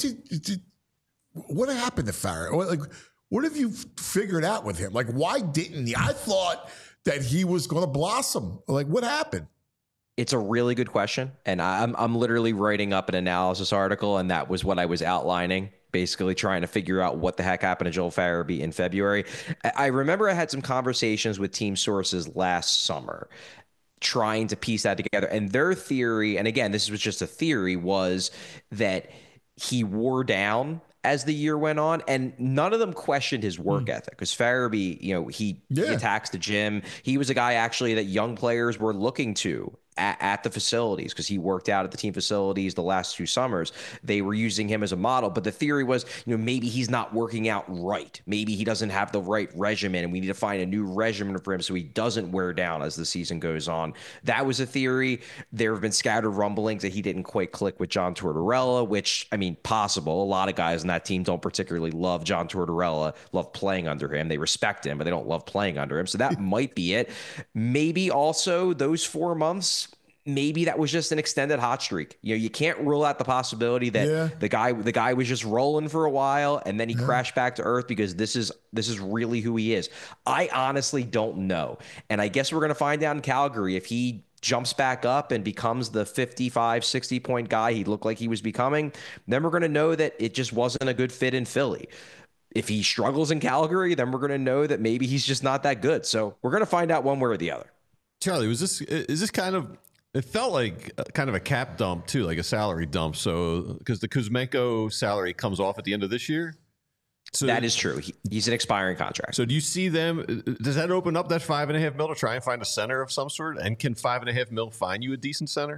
happened to Farabee? What have you figured out with him? Like, why didn't he? I thought that he was going to blossom. Like, what happened?
It's a really good question. And I'm literally writing up an analysis article, and that was what I was outlining, basically trying to figure out what the heck happened to Joel Farabee in February. I remember I had some conversations with team sources last summer trying to piece that together. And their theory, and again, this was just a theory, was that he wore down as the year went on, and none of them questioned his work ethic, because Farabee, he attacks the gym. He was a guy actually that young players were looking to at the facilities, because he worked out at the team facilities the last 2 summers. They were using him as a model, but the theory was, maybe he's not working out right. Maybe he doesn't have the right regimen, and we need to find a new regimen for him so he doesn't wear down as the season goes on. That was a theory. There have been scattered rumblings that he didn't quite click with John Tortorella, which, possible. A lot of guys on that team don't particularly love John Tortorella, love playing under him. They respect him, but they don't love playing under him. So that might be it. Maybe also those 4 months, maybe that was just an extended hot streak. You can't rule out the possibility that the guy was just rolling for a while and then he crashed back to earth, because this is really who he is. I honestly don't know. And I guess we're going to find out in Calgary if he jumps back up and becomes the 55, 60 point guy he looked like he was becoming. Then we're going to know that it just wasn't a good fit in Philly. If he struggles in Calgary, then we're going to know that maybe he's just not that good. So we're going to find out one way or the other.
Charlie, is this kind of, it felt like kind of a cap dump too, like a salary dump. So because the Kuzmenko salary comes off at the end of this year. So
that is true. He's an expiring contract.
So do you see them? Does that open up that $5.5 million to try and find a center of some sort? And can $5.5 million find you a decent center?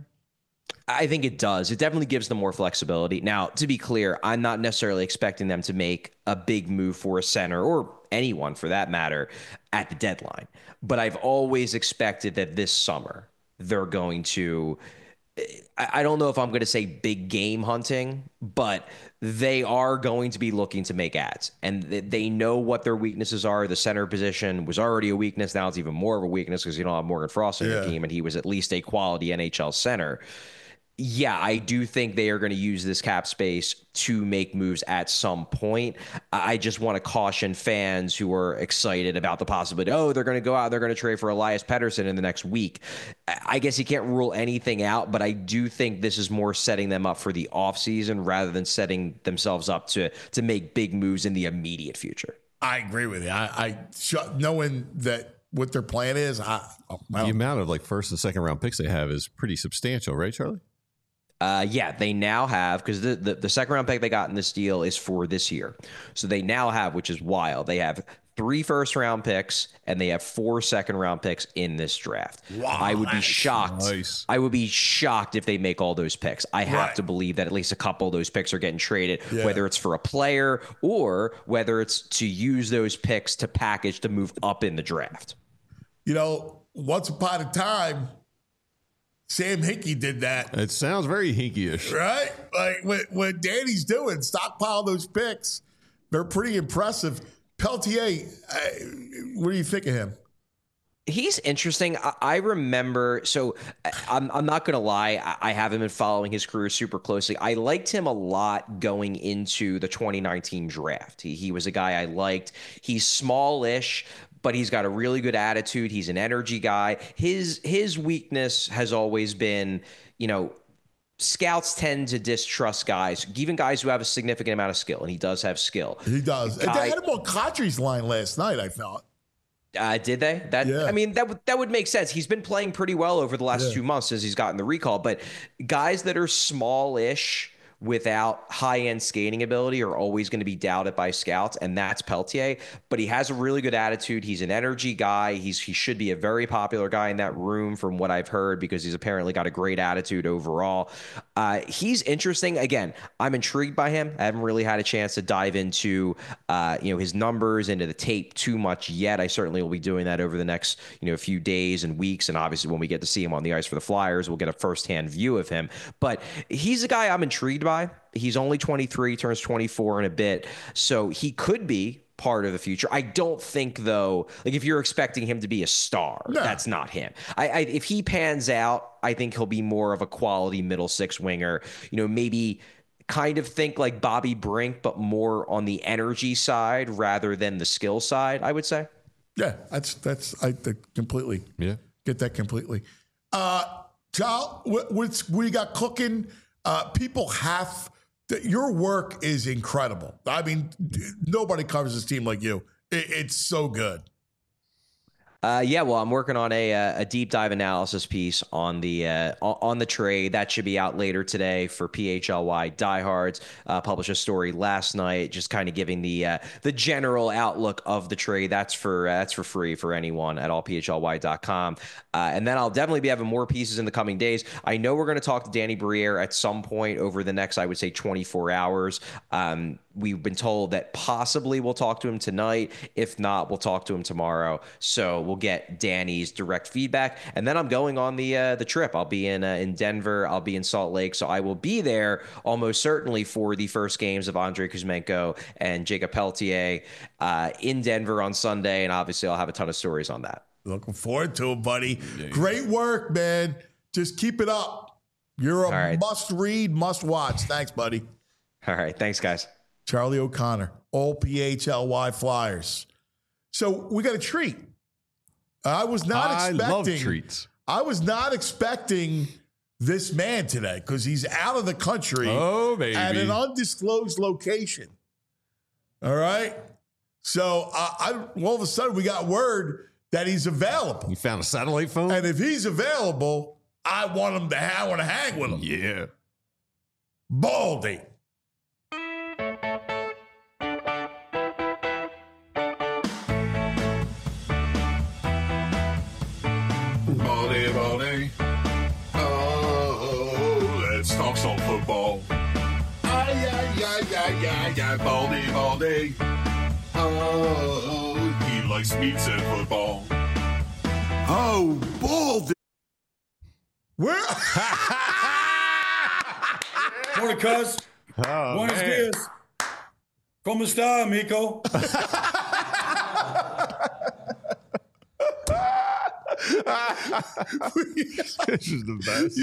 I think it does. It definitely gives them more flexibility. Now, to be clear, I'm not necessarily expecting them to make a big move for a center, or anyone for that matter, at the deadline. But I've always expected that this summer they're going to, I don't know if I'm going to say big game hunting, but they are going to be looking to make ads, and they know what their weaknesses are. The center position was already a weakness. Now it's even more of a weakness because you don't have Morgan Frost on your team, and he was at least a quality NHL center. Yeah, I do think they are going to use this cap space to make moves at some point. I just want to caution fans who are excited about the possibility, they're going to go out, they're going to trade for Elias Pettersson in the next week. I guess you can't rule anything out, but I do think this is more setting them up for the offseason rather than setting themselves up to make big moves in the immediate future.
I agree with you. I knowing that what their plan is,
the amount of first and second round picks they have is pretty substantial, right, Charlie?
Yeah, they now have, because the second round pick they got in this deal is for this year. So they now have, which is wild, they have 3 first round picks and they have 4 second round picks in this draft.
Wow,
I would be shocked.
Nice.
I would be shocked if they make all those picks. I have to believe that at least a couple of those picks are getting traded, whether it's for a player or whether it's to use those picks to package to move up in the draft.
Once upon a time, Sam Hinkie did that.
It sounds very Hinkie-ish.
Right? Like what Danny's doing, stockpile those picks. They're pretty impressive. Peltier, what do you think of him?
He's interesting. I remember, so I'm not going to lie, I haven't been following his career super closely. I liked him a lot going into the 2019 draft. He was a guy I liked. He's smallish, but he's got a really good attitude. He's an energy guy. His weakness has always been, scouts tend to distrust guys, even guys who have a significant amount of skill, and he does have skill.
He does. They had him on Kadri's line last night, I thought.
Did they? I mean, that would make sense. He's been playing pretty well over the last 2 months since he's gotten the recall. But guys that are smallish without high-end skating ability are always going to be doubted by scouts, and that's Peltier. But he has a really good attitude. He's an energy guy. He should be a very popular guy in that room from what I've heard, because he's apparently got a great attitude overall. He's interesting. Again, I'm intrigued by him. I haven't really had a chance to dive into his numbers, into the tape too much yet. I certainly will be doing that over the next few days and weeks, and obviously when we get to see him on the ice for the Flyers, we'll get a firsthand view of him. But he's a guy I'm intrigued by. He's only 23, turns 24 in a bit, so he could be part of the future. I don't think, though, like if you're expecting him to be a star, that's not him. If he pans out, I think he'll be more of a quality middle six winger. Maybe kind of think like Bobby Brink, but more on the energy side rather than the skill side, I would say.
Yeah, I completely get that completely. Charles, what you got cooking? People have your work is incredible. I mean, nobody covers this team like you. It's so good.
Well, I'm working on a deep dive analysis piece on the trade that should be out later today for PHLY Diehards. Published a story last night, just kind of giving the general outlook of the trade. That's for free for anyone at allphly.com. And then I'll definitely be having more pieces in the coming days. I know we're going to talk to Danny Briere at some point over the next, I would say, 24 hours. We've been told that possibly we'll talk to him tonight. If not, we'll talk to him tomorrow. So we'll get Danny's direct feedback. And then I'm going on the trip. I'll be in Denver. I'll be in Salt Lake. So I will be there almost certainly for the first games of Andrei Kuzmenko and Jacob Peltier in Denver on Sunday. And obviously I'll have a ton of stories on that.
Looking forward to it, buddy. Great work, man. Just keep it up. You're a must-read, must-watch. Thanks, buddy.
All right. Thanks, guys.
Charlie O'Connor, all PHLY Flyers. So we got a treat. I love treats. I was not expecting this man today because he's out of the country at an undisclosed location. All right. So all of a sudden we got word that he's available.
You found a satellite phone?
And if he's available, I want to hang with him.
Yeah.
Baldy.
Baldy. Oh, let's talk some football. Baldy. Oh, he likes meats and football. Oh, Baldy.
Where?
Morning, cuz. Buenos dias. ¿Cómo está, amigo?
This is the best.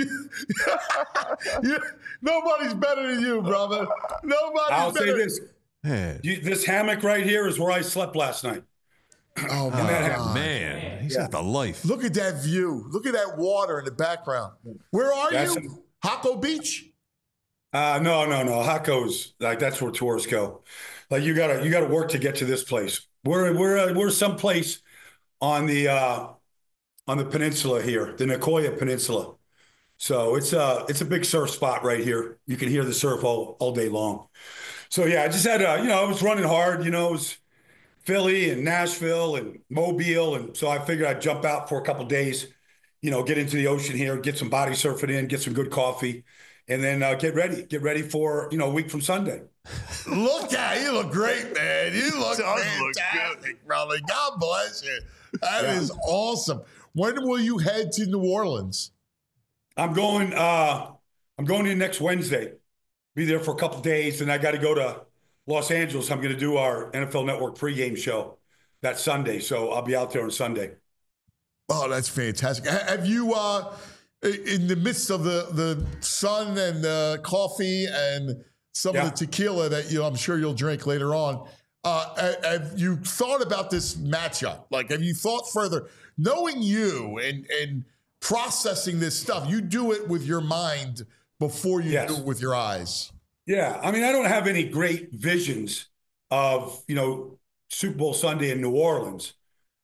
Nobody's better than you, brother.
I'll say this. This hammock right here is where I slept last night.
Oh, my God.
Man. He's got the life.
Look at that view. Look at that water in the background. Where are you? Hako Beach?
No. Hako's that's where tourists go. Like you gotta work to get to this place. We're someplace on the peninsula here, the Nicoya Peninsula. So it's a big surf spot right here. You can hear the surf all day long. So yeah, I just had I was running hard. It was Philly and Nashville and Mobile, and so I figured I'd jump out for a couple days. Get into the ocean here, get some body surfing in, get some good coffee, and then get ready for a week from Sunday.
Look at you, look great, man. You look fantastic, brother. God bless you. That is awesome. When will you head to New Orleans?
I'm going in next Wednesday. Be there for a couple days, and I got to go to Los Angeles. I'm going to do our NFL Network pregame show that Sunday, so I'll be out there on Sunday.
Oh, that's fantastic. Have you, in the midst of the sun and the coffee and some of the tequila that I'm sure you'll drink later on, have you thought about this matchup? Like, have you thought further? Knowing you and processing this stuff, you do it with your mind before you do it with your eyes.
Yeah. I mean, I don't have any great visions of, Super Bowl Sunday in New Orleans.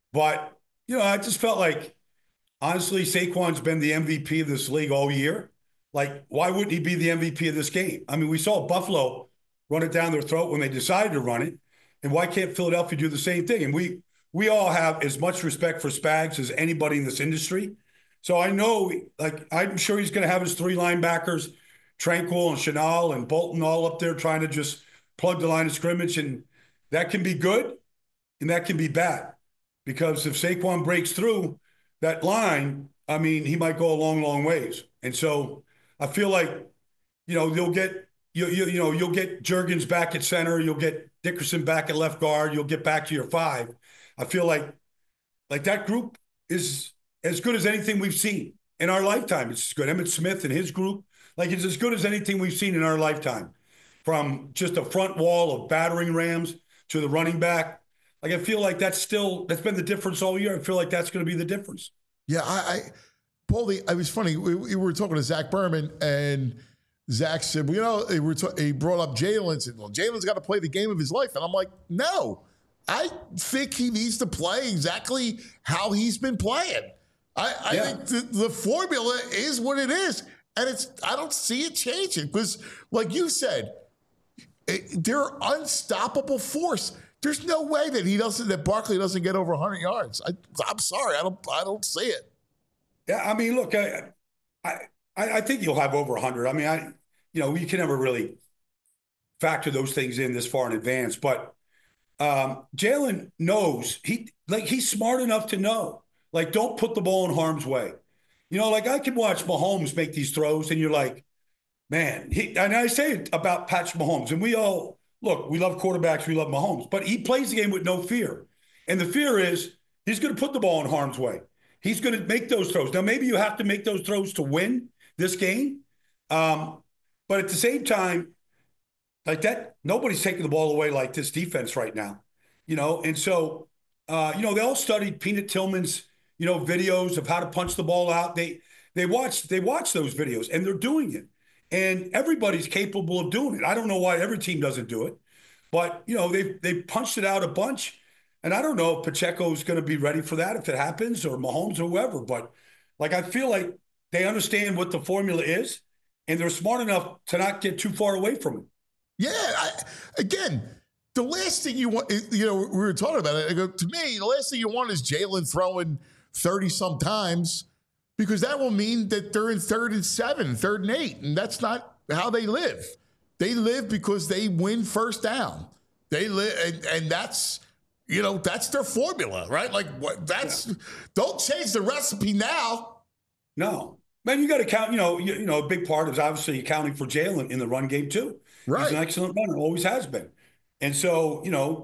But, I just felt like, honestly, Saquon's been the MVP of this league all year. Like, why wouldn't he be the MVP of this game? I mean, we saw Buffalo run it down their throat when they decided to run it. And why can't Philadelphia do the same thing? And we all have as much respect for Spags as anybody in this industry. So I know, I'm sure he's going to have his 3 linebackers, Tranquil and Chenal and Bolton, all up there trying to just plug the line of scrimmage. And that can be good and that can be bad. Because if Saquon breaks through that line, I mean, he might go a long, long ways. And so I feel like, you'll get Juergens back at center. You'll get Dickerson back at left guard. You'll get back to your 5. I feel like that group is as good as anything we've seen in our lifetime. It's good. Emmitt Smith and his group, it's as good as anything we've seen in our lifetime. From just a front wall of battering rams to the running back. I feel like that's been the difference all year. I feel like that's going to be the difference.
Yeah, Paulie, it was funny. We were talking to Zach Berman, and Zach said, he brought up Jalen and said, well, Jalen's got to play the game of his life. And I'm like, no, I think he needs to play exactly how he's been playing. I think the formula is what it is. And I don't see it changing because, like you said, they're unstoppable force. There's no way that Barkley doesn't get over 100 yards. I'm sorry, I don't see it.
Yeah, I mean, look, I think you'll have over 100. I mean, you can never really factor those things in this far in advance. But Jalen knows he's smart enough to know. Don't put the ball in harm's way. I can watch Mahomes make these throws, and you're like, man. And I say it about Patrick Mahomes, and we all. Look, we love quarterbacks, we love Mahomes, but he plays the game with no fear. And the fear is he's going to put the ball in harm's way. He's going to make those throws. Now, maybe you have to make those throws to win this game. But at the same time, nobody's taking the ball away like this defense right now. And so, they all studied Peanut Tillman's, videos of how to punch the ball out. They watch those videos, and they're doing it. And everybody's capable of doing it. I don't know why every team doesn't do it. But, they've punched it out a bunch. And I don't know if Pacheco's going to be ready for that if it happens, or Mahomes or whoever. But, I feel like they understand what the formula is, and they're smart enough to not get too far away from it.
Yeah. Again, the last thing you want, we were talking about it. I go, to me, the last thing you want is Jalen throwing 30-some times, because that will mean that they're in 3rd and 7, 3rd and 8, and that's not how they live. They live because they win first down. They live, and that's that's their formula, right? Don't change the recipe now.
No, man, you got to count. A big part is obviously accounting for Jalen in the run game too. Right, he's an excellent runner, always has been, and so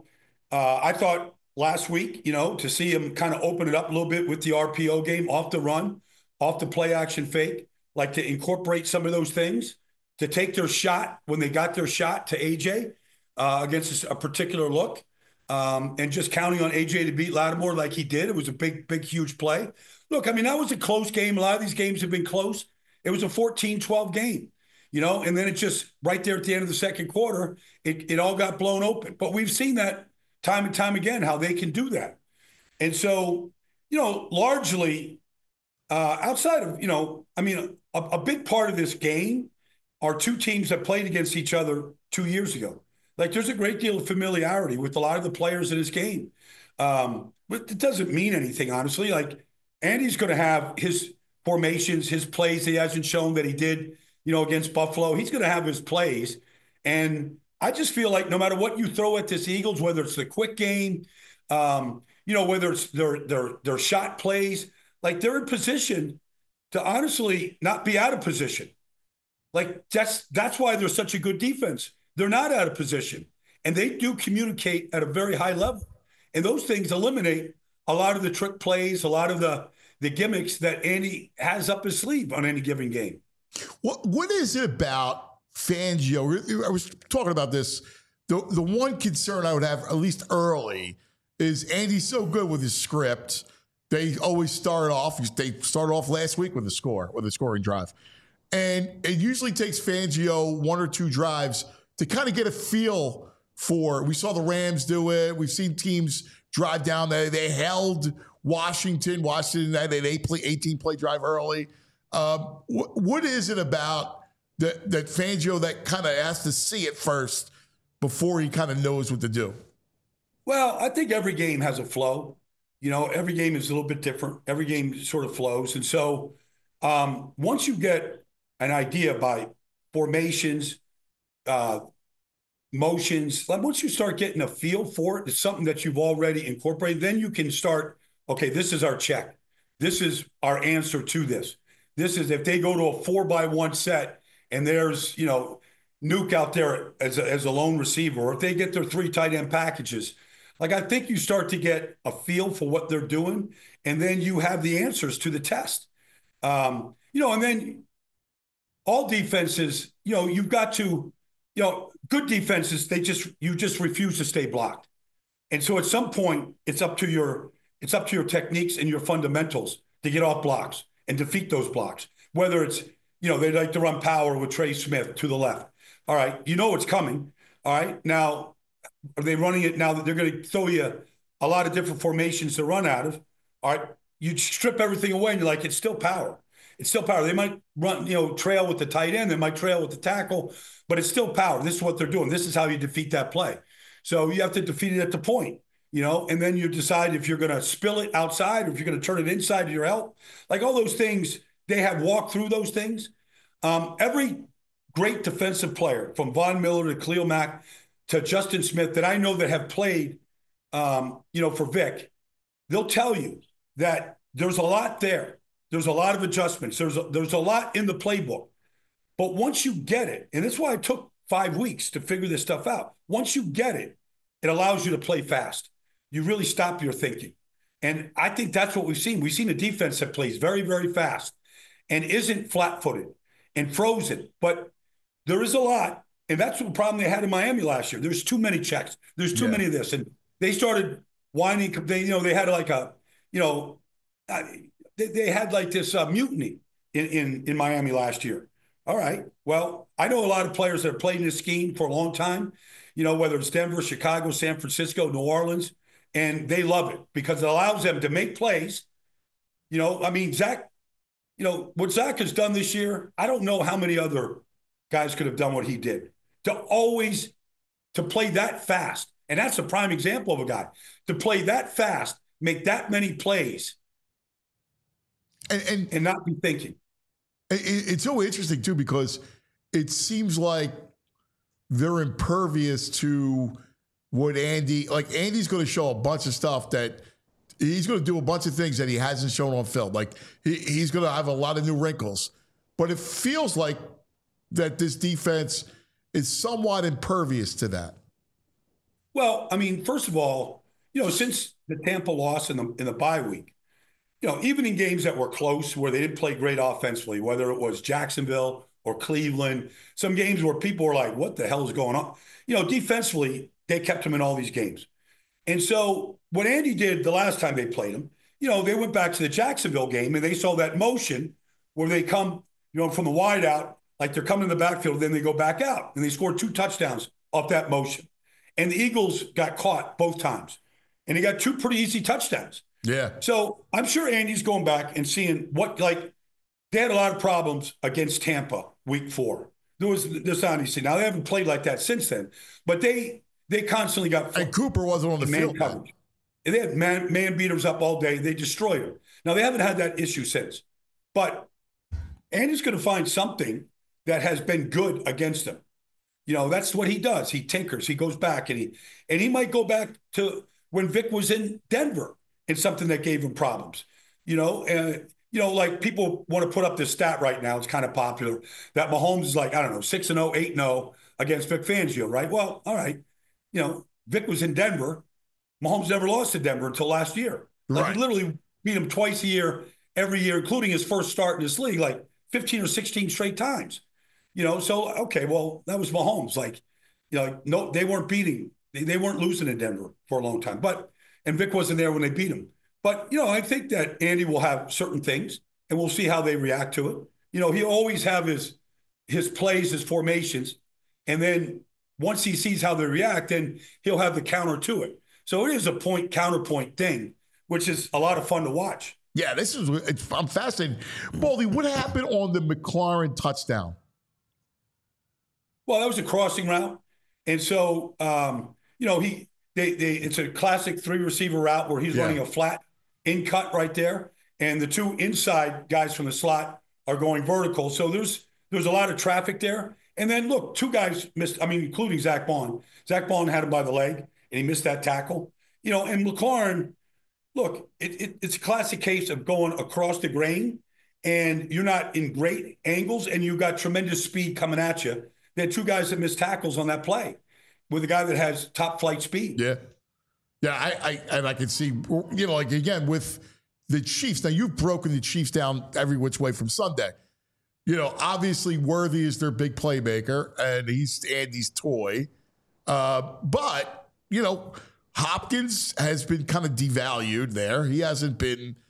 I thought last week, to see him kind of open it up a little bit with the RPO game off the run. Off the play action fake, to incorporate some of those things, to take their shot when they got their shot to AJ against a particular look, and just counting on AJ to beat Lattimore like he did. It was a big, huge play. Look, I mean, that was a close game. A lot of these games have been close. It was a 14-12 game, and then it just right there at the end of the second quarter, it all got blown open. But we've seen that time and time again, how they can do that. And so, largely, outside of, a big part of this game are 2 teams that played against each other 2 years ago. There's a great deal of familiarity with a lot of the players in this game. But it doesn't mean anything, honestly. Andy's going to have his formations, his plays he hasn't shown that he did, against Buffalo. He's going to have his plays. And I just feel like no matter what you throw at this Eagles, whether it's the quick game, whether it's their shot plays, they're in position to honestly not be out of position. That's why they're such a good defense. They're not out of position, and they do communicate at a very high level. And those things eliminate a lot of the trick plays, a lot of the gimmicks that Andy has up his sleeve on any given game.
What is it about Fangio? I was talking about this. The one concern I would have, at least early, is Andy's so good with his script. They always start off. They started off last week with a scoring drive. And it usually takes Fangio 1 or 2 drives to kind of get a feel for. We saw the Rams do it. We've seen teams drive down there. They held Washington. Washington had an 18-play drive early. What is it about that Fangio that kind of has to see it first before he kind of knows what to do?
Well, I think every game has a flow. Every game is a little bit different. Every game sort of flows. And so once you get an idea by formations, motions, once you start getting a feel for it, it's something that you've already incorporated, then you can start, okay, this is our check. This is our answer to this. This is if they go to a 4-by-1 set and there's, Nuke out there as a lone receiver, or if they get their 3 tight end packages, I think you start to get a feel for what they're doing, and then you have the answers to the test. And then all defenses, you've got to, good defenses, you just refuse to stay blocked. And so at some point, it's up to your techniques and your fundamentals to get off blocks and defeat those blocks. Whether it's, they like to run power with Trey Smith to the left. All right, it's coming. All right, now, are they running it now that they're going to throw you a lot of different formations to run out of? All right, you strip everything away and you're like, it's still power. It's still power. They might run, trail with the tight end. They might trail with the tackle, but it's still power. This is what they're doing. This is how you defeat that play. So you have to defeat it at the point, and then you decide if you're going to spill it outside or if you're going to turn it inside to your help. All those things, they have walked through those things. Every great defensive player, from Von Miller to Khalil Mack to Justin Smith, that I know that have played, for Vic, they'll tell you that there's a lot there. There's a lot of adjustments. There's a lot in the playbook. But once you get it, and that's why it took 5 weeks to figure this stuff out. Once you get it, it allows you to play fast. You really stop your thinking. And I think that's what we've seen. We've seen a defense that plays very, very fast and isn't flat-footed and frozen. But there is a lot. And that's the problem they had in Miami last year. There's too many checks. There's too many of this. And they started whining. They had they had this mutiny in Miami last year. All right. Well, I know a lot of players that have played in this scheme for a long time, whether it's Denver, Chicago, San Francisco, New Orleans, and they love it because it allows them to make plays. Zach, what Zach has done this year, I don't know how many other guys could have done what he did. To play that fast, and that's a prime example of a guy, to play that fast, make that many plays, and not be thinking.
It's so interesting, too, because it seems like they're impervious to what Andy's going to show a bunch of stuff that he's going to do a bunch of things that he hasn't shown on film. He's going to have a lot of new wrinkles. But it feels like that this defense is somewhat impervious to that.
Well, first of all, since the Tampa loss in the bye week, even in games that were close where they didn't play great offensively, whether it was Jacksonville or Cleveland, some games where people were like, what the hell is going on? Defensively, they kept them in all these games. And so what Andy did the last time they played him, they went back to the Jacksonville game and they saw that motion where they come, from the wide out, like they're coming in the backfield, then they go back out. And they scored 2 touchdowns off that motion. And the Eagles got caught both times. And they got 2 pretty easy touchdowns.
Yeah.
So I'm sure Andy's going back and seeing they had a lot of problems against Tampa week 4. There was this honesty. Now, they haven't played like that since then. But they constantly got...
And Cooper wasn't on the field.
Coverage. They had man beaters up all day. They destroyed him. Now, they haven't had that issue since. But Andy's going to find something that has been good against them. That's what he does. He tinkers. He goes back, and he might go back to when Vic was in Denver and something that gave him problems. People want to put up this stat right now. It's kind of popular that Mahomes is 6-0, 8-0 against Vic Fangio, right? Well, all right. Vic was in Denver. Mahomes never lost to Denver until last year. He literally beat him twice a year, every year, including his first start in this league, 15 or 16 straight times. So, okay, well, that was Mahomes. No, they weren't beating. They weren't losing in Denver for a long time. And Vic wasn't there when they beat him. But, I think that Andy will have certain things, and we'll see how they react to it. He'll always have his plays, his formations, and then once he sees how they react, then he'll have the counter to it. So it is a point counterpoint thing, which is a lot of fun to watch.
Yeah, I'm fascinated. Baldy, what happened on the McLaurin touchdown?
Well, that was a crossing route. And so, it's a classic 3-receiver route where he's running a flat in cut right there. And the 2 inside guys from the slot are going vertical. So there's a lot of traffic there. And then, look, 2 guys missed, including Zach Bond. Zach Bond had him by the leg, and he missed that tackle. And McLaurin, look, it's a classic case of going across the grain, and you're not in great angles, and you've got tremendous speed coming at you. There had 2 guys that missed tackles on that play with a guy that has top flight speed.
Yeah. Yeah, I can see, again, with the Chiefs. Now, you've broken the Chiefs down every which way from Sunday. Obviously Worthy is their big playmaker, and he's Andy's toy. But, Hopkins has been kind of devalued there. He hasn't been